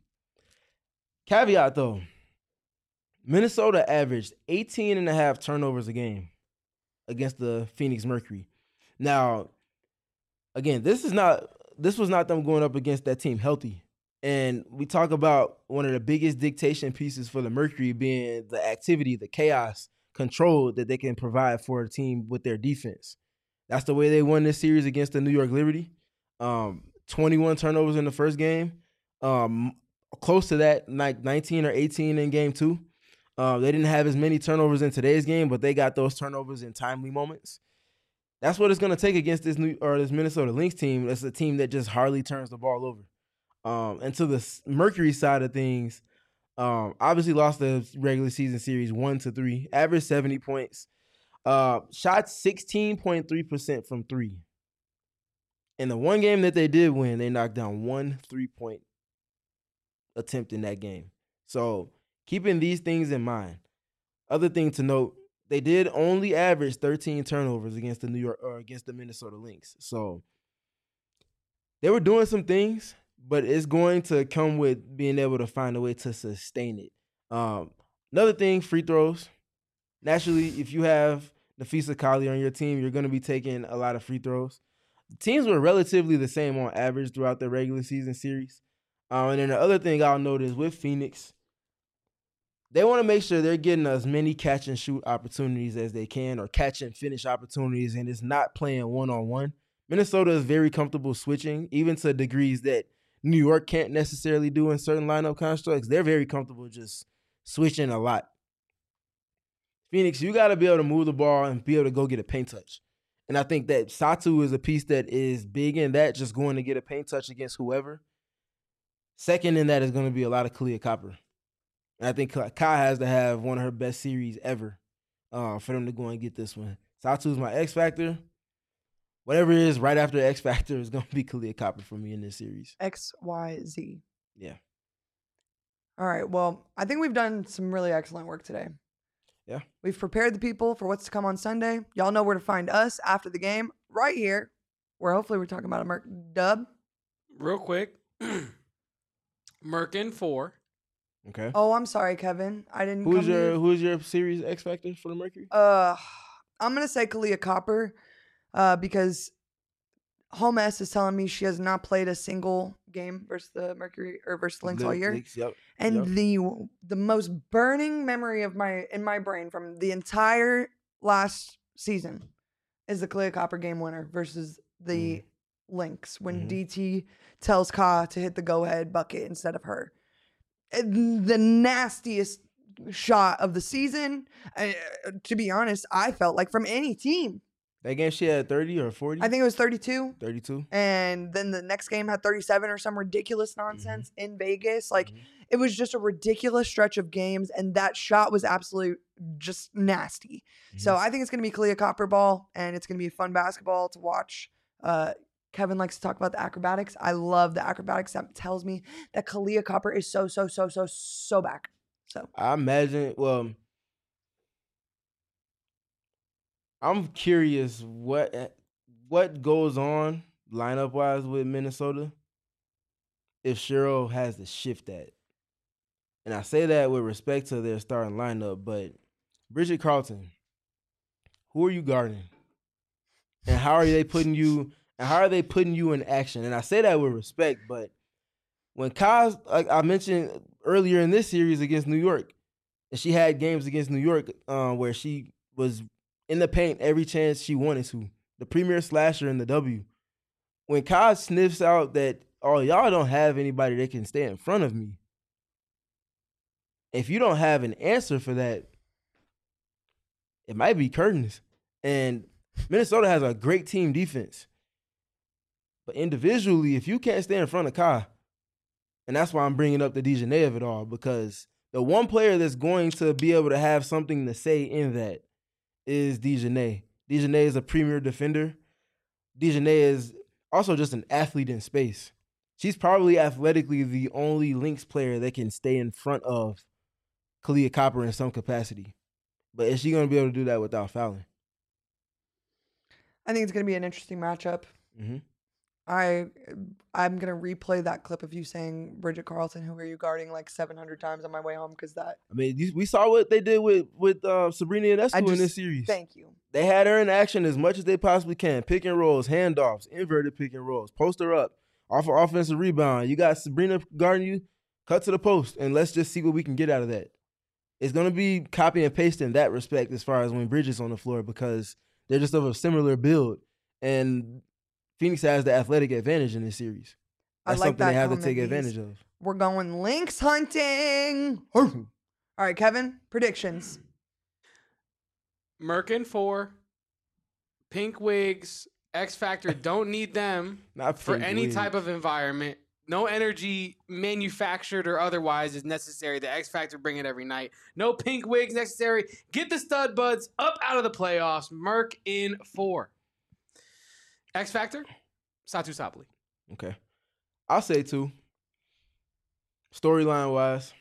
caveat though, Minnesota averaged eighteen and a half turnovers a game against the Phoenix Mercury. Now, again, this is not this was not them going up against that team healthy. And we talk about one of the biggest dictation pieces for the Mercury being the activity, the chaos, control that they can provide for a team with their defense. That's the way they won this series against the New York Liberty. Um, twenty-one turnovers in the first game. Um, close to that, like nineteen or eighteen in game two. Uh, they didn't have as many turnovers in today's game, but they got those turnovers in timely moments. That's what it's going to take against this new or this Minnesota Lynx team. That's a team that just hardly turns the ball over. Um, and to the Mercury side of things, um, obviously lost the regular season series one to three, averaged seventy points, uh, shot sixteen point three percent from three. In the one game that they did win, they knocked down one three-point attempt in that game. So keeping these things in mind, other thing to note, they did only average thirteen turnovers against the New York or against the Minnesota Lynx. So they were doing some things, but it's going to come with being able to find a way to sustain it. Um, another thing, free throws. Naturally, if you have Nafisa Kali on your team, you're going to be taking a lot of free throws. The teams were relatively the same on average throughout the regular season series. Um, and then the other thing I'll note is with Phoenix, they want to make sure they're getting as many catch and shoot opportunities as they can or catch and finish opportunities, and it's not playing one-on-one. Minnesota is very comfortable switching, even to degrees that New York can't necessarily do in certain lineup constructs. They're very comfortable just switching a lot. Phoenix, you got to be able to move the ball and be able to go get a paint touch. And I think that Satu is a piece that is big in that, just going to get a paint touch against whoever. Second in that is going to be a lot of Kalia Copper. And I think Kai has to have one of her best series ever uh, for them to go and get this one. Satu is my X Factor. Whatever it is right after X Factor is going to be Kalia Copper for me in this series. X, Y, Z. Yeah. All right. Well, I think we've done some really excellent work today. Yeah. We've prepared the people for what's to come on Sunday. Y'all know where to find us after the game, right here, where hopefully we're talking about a Merc dub. Real quick, Merkin four. Okay. Oh, I'm sorry, Kevin. I didn't. Who's come to your you. Who's your series X Factor for the Mercury? Uh, I'm gonna say Kalia Copper, uh, because Home S is telling me she has not played a single game versus the Mercury or versus the Lynx all year. Lynx, yep. And Yep. the the most burning memory of my in my brain from the entire last season is the Kalia Copper game winner versus the Mm. Lynx when Mhm. D T tells Ka to hit the go ahead bucket instead of her. And the nastiest shot of the season. Uh, to be honest, I felt like from any team. That game she had thirty or forty? I think it was thirty-two. thirty-two. And then the next game had thirty-seven or some ridiculous nonsense Mm-hmm. in Vegas. Like, Mhm. it was just a ridiculous stretch of games. And that shot was absolute just nasty. So Mm-hmm. I think it's going to be Kalia Copper ball, and it's going to be fun basketball to watch. Uh, Kevin likes to talk about the acrobatics. I love the acrobatics. That tells me that Kalia Copper is so, so, so, so, so back. So I imagine, well, I'm curious what what goes on lineup wise with Minnesota. if Cheryl has to shift that. And I say that with respect to their starting lineup, but Bridget Carlton, who are you guarding? And how are they putting you and how are they putting you in action? And I say that with respect, but when Kaz, like I mentioned earlier in this series against New York, and she had games against New York uh, where she was in the paint every chance she wanted to, the premier slasher in the W. When Kaz sniffs out that, oh, y'all don't have anybody that can stay in front of me, if you don't have an answer for that, it might be curtains. And Minnesota has a great team defense. But individually, if you can't stay in front of Kai, and that's why I'm bringing up the DiJonai of it all, because the one player that's going to be able to have something to say in that is DiJonai. DiJonai is a premier defender. DiJonai is also just an athlete in space. She's probably athletically the only Lynx player that can stay in front of Kahleah Copper in some capacity. But is she going to be able to do that without fouling? I think it's going to be an interesting matchup. Mm-hmm. I, I'm going to replay that clip of you saying, Bridget Carlton, who are you guarding, like seven hundred times on my way home, because that... I mean, we saw what they did with, with uh, Sabrina Ionescu in this series. Thank you. They had her in action as much as they possibly can. Pick and rolls, handoffs, inverted pick and rolls, post her up, off an offensive rebound. You got Sabrina guarding you, cut to the post, and let's just see what we can get out of that. It's going to be copy and paste in that respect as far as when Bridget's on the floor, because they're just of a similar build. And Phoenix has the athletic advantage in this series. That's I like something that they have to comment, take Bees. advantage of. We're going Lynx hunting. All right, Kevin, predictions. Merkin four, Pink Wigs, X Factor don't need them Not for Pink any Wigs. type of environment. No energy, manufactured or otherwise, is necessary. The X Factor bring it every night. No Pink Wigs necessary. Get the stud buds up out of the playoffs. Merc in four. X Factor, Satu Sapoli. Okay. I'll say two. Storyline wise,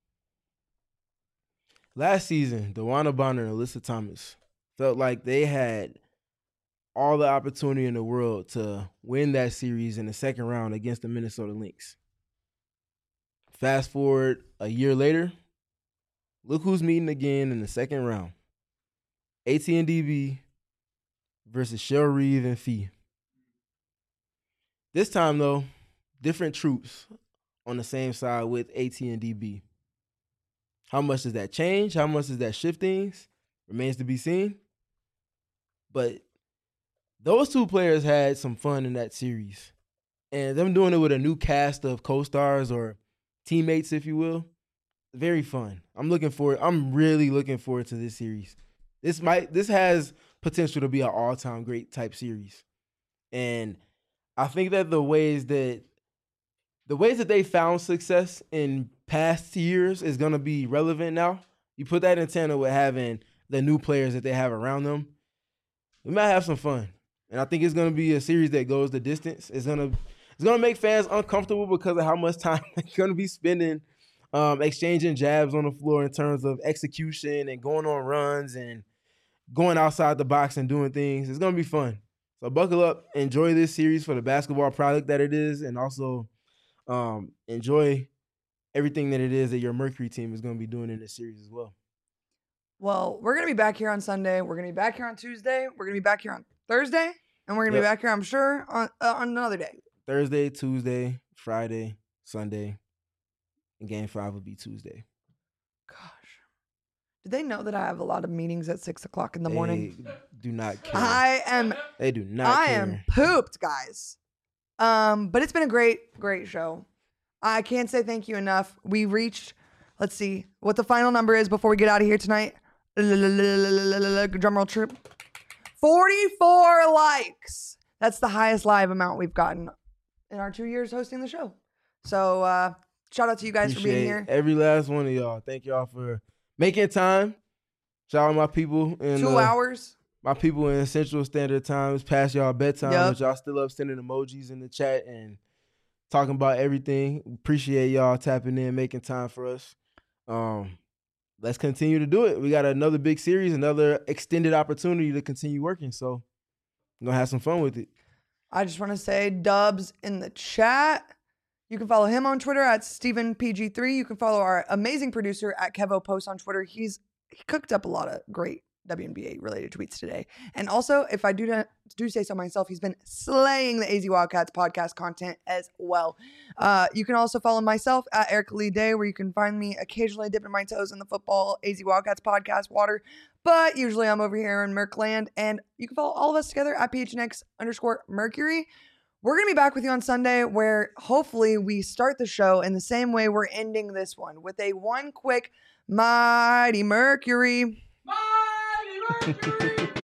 last season, DeWanna Bonner and Alyssa Thomas felt like they had all the opportunity in the world to win that series in the second round against the Minnesota Lynx. Fast forward a year later, look who's meeting again in the second round. A T and D B versus Shell Reeve and Fee. This time, though, different troops on the same side with A T and D B. How much does that change? How much does that shift things? Remains to be seen. But those two players had some fun in that series. And them doing it with a new cast of co-stars or teammates, if you will, very fun. I'm looking forward. I'm really looking forward to this series. This might this has potential to be an all-time great type series. And I think that the ways that the ways that they found success in past years is going to be relevant now. You put that in tandem with having the new players that they have around them. We might have some fun. And I think it's going to be a series that goes the distance. It's going to it's going to make fans uncomfortable because of how much time they're going to be spending um, exchanging jabs on the floor in terms of execution and going on runs and going outside the box and doing things. It's going to be fun. So buckle up, enjoy this series for the basketball product that it is, and also um, enjoy everything that it is that your Mercury team is going to be doing in this series as well. Well, we're going to be back here on Sunday. We're going to be back here on Tuesday. We're going to be back here on Thursday. And we're going to Yep. be back here, I'm sure, on, uh, on another day. Thursday, Tuesday, Friday, Sunday, and game five will be Tuesday. Gosh. Do they know that I have a lot of meetings at six o'clock in the morning? They do not care. I am they do not I care. am pooped, guys. Um, but it's been a great, great show. I can't say thank you enough. We reached, let's see what the final number is before we get out of here tonight. Drum roll trip. forty-four likes. That's the highest live amount we've gotten in our two years hosting the show. So uh, shout out to you guys for being Appreciate here. every last one of y'all. Thank y'all for making time. Shout out my people in Two uh, hours. my people in Central Standard Time. It's past y'all bedtime, Yep. but y'all still up sending emojis in the chat and talking about everything. Appreciate y'all tapping in, making time for us. Um, let's continue to do it. We got another big series, another extended opportunity to continue working. So I'm gonna have some fun with it. I just want to say dubs in the chat. You can follow him on Twitter at Stephen P G three. You can follow our amazing producer at Kevo Post on Twitter. He's he cooked up a lot of great W N B A related tweets today. And also, if I do not, do say so myself, he's been slaying the A Z Wildcats podcast content as well. Uh, you can also follow myself at Eric Lee Day, where you can find me occasionally dipping my toes in the football A Z Wildcats podcast water. But usually I'm over here in Merkland. And you can follow all of us together at P H N X underscore Mercury. We're going to be back with you on Sunday, where hopefully we start the show in the same way we're ending this one, with a one quick Mighty Mercury. Mighty Mercury!